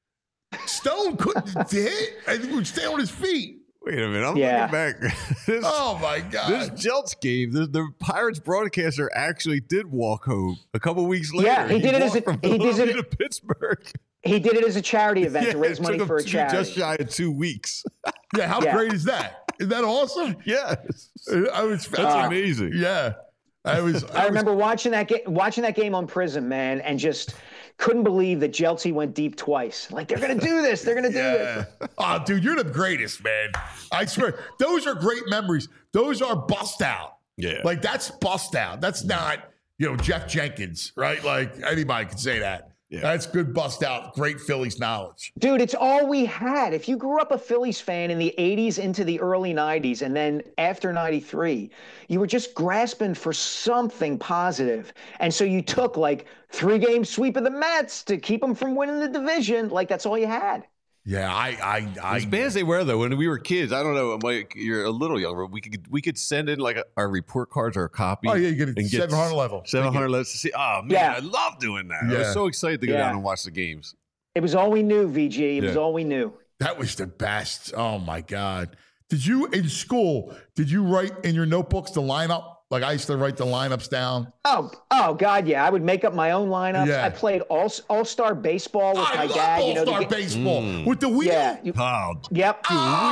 Stone couldn't hit and he would stay on his feet. Wait a minute. I'm looking back. Oh, my God. This Jelts game, the Pirates broadcaster actually did walk home a couple weeks later. Yeah, he did it to Pittsburgh. He did it as a charity event to raise money for a charity. Just shy of 2 weeks. Yeah, how great is that? Isn't that awesome? Yes. That's amazing. Yeah. I remember watching that game on Prism, man, and just couldn't believe that Jeltsy went deep twice. Like, they're going to do this. They're going to do this. Oh, dude, you're the greatest, man. I swear. Those are great memories. Those are bust out. Yeah. Like, that's bust out. That's not, Jeff Jenkins, right? Like, anybody can say that. Yeah. That's good bust out. Great Phillies knowledge. Dude, it's all we had. If you grew up a Phillies fan in the 80s into the early 90s, and then after 93, you were just grasping for something positive. And so you took like 3-game sweep of the Mets to keep them from winning the division. Like, that's all you had. Yeah, as bad as they were though, when we were kids, I don't know, Mike, you're a little younger. We could send in like our report cards or a copy. Oh yeah, you get 700 level. 700 levels to see. Oh man, I love doing that. I was so excited to go down and watch the games. It was all we knew, VG. It was all we knew. That was the best. Oh my God. Did you in school? Did you write in your notebooks the lineup? Like, I used to write the lineups down. Oh God, yeah. I would make up my own lineups. Yeah. I played all-star baseball with my dad. All-star baseball with the wheel. Yeah. Yep.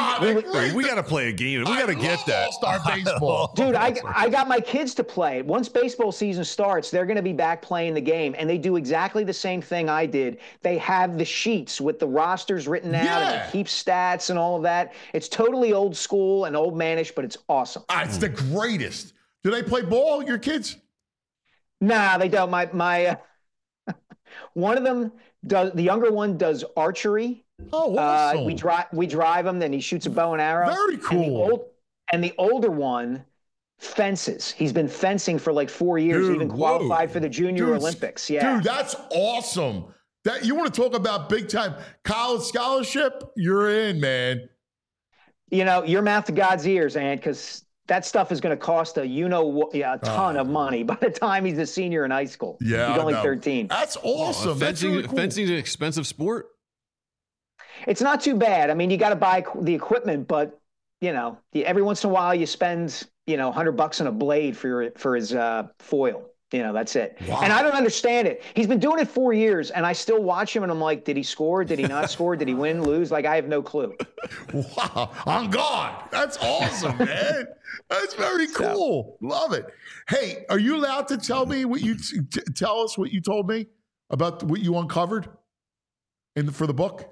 We got to play a game. We got to get that. All-star baseball. Dude, I got my kids to play it. Once baseball season starts, they're going to be back playing the game, and they do exactly the same thing I did. They have the sheets with the rosters written out, and they keep stats and all of that. It's totally old school and old manish, but it's awesome. It's the greatest. Do they play ball, your kids? Nah, they don't. My one of them does. The younger one does archery. Oh, awesome. We drive him. Then he shoots a bow and arrow. Very cool. And the older one fences. He's been fencing for like 4 years. Dude, even qualified for the Junior Olympics. Yeah, dude, that's awesome. That you want to talk about big time college scholarship? You're in, man. Your mouth to God's ears, Ant, because that stuff is going to cost a ton of money by the time he's a senior in high school. Yeah, he's only 13. That's awesome. Fencing's an expensive sport. It's not too bad. I mean, you got to buy the equipment, but every once in a while you spend $100 on a blade for his foil. That's it. Wow. And I don't understand it. He's been doing it 4 years, and I still watch him, and I'm like, did he score? Did he not score? Did he win, lose? Like, I have no clue. Wow. On God. That's awesome, man. That's very cool. Love it. Hey, are you allowed to tell me what you tell us what you told me about what you uncovered for the book?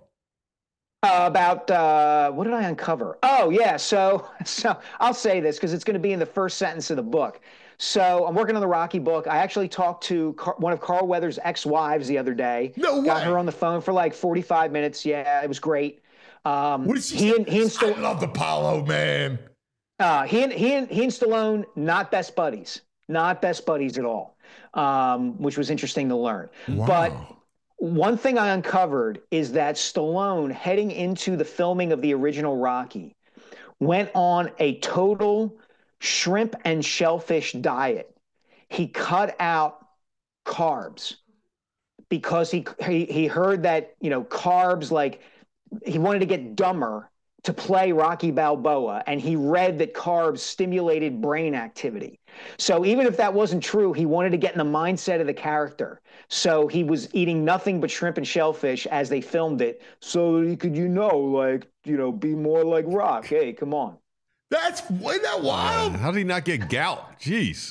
About what did I uncover? Oh, yeah. So I'll say this because it's going to be in the first sentence of the book. So I'm working on the Rocky book. I actually talked to one of Carl Weathers' ex-wives the other day. No way. Got her on the phone for like 45 minutes. Yeah, it was great. What did she say? I love Apollo, man. He and Stallone, not best buddies. Not best buddies at all, which was interesting to learn. Wow. But one thing I uncovered is that Stallone, heading into the filming of the original Rocky, went on a total shrimp and shellfish diet. He cut out carbs because he heard that, carbs, like, he wanted to get dumber to play Rocky Balboa, and he read that carbs stimulated brain activity. So even if that wasn't true, he wanted to get in the mindset of the character. So he was eating nothing but shrimp and shellfish as they filmed it, so he could, be more like Rock. Hey, come on. Isn't that wild? How did he not get gout? Jeez.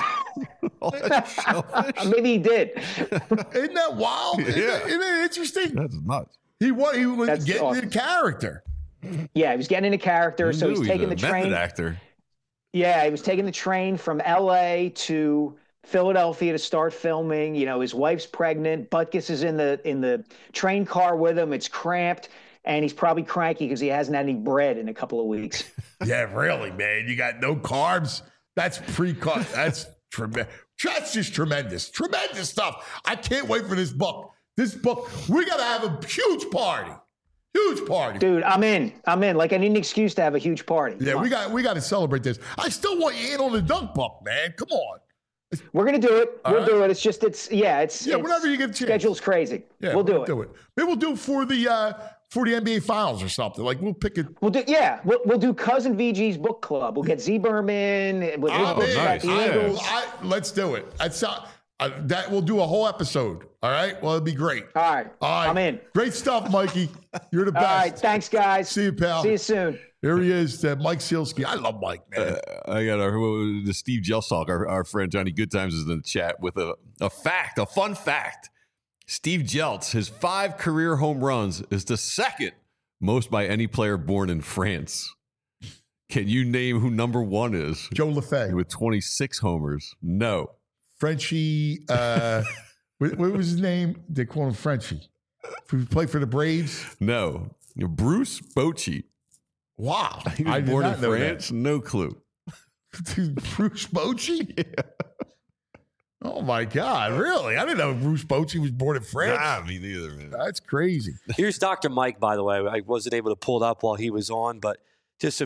Maybe he did. Isn't that wild? Yeah. Isn't that interesting? That's nuts. He was getting into character. Yeah, he was getting into character. So he's taking the train. Actor. Yeah, he was taking the train from L.A. to Philadelphia to start filming. You know, his wife's pregnant. Butkus is in the train car with him. It's cramped, and he's probably cranky because he hasn't had any bread in a couple of weeks. Yeah, really, man. You got no carbs. That's pre-cut. That's tremendous. That's just tremendous. Tremendous stuff. I can't wait for this book. This book, we got to have a huge party. Huge party. Dude, I'm in. Like, I need an excuse to have a huge party. Yeah, we got to celebrate this. I still want you in on the dunk book, man. Come on. We're going to do it. We'll do it. It's whenever you get a chance. Schedule's crazy. Yeah, we'll do it. Maybe we'll do it for the NBA Finals or something. Like, we'll pick it. We'll do Cousin VG's book club. We'll get Z Berman. With his books about the Eagles. Let's do it. That we'll do a whole episode. All right. Well, it'd be great. All right. I'm in. Great stuff, Mikey. You're the best. All right. Thanks, guys. See you, pal. See you soon. Here he is, Mike Sealski. I love Mike, man. I got the Steve Jelstock, our friend Johnny Goodtimes is in the chat with a fun fact. Steve Jeltz, his 5 career home runs is the second most by any player born in France. Can you name who number 1 is? Joe Lefebvre. With 26 homers. No. Frenchie, what was his name? They call him Frenchie. Who played for the Braves? No. Bruce Bochy. Wow. He was born in France? No clue. Bruce Bochy? Yeah. Oh, my God. Really? I didn't know Bruce Bochy was born in France. Nah, me neither, man. That's crazy. Here's Dr. Mike, by the way. I wasn't able to pull it up while he was on, but just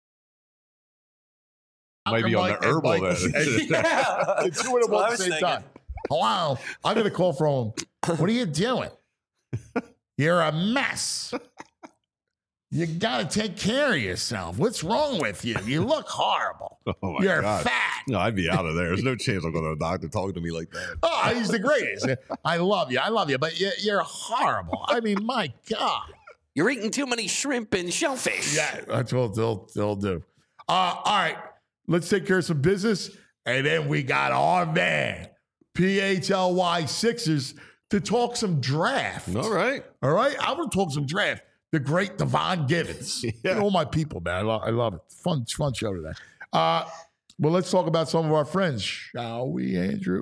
might be on the herbal. Yeah. It's two of them at the same time. Hello. I'm going to call from him. What are you doing? You're a mess. You got to take care of yourself. What's wrong with you? You look horrible. Oh my You're God. fat. No, I'd be out of there. There's no chance I'm going to a doctor talking to me like that. Oh, he's the greatest. I love you. But you're horrible. I mean, my God. You're eating too many shrimp and shellfish. Yeah, that's what they'll do. All right. Let's take care of some business. And then we got our man, PHLY Sixers, to talk some draft. All right. I'm going to talk some draft. The great Devon Givens. Yeah. All my people, man. I love it. Fun show today. Well, let's talk about some of our friends, shall we, Andrew?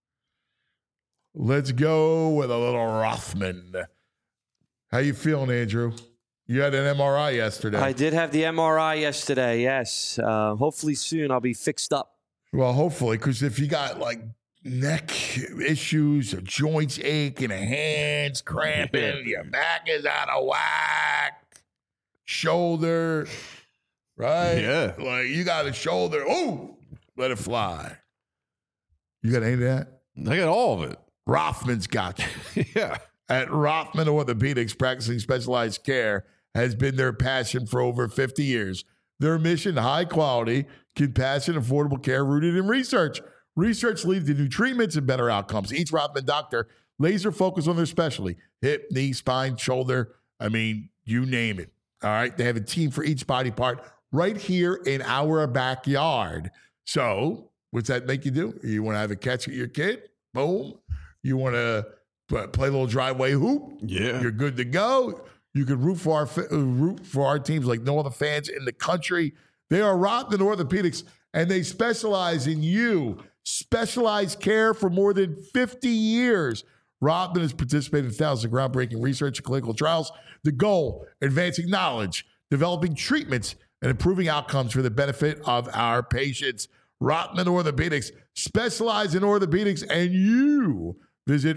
Let's go with a little Rothman. How you feeling, Andrew? You had an MRI yesterday. I did have the MRI yesterday, yes. Hopefully soon I'll be fixed up. Well, hopefully, because if you got like neck issues, or joints aching, hands cramping, your back is out of whack, shoulder, right? Yeah. Like you got a shoulder. Oh, let it fly. You got any of that? I got all of it. Rothman's got you. Yeah. At Rothman Orthopedics, practicing specialized care has been their passion for over 50 years. Their mission, high quality, compassionate, affordable care rooted in research. Research leads to new treatments and better outcomes. Each Rothman doctor laser focus on their specialty: hip, knee, spine, shoulder. I mean, you name it. All right. They have a team for each body part right here in our backyard. So what's that make you do? You want to have a catch with your kid? Boom. You want to play a little driveway hoop? Yeah. You're good to go. You can root for our teams like no other fans in the country. They are Rothman Orthopedics, and they specialize in you. Specialized care for more than 50 years. Rothman has participated in thousands of groundbreaking research and clinical trials. The goal, advancing knowledge, developing treatments, and improving outcomes for the benefit of our patients. Rothman Orthopedics, specialize in orthopedics, and you visit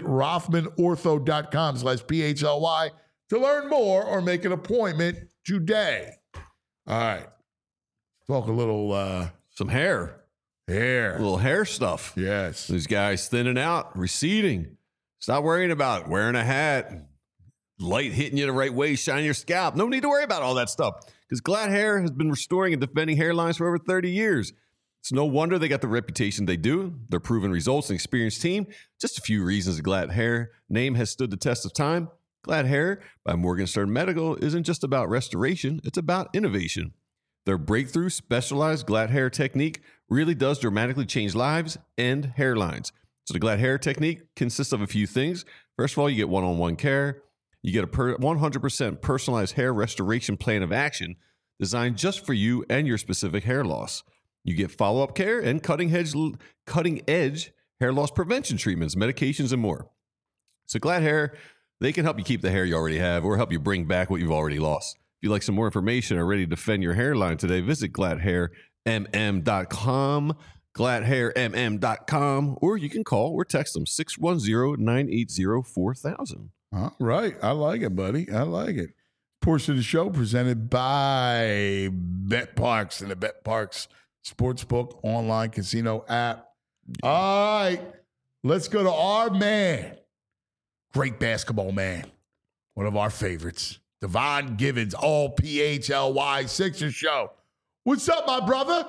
rothmanortho.com/PHLY to learn more or make an appointment today. All right. Talk a little some hair. Hair. A little hair stuff. Yes. These guys thinning out, receding. Stop worrying about wearing a hat, light hitting you the right way, shining your scalp. No need to worry about all that stuff because Glad Hair has been restoring and defending hairlines for over 30 years. It's no wonder they got the reputation they do. Their proven results and experienced team. Just a few reasons the Glad Hair name has stood the test of time. Glad Hair by Morgenstern Medical isn't just about restoration. It's about innovation. Their breakthrough specialized Glad Hair technique really does dramatically change lives and hairlines. So the Glad Hair technique consists of a few things. First of all, you get one-on-one care. You get a 100% personalized hair restoration plan of action designed just for you and your specific hair loss. You get follow-up care and cutting-edge hair loss prevention treatments, medications, and more. So Glad Hair, they can help you keep the hair you already have or help you bring back what you've already lost. If you'd like some more information or ready to defend your hairline today, visit gladhairmm.com, gladhairmm.com, or you can call or text them 610-980-4000. All right. I like it, buddy. I like it. Portion of the show presented by BetParx and the BetParx Sportsbook online casino app. All right. Let's go to our man. Great basketball man. One of our favorites. Devon Givens, all PHLY Sixers show. What's up, my brother?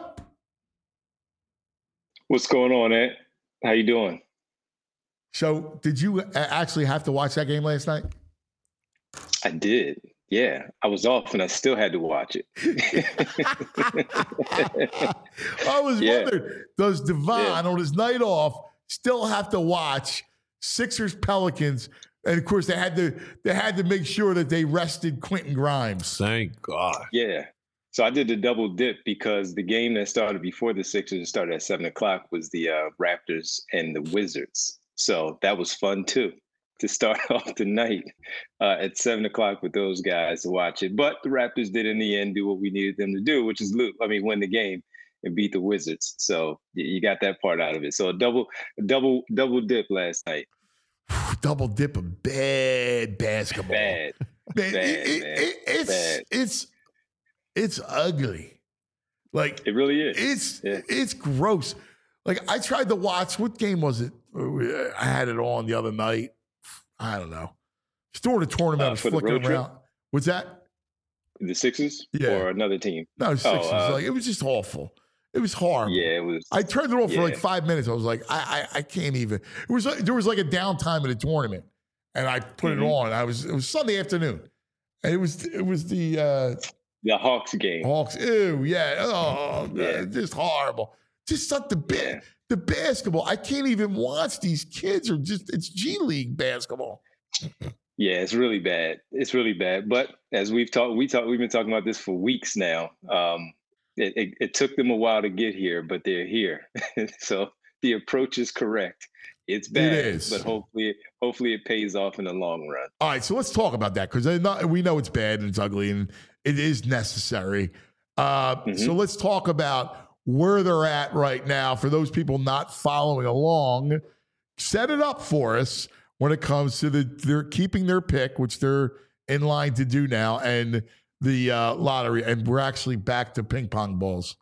What's going on, Ant? How you doing? So, did you actually have to watch that game last night? I did. Yeah, I was off and I still had to watch it. I was wondering, does Devon on his night off still have to watch Sixers Pelicans? And of course, they had to make sure that they rested Quentin Grimes. Thank God. Yeah. So I did the double dip because the game that started before the Sixers started at 7:00 was the Raptors and the Wizards. So that was fun too, to start off the night at 7:00 with those guys to watch it. But the Raptors did in the end do what we needed them to do, which is win the game and beat the Wizards. So you got that part out of it. So a double dip last night. Double dip of bad basketball. Bad. It's ugly. Like it really is. It's gross. Like I tried to watch. What game was it? I had it on the other night. I don't know. Just during the tournament, I was flicking around. What's that? The Sixers? Yeah. Or another team? No, Sixers. It was just awful. It was horrible. Yeah, it was. I turned it off for like 5 minutes. I was like, I can't even. There was like a downtime in the tournament, and I put it on. It was Sunday afternoon, and it was the Hawks game. Hawks. Ew, yeah. Oh, yeah. Just horrible. Just not the basketball. I can't even watch these kids. It's G League basketball. Yeah, it's really bad. It's really bad. But as we've been talking about this for weeks now. It took them a while to get here, but they're here. So the approach is correct. It's bad, it is. But hopefully it pays off in the long run. All right, so let's talk about that because we know it's bad and it's ugly and it is necessary. So let's talk about where they're at right now for those people not following along. Set it up for us when it comes to they're keeping their pick, which they're in line to do now, and the lottery, and we're actually back to ping pong balls.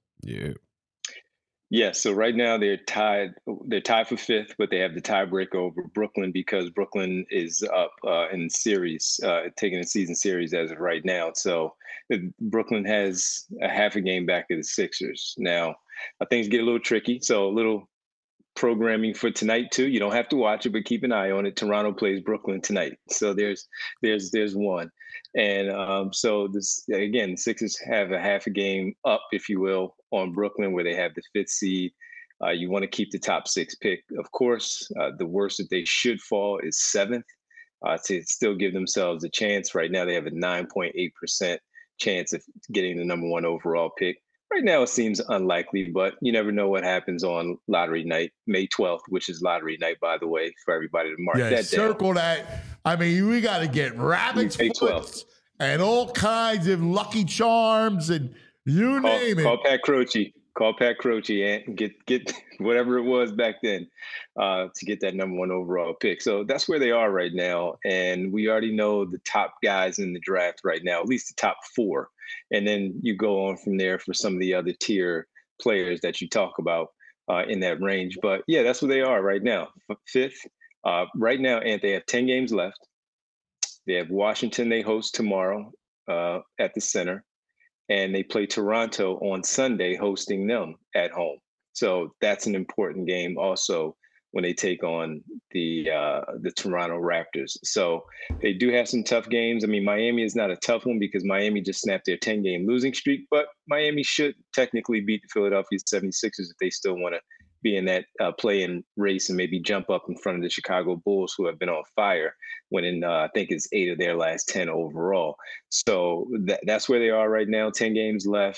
Yeah. So right now they're tied. They're tied for fifth, but they have the tiebreaker over Brooklyn because Brooklyn is up in series, taking a season series as of right now. So Brooklyn has a half a game back of the Sixers. Now things get a little tricky. So a little programming for tonight too. You don't have to watch it, but keep an eye on it. Toronto plays Brooklyn tonight. So there's one. And so this again, the Sixers have a half a game up, if you will, on Brooklyn, where they have the fifth seed. You want to keep the top six pick, of course. The worst that they should fall is seventh to still give themselves a chance. Right now, they have a 9.8% chance of getting the number one overall pick. Right now, it seems unlikely, but you never know what happens on lottery night, May 12th, which is lottery night, by the way, for everybody to mark that down. Circle that. I mean, we got to get rabbit's foots and all kinds of Lucky Charms and you name it. Call Pat Croce and get whatever it was back then to get that number one overall pick. So that's where they are right now. And we already know the top guys in the draft right now, at least the top four. And then you go on from there for some of the other tier players that you talk about in that range. But yeah, that's where they are right now. Fifth. Right now, and they have 10 games left. They have Washington they host tomorrow at the Center. And they play Toronto on Sunday, hosting them at home. So that's an important game also when they take on the Toronto Raptors. So they do have some tough games. I mean, Miami is not a tough one because Miami just snapped their 10-game losing streak, but Miami should technically beat the Philadelphia 76ers if they still want to be in that play-in race and maybe jump up in front of the Chicago Bulls, who have been on fire, winning, I think it's 8 of their last 10 overall. So that's where they are right now, 10 games left.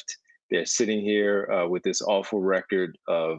They're sitting here with this awful record of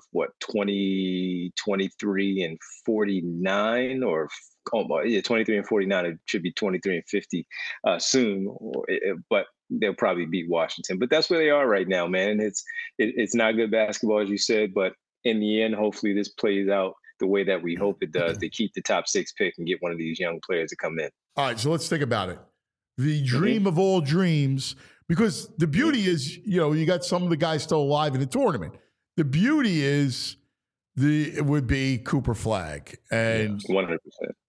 23 and 49, or 23 and 49. It should be 23 and 50 soon, but they'll probably beat Washington. But that's where they are right now, man. And it's not good basketball, as you said, but in the end, hopefully this plays out the way that we hope it does. They keep the top 6 pick and get one of these young players to come in. All right, so let's think about it. The dream of all dreams, because the beauty is, you got some of the guys still alive in the tournament. The beauty is it would be Cooper Flagg. And 100%.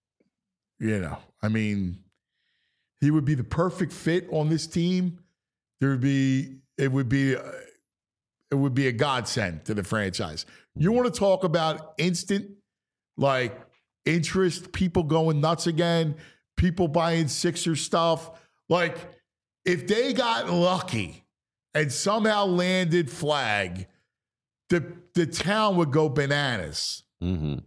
He would be the perfect fit on this team. It would be a godsend to the franchise. You want to talk about instant, interest, people going nuts again, people buying Sixers stuff. If they got lucky and somehow landed Flagg, the town would go bananas. Mm-hmm.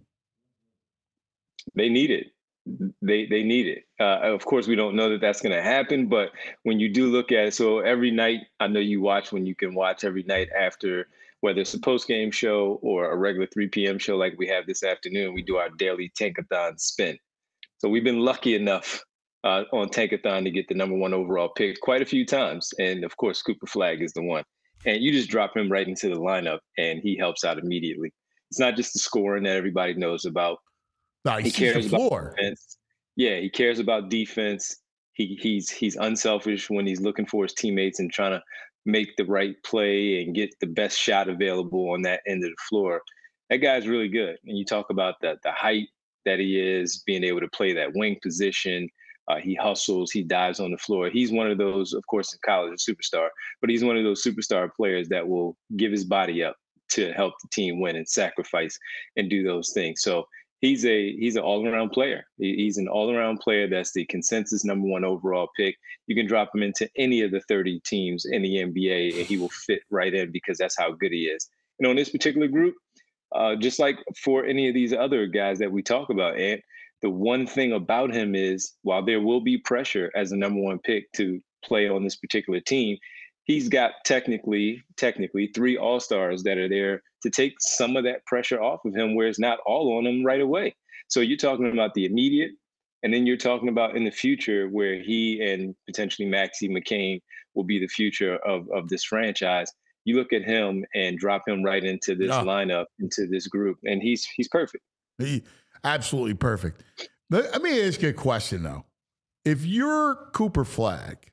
They need it. They need it. Of course, we don't know that that's going to happen, but when you do look at it, so every night, I know you watch when you can watch every night after, whether it's a post-game show or a regular 3 p.m. show like we have this afternoon, we do our daily Tankathon spin. So we've been lucky enough on Tankathon to get the number 1 overall pick quite a few times. And of course, Cooper Flagg is the one. And you just drop him right into the lineup and he helps out immediately. It's not just the scoring that everybody knows about. No, he cares about defense. Yeah, he cares about defense. He's unselfish when he's looking for his teammates and trying to make the right play and get the best shot available on that end of the floor. That guy's really good. And you talk about the height that he is, being able to play that wing position. He hustles, he dives on the floor. He's one of those, of course, in college, a superstar, but he's one of those superstar players that will give his body up to help the team win and sacrifice and do those things. So he's an all-around player. He's an all-around player that's the consensus number 1 overall pick. You can drop him into any of the 30 teams in the NBA and he will fit right in because that's how good he is. And on this particular group, just like for any of these other guys that we talk about, Ant, the one thing about him is while there will be pressure as the number 1 pick to play on this particular team, he's got technically 3 all-stars that are there to take some of that pressure off of him where it's not all on him right away. So you're talking about the immediate, and then you're talking about in the future where he and potentially Maxey McCain will be the future of this franchise. You look at him and drop him right into this lineup, into this group, and he's perfect. Absolutely perfect. Let me ask you a question, though. If you're Cooper Flagg,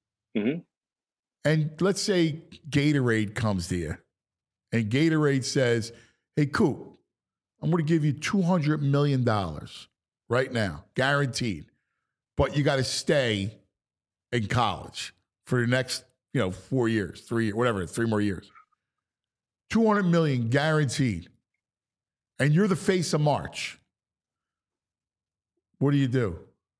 and let's say Gatorade comes to you, and Gatorade says, hey, Coop, I'm going to give you $200 million right now, guaranteed, but you got to stay in college for the next 4 years, 3 years, whatever, 3 more years. $200 million guaranteed. And you're the face of March. What do you do?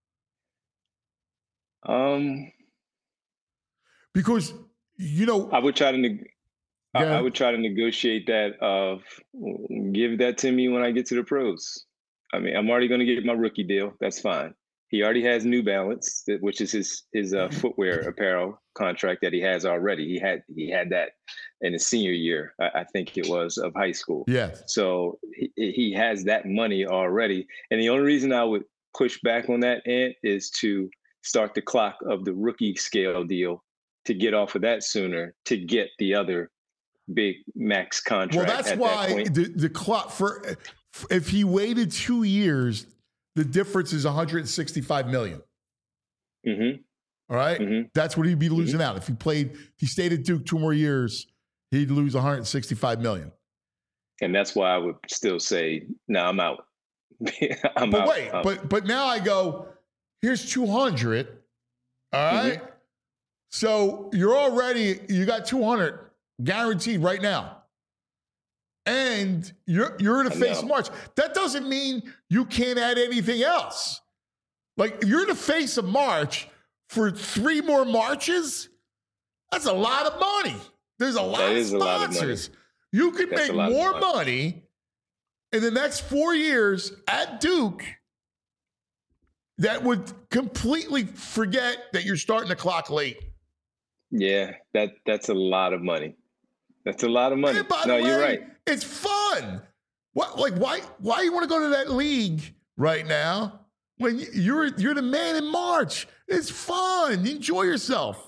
Because I would try to I would try to negotiate that of give that to me when I get to the pros. I mean, I'm already going to get my rookie deal. That's fine. He already has New Balance, which is his footwear apparel contract that he has already. He had that in his senior year, I think it was, of high school. Yes. So he has that money already. And the only reason I would push back on that, Ant, is to start the clock of the rookie scale deal to get off of that sooner to get the other big max contract. Well, that's why the clock for if he waited 2 years, the difference is $165 million. Mm-hmm. All right? Mm-hmm. That's what he'd be losing out. If he stayed at Duke 2 more years, he'd lose $165 million. And that's why I would still say, no, I'm out. But now I go, here's 200. All right? Mm-hmm. So you got 200 guaranteed right now. And you're in a face March. That doesn't mean you can't add anything else. Like, if you're in the face of March for 3 more Marches, that's a lot of money. There's a lot of sponsors. You can make more money in the next 4 years at Duke that would completely forget that you're starting the clock late. Yeah, that's a lot of money. That's a lot of money. And by no, the way, you're right. It's fun. What, like, why you want to go to that league right now when you're the man in March? It's fun. Enjoy yourself.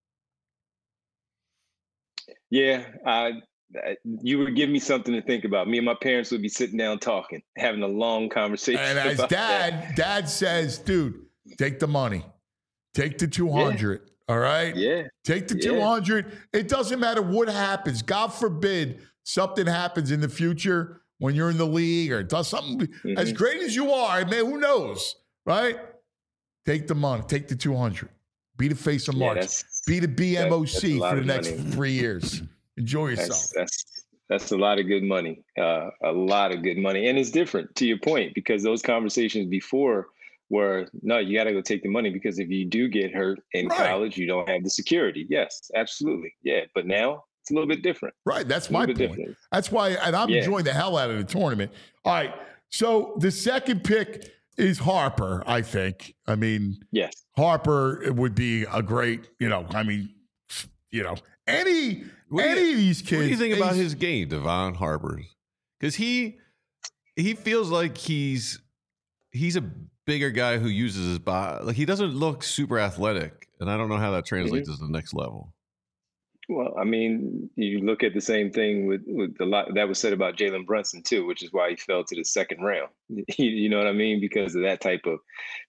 Yeah, you would give me something to think about. Me and my parents would be sitting down talking, having a long conversation. And as dad says, dude, take the money. Take the 200. Yeah. All right? Yeah. Take the 200. It doesn't matter what happens. God forbid something happens in the future when you're in the league or does something as great as you are. Man, who knows? Right? Take the money. Take the 200. Be the face of March. Be the BMOC for the next 3 years. Enjoy yourself. That's a lot of good money. A lot of good money. And it's different, to your point, because those conversations before were, no, you got to go take the money because if you do get hurt in college, you don't have the security. Yes, absolutely. Yeah. But now it's a little bit different. Right. That's my point. Different. That's why, and I'm enjoying the hell out of the tournament. All right. So the second pick is Harper, I think. I mean, yes, Harper would be a great, any of these kids. What do you think about his game, Devon Harper? Because he feels like he's a bigger guy who uses his body. Like, he doesn't look super athletic, and I don't know how that translates to the next level. Well, I mean, you look at the same thing with a lot that was said about Jalen Brunson too, which is why he fell to the second round. You know what I mean? Because of that type of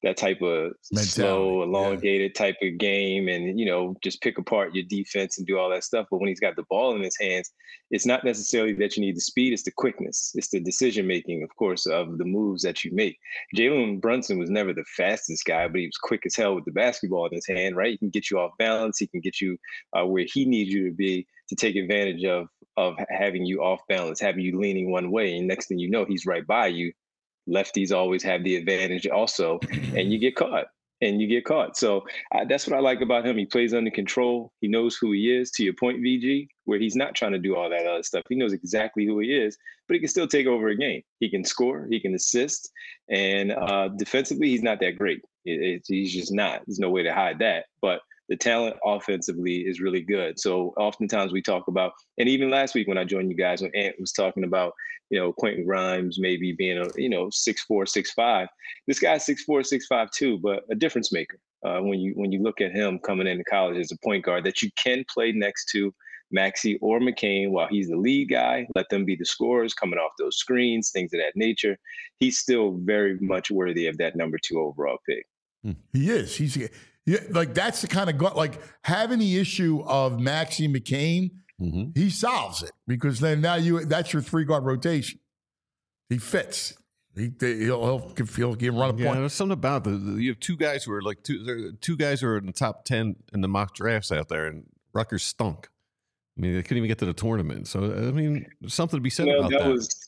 slow, elongated type of game, and just pick apart your defense and do all that stuff. But when he's got the ball in his hands, it's not necessarily that you need the speed; it's the quickness, it's the decision making, of course, of the moves that you make. Jalen Brunson was never the fastest guy, but he was quick as hell with the basketball in his hand. Right? He can get you off balance. He can get you where he needs you to be to take advantage of having you off balance, having you leaning one way, and next thing you know, he's right by you. Lefties always have the advantage also, and you get caught. So that's what I like about him. He plays under control. He knows who he is, to your point, VG, where he's not trying to do all that other stuff. He knows exactly who he is, but he can still take over a game. He can score, he can assist, and defensively, he's not that great. He's just not. There's no way to hide that. But the talent offensively is really good. So oftentimes we talk about, and even last week when I joined you guys, when Ant was talking about, Quentin Grimes maybe being a, 6'4", 6'5". This guy's 6'4", 6'5" too, but a difference maker. When you look at him coming into college as a point guard that you can play next to Maxey or McCain while he's the lead guy, let them be the scorers coming off those screens, things of that nature. He's still very much worthy of that number 2 overall pick. He is. Like, that's the kind of like having the issue of Maxey McCain. He solves it because then now that's your 3-guard rotation. He fits. He'll run a point. There's something about you have two guys who are like two guys who are in the top 10 in the mock drafts out there, and Rutgers stunk. I mean, they couldn't even get to the tournament. So I mean, there's something to be said about that. That was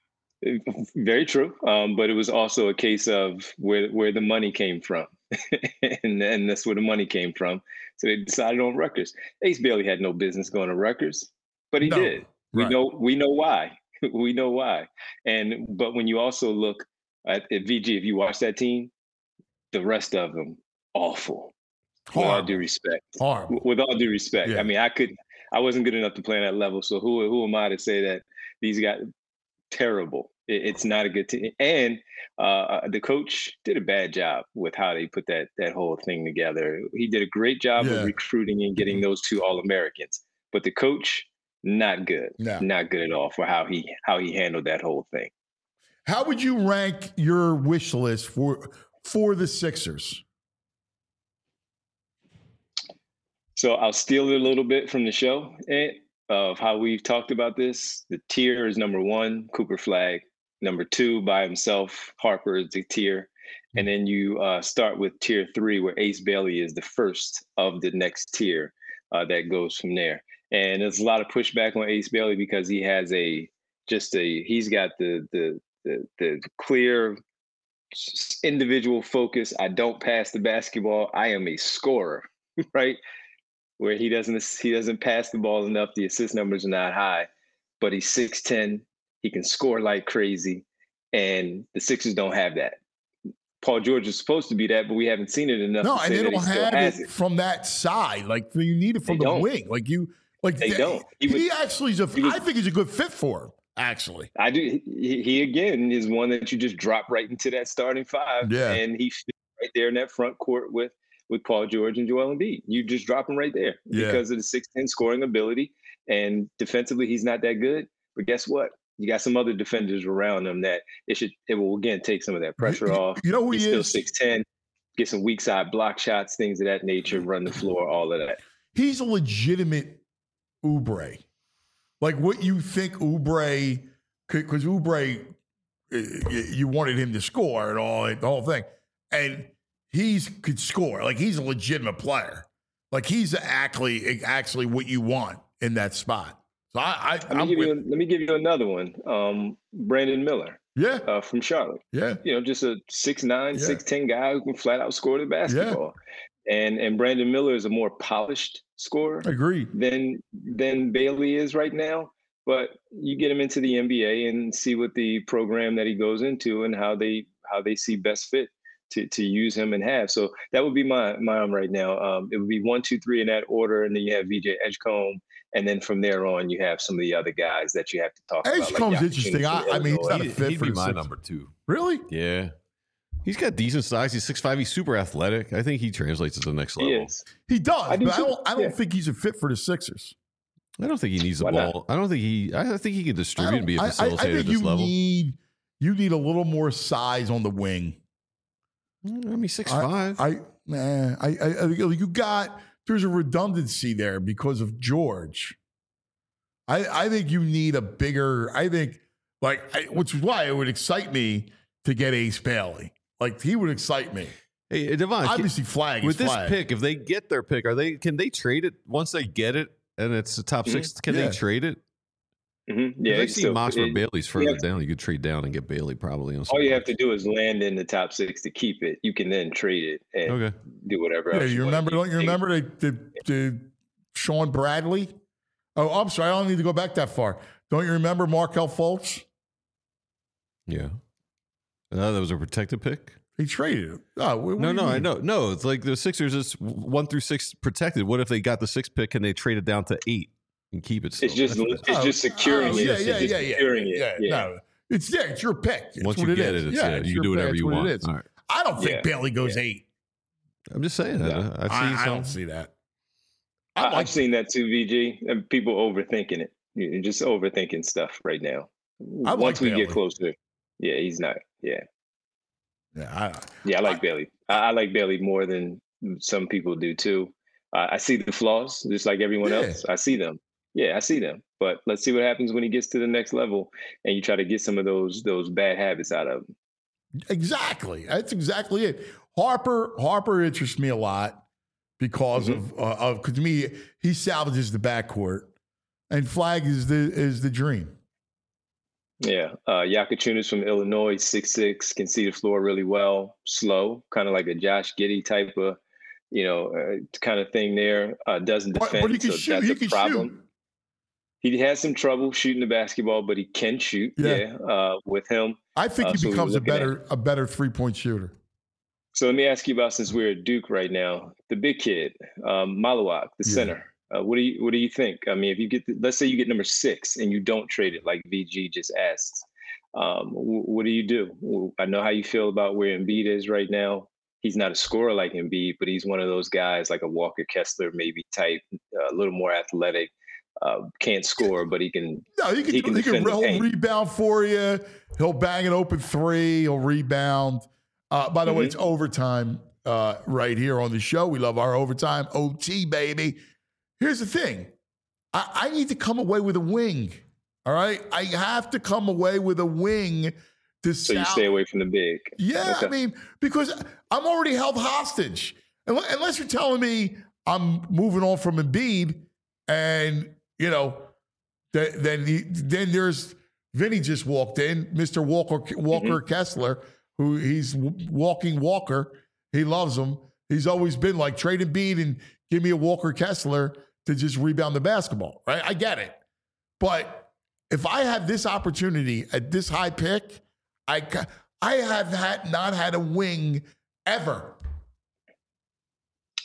very true, but it was also a case of where the money came from. and that's where the money came from. So they decided on Rutgers. Ace Bailey had no business going to Rutgers, but he did. We know why. We know why. But when you also look at VG, if you watch that team, the rest of them awful. With all due respect. With all due respect. Yeah. I mean, I wasn't good enough to play on that level. So who am I to say that these guys terrible? It's not a good team. And the coach did a bad job with how they put that whole thing together. He did a great job of recruiting and getting those 2 All-Americans. But the coach, not good. No. Not good at all for how he handled that whole thing. How would you rank your wish list for the Sixers? So I'll steal it a little bit from the show, of how we've talked about this. The tier is number 1, Cooper Flagg. Number 2, by himself, Harper is the tier. And then you start with tier 3, where Ace Bailey is the first of the next tier that goes from there. And there's a lot of pushback on Ace Bailey because he has he's got the clear individual focus. I don't pass the basketball. I am a scorer, right? Where he doesn't pass the ball enough. The assist numbers are not high, but he's 6'10". He can score like crazy, and the Sixers don't have that. Paul George is supposed to be that, but we haven't seen it enough. No, and they don't have it from that side. Like, you need it from the wing. Like they don't. He actually is I think he's a good fit for him. Actually, I do. He again is one that you just drop right into that starting five, and he fits right there in that front court with Paul George and Joel Embiid. You just drop him right there because of the 6'10" scoring ability, and defensively he's not that good. But guess what? You got some other defenders around him that it will again take some of that pressure off. You know who he's he still is? 6'10", get some weak side block shots, things of that nature, run the floor, all of that. He's a legitimate Oubre. Like what you think Oubre, because Oubre, you wanted him to score and the whole thing. And he could score. Like he's a legitimate player. Like he's actually what you want in that spot. So let me give you another one. Brandon Miller. Yeah. From Charlotte. Yeah. Just a 6'9", 6'10" guy who can flat out score the basketball. Yeah. And Brandon Miller is a more polished scorer. Agreed. Than Bailey is right now. But you get him into the NBA and see what the program that he goes into and how they see best fit to use him and have. So that would be my right now. It would be 1, 2, 3 in that order, and then you have VJ Edgecombe. And then from there on, you have some of the other guys that you have to talk about. Edgecombe's interesting. I mean, he's not a fit for my number 2. Really? Yeah. He's got decent size. He's 6'5". He's super athletic. I think he translates to the next level. He does. I don't think he's a fit for the Sixers. I don't think he needs the ball. I think he can distribute and be a facilitator at this level. You need a little more size on the wing. I mean, 6'5". There's a redundancy there because of George. I think you need a bigger. Which is why it would excite me to get Ace Bailey. Like he would excite me. Hey, Devon, obviously flag with is this pick. If they get their pick, can they trade it once they get it and it's the top 6? Can they trade it? Mm-hmm. Yeah, I've seen mocks where Bailey's further down. You could trade down and get Bailey probably. All you have to do is land in the top 6 to keep it. You can then trade it and do whatever else. You remember? Don't you remember the Sean Bradley? Oh, I'm sorry. I don't need to go back that far. Don't you remember Markelle Fultz? Yeah. That was a protected pick. He traded it. Oh, no, I know. No, it's like the Sixers is 1 through 6 protected. What if they got the 6th pick and they trade it down to 8? And keep it. Still. It's just securing it. No, it's your pick. Once you get it, you can do whatever you want. All right. I don't think Bailey goes 8. I'm just saying. I don't see that. I've seen that too, VG, and people overthinking it. You're just overthinking stuff right now. Once we get closer, he's not. I like Bailey. I like Bailey more than some people do too. I see the flaws, just like everyone else. I see them. Yeah, I see them. But let's see what happens when he gets to the next level and you try to get some of those bad habits out of him. Exactly. That's exactly it. Harper interests me a lot because of to me, he salvages the backcourt, and Flag is the dream. Yeah. Yakachunas from Illinois, 6'6", can see the floor really well, slow, kind of like a Josh Giddey type of, kind of thing there. Doesn't defend, but he can shoot. That's a problem. Shoot. He has some trouble shooting the basketball, but he can shoot. With him, I think he becomes a better 3-point shooter. So let me ask you about, since we're at Duke right now, the big kid, Malawak, the center. What do you think? I mean, if you get, let's say you get number 6 and you don't trade it, like VG just asked, what do you do? I know how you feel about where Embiid is right now. He's not a scorer like Embiid, but he's one of those guys like a Walker Kessler maybe type, a little more athletic. Can't score, but he can. No, he can rebound for you. He'll bang an open 3. He'll rebound. By the way, it's overtime right here on the show. We love our overtime. OT, baby. Here's the thing. I need to come away with a wing. All right? I have to come away with a wing. You stay away from the big. Yeah, okay. I mean, because I'm already held hostage. Unless you're telling me I'm moving on from Embiid and, then there's Vinny just walked in, Mr. Walker Kessler, who he's walking Walker. He loves him. He's always been like, trade Embiid and give me a Walker Kessler to just rebound the basketball, right? I get it. But if I have this opportunity at this high pick, I have not had a wing ever.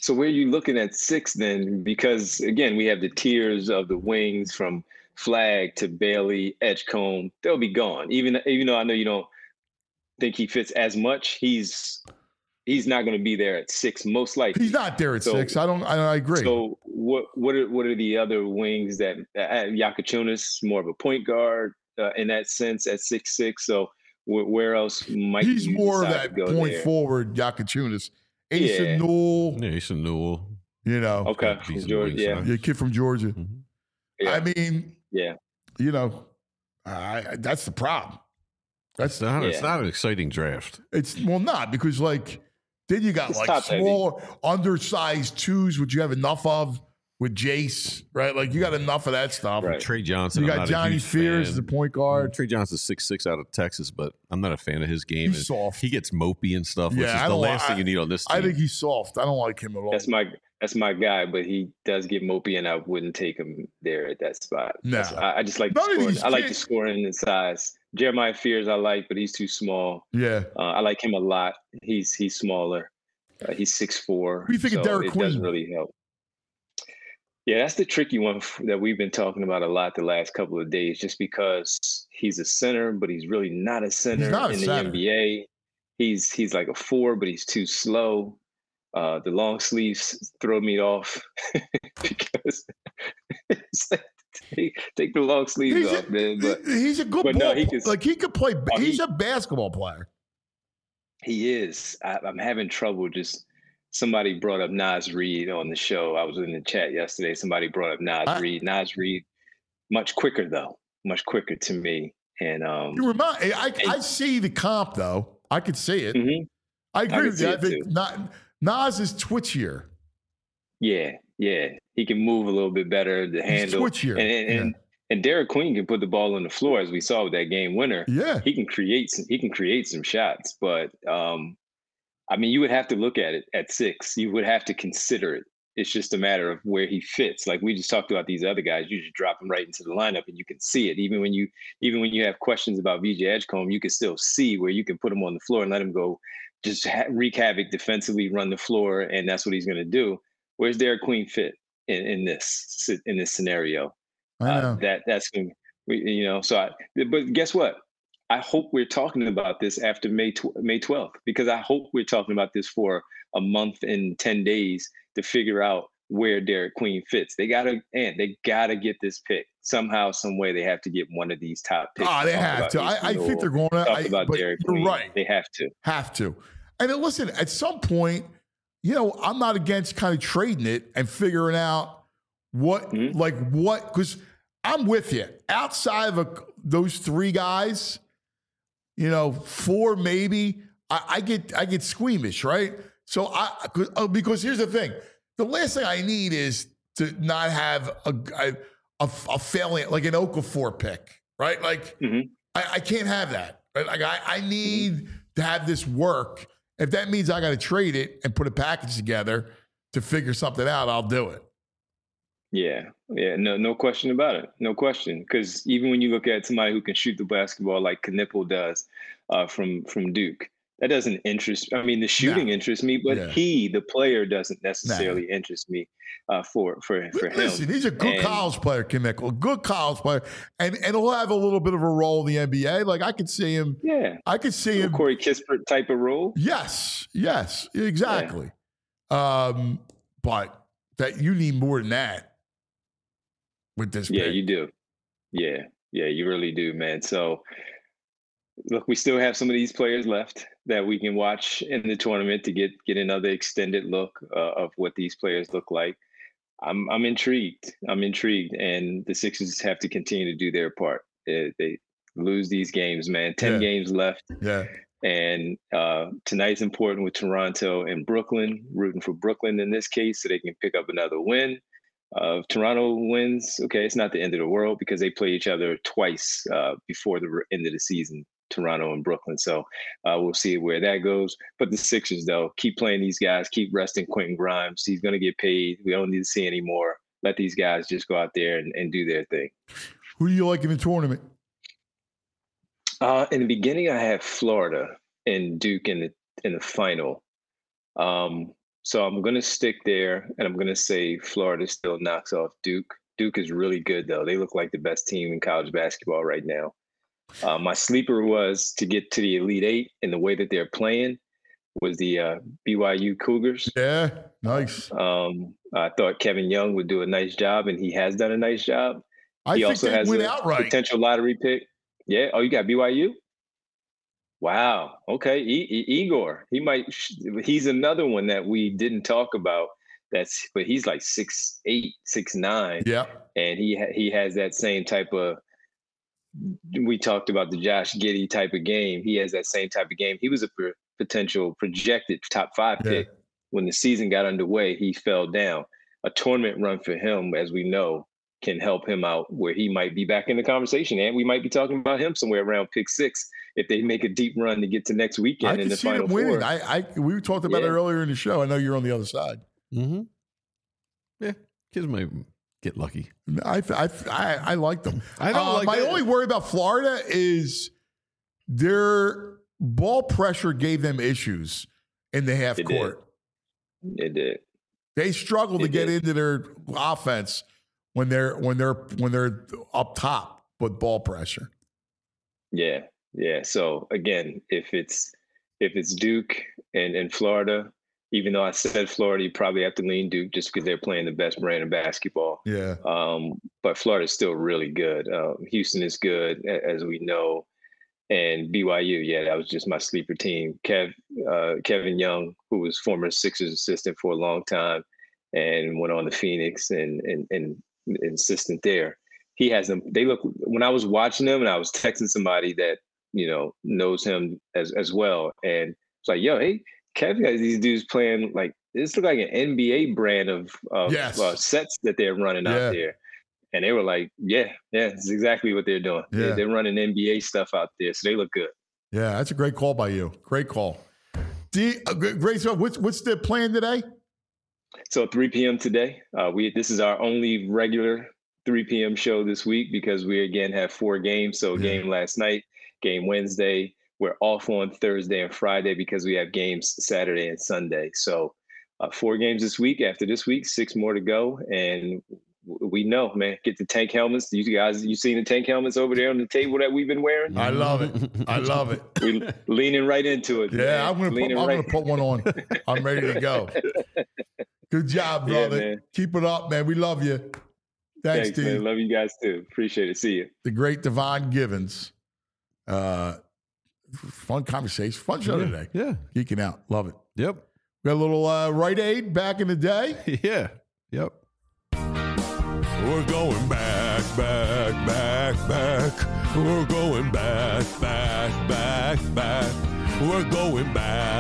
So where are you looking at 6 then? Because again, we have the tiers of the wings from Flag to Bailey, Edgecombe. They'll be gone. Even though I know you don't think he fits as much, he's not going to be there at 6 most likely. He's not there at 6. I agree. So what are the other wings that Yakachunas, more of a point guard in that sense at 6'6"? So where else might he's more of that point there? Forward Yakachunas? Asa Newell. Yeah, Asa Newell. You know. Okay. From Georgia, yeah, kid from Georgia. Mm-hmm. Yeah. I mean, yeah. You know, that's the problem. It's not an exciting draft. It's not because then you got smaller, undersized 2s, which you have enough of with Jace, right? Like you got enough of that stuff. Right. Trey Johnson. You got Johnny Fears as the point guard. Trey Johnson's 6'6" out of Texas, but I'm not a fan of his game. He's soft. He gets mopey and stuff, which is the last thing you need on this team. I think he's soft. I don't like him at all. That's my guy, but he does get mopey, and I wouldn't take him there at that spot. No. I just like the scoring. I like the scoring and size. Jeremiah Fears I like, but he's too small. Yeah. I like him a lot. He's smaller. He's 6'4". What do you think of Derek Queen? It doesn't really help. Yeah, that's the tricky one that we've been talking about a lot the last couple of days, just because he's a center, but he's really not a center in the NBA. He's like a 4, but he's too slow. The long sleeves throw me off because it's like, take the long sleeves off, man. But he's a good ball. No, he could play. He's a basketball player. He is. I'm having trouble just. Somebody brought up Naz Reid on the show. I was in the chat yesterday. Somebody brought up Naz Reid. Naz Reid, much quicker though, much quicker to me. And I see the comp though. I could see it. Mm-hmm. I agree with you. I think Naz is twitchier. Yeah. He can move a little bit better. The handle. He's twitchier. And Derek Queen can put the ball on the floor, as we saw with that game winner. Yeah, he can create some shots, but. I mean, you would have to look at it at 6. You would have to consider it. It's just a matter of where he fits. Like we just talked about these other guys, you just drop them right into the lineup and you can see it. Even when you have questions about VJ Edgecombe, you can still see where you can put him on the floor and let him go, just wreak havoc defensively, run the floor, and that's what he's going to do. Where's Derek Queen fit in this scenario? I know. That's going to, but guess what? I hope we're talking about this after May 12th, because I hope we're talking about this for a month and 10 days to figure out where Derek Queen fits. They gotta get this pick somehow, some way. They have to get one of these top picks. Oh, they have to. I think they're going to talk about Derek Queen. Right. They have to. And then listen, at some point, I'm not against kind of trading it and figuring out what, because I'm with you. Outside of those 3 guys. 4 maybe. I get squeamish, right? So because here's the thing: the last thing I need is to not have a failing like an Okafor pick, right? Like I can't have that. Right? Like I need to have this work. If that means I got to trade it and put a package together to figure something out, I'll do it. Yeah, no question about it. No question. Because even when you look at somebody who can shoot the basketball like Knipple does from Duke, that doesn't interest. I mean, the shooting interests me, but the player, doesn't necessarily interest me for him. Listen, he's a good college player, Knipple, a good college player, and he'll have a little bit of a role in the NBA. Like I could see him. Yeah, I could see him. Corey Kispert type of role. Yes, exactly. Yeah. But that you need more than that. With this pick. You do. Yeah, you really do, man. So, look, we still have some of these players left that we can watch in the tournament to get another extended look of what these players look like. I'm intrigued. And the Sixers have to continue to do their part. They lose these games, man. 10 games left. Yeah. And tonight's important with Toronto and Brooklyn, rooting for Brooklyn in this case so they can pick up another win. If Toronto wins, okay, it's not the end of the world because they play each other twice before the end of the season, Toronto and Brooklyn. So we'll see where that goes. But the Sixers, though, keep playing these guys, keep resting Quentin Grimes. He's going to get paid. We don't need to see any more. Let these guys just go out there and do their thing. Who do you like in the tournament? In the beginning, I had Florida and Duke in the final. So I'm going to stick there, and I'm going to say Florida still knocks off Duke. Duke is really good, though. They look like the best team in college basketball right now. My sleeper was to get to the Elite Eight, and the way that they're playing was the BYU Cougars. Yeah, nice. I thought Kevin Young would do a nice job, and he has done a nice job. He also has a potential lottery pick. Yeah. Oh, you got BYU? Wow. Okay. Igor. He's another one that we didn't talk about. But he's like 6'8", 6'9". Yeah. And he has that same type of. We talked about the Josh Giddey type of game. He has that same type of game. He was a potential projected top 5 pick. When the season got underway, he fell down. A tournament run for him, as we know, can help him out where he might be back in the conversation. And we might be talking about him somewhere around pick 6 if they make a deep run to get to next weekend in the Final Four. We talked about it earlier in the show. I know you're on the other side. Mm-hmm. Yeah, kids might get lucky. I like them. I don't like my only worry about Florida is their ball pressure gave them issues in the half court. It did. They struggle to get into their offense when they're up top with ball pressure. Yeah. So again, if it's Duke and Florida, even though I said Florida, you probably have to lean Duke just because they're playing the best brand of basketball. Yeah. But Florida's still really good. Houston is good, as we know. And BYU, that was just my sleeper team. Kevin Young, who was former Sixers assistant for a long time and went on to Phoenix and assistant there. He has them. They look, when I was watching them and I was texting somebody that, knows him as well. And it's like, hey, Kevin has these dudes playing like, this look like an NBA brand of sets that they're running out there. And they were like, it's exactly what they're doing. Yeah. They're running NBA stuff out there, so they look good. Yeah, that's a great call by you. Great call. Great. So what's the plan today? So 3 p.m. today. This is our only regular 3 p.m. show this week because we again have 4 games. So game last night, game Wednesday. We're off on Thursday and Friday because we have games Saturday and Sunday. So 4 games this week. After this week, 6 more to go. And we know, man, get the tank helmets. You guys, you seen the tank helmets over there on the table that we've been wearing? I love it. We're leaning right into it. Yeah, man. I'm going to put one on. I'm ready to go. Good job, brother. Man. Keep it up, man. We love you. Thanks Steve. Man. Love you guys too. Appreciate it. See you. The great Devon Givens. Fun conversation. Fun show today. Yeah. Geeking out. Love it. Yep. We got a little Rite Aid back in the day. Yeah. Yep. We're going back. We're going back. We're going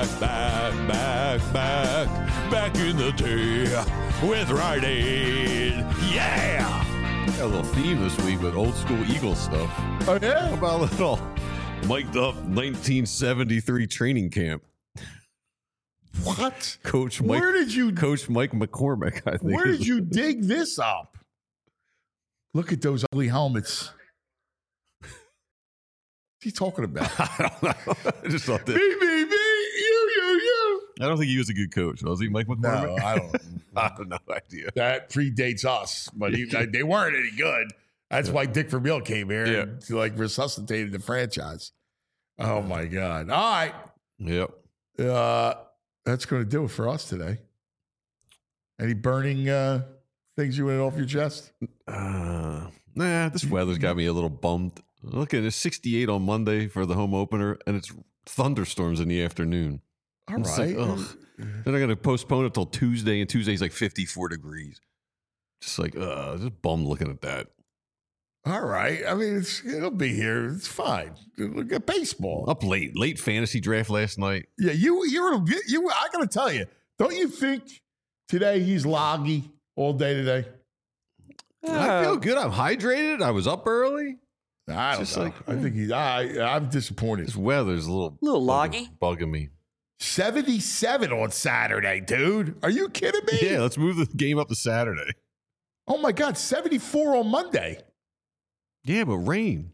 back in the day with Rite Aid. Yeah! Got a little theme this week with old school Eagles stuff. Oh, yeah? How about a little mic'd up 1973 training camp? What? Coach Mike McCormick, I think. Where did you dig this up? Look at those ugly helmets. What's he talking about? I don't know. I just thought that. Me, you. I don't think he was a good coach. Was he, Mike McCormick? No, I don't. I have no idea. That predates us, but they weren't any good. That's why Dick Vermeil came here and resuscitated the franchise. Oh my God! All right. Yep. That's going to do it for us today. Any burning things you went off your chest? Nah, this weather's got me a little bummed. Look at it, 68 on Monday for the home opener, and it's thunderstorms in the afternoon. All right. Then I'm going to postpone it till Tuesday, and Tuesday's like 54 degrees. Just just bummed looking at that. All right. I mean, it'll be here. It's fine. Look at baseball. Up late fantasy draft last night. Yeah, you. I got to tell you, don't you think today he's loggy all day today? I feel good. I'm hydrated. I was up early. I don't know. I think I'm disappointed. This weather's a little loggy, bugging me. 77 on Saturday, dude. Are you kidding me? Yeah, let's move the game up to Saturday. Oh my God, 74 on Monday. Yeah, but rain.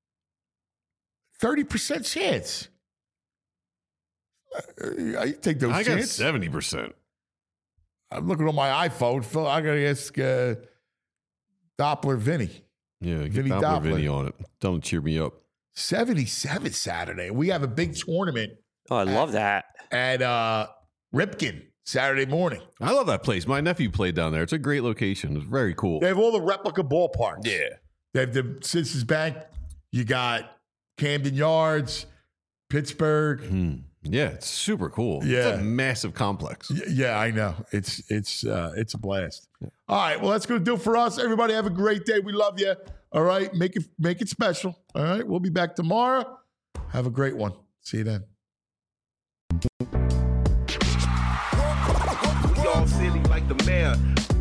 30% chance. I take those chances. I got 70%. I'm looking on my iPhone. Phil, I got to ask Doppler Vinny. Yeah, get Vinny Doppler Doppler. Vinny on it. Tell him to cheer me up. 77 Saturday. We have a big tournament. Oh, I love that. At Ripken Saturday morning. I love that place. My nephew played down there. It's a great location. It's very cool. They have all the replica ballparks. Yeah. They have the Citizens Bank. You got Camden Yards, Pittsburgh. Yeah, it's super cool. Yeah. It's a massive complex. Yeah, I know. It's a blast. All right, well, that's going to do it for us. Everybody have a great day. We love you. All right, make it special. All right, we'll be back tomorrow. Have a great one. See you then. We all silly like the mayor.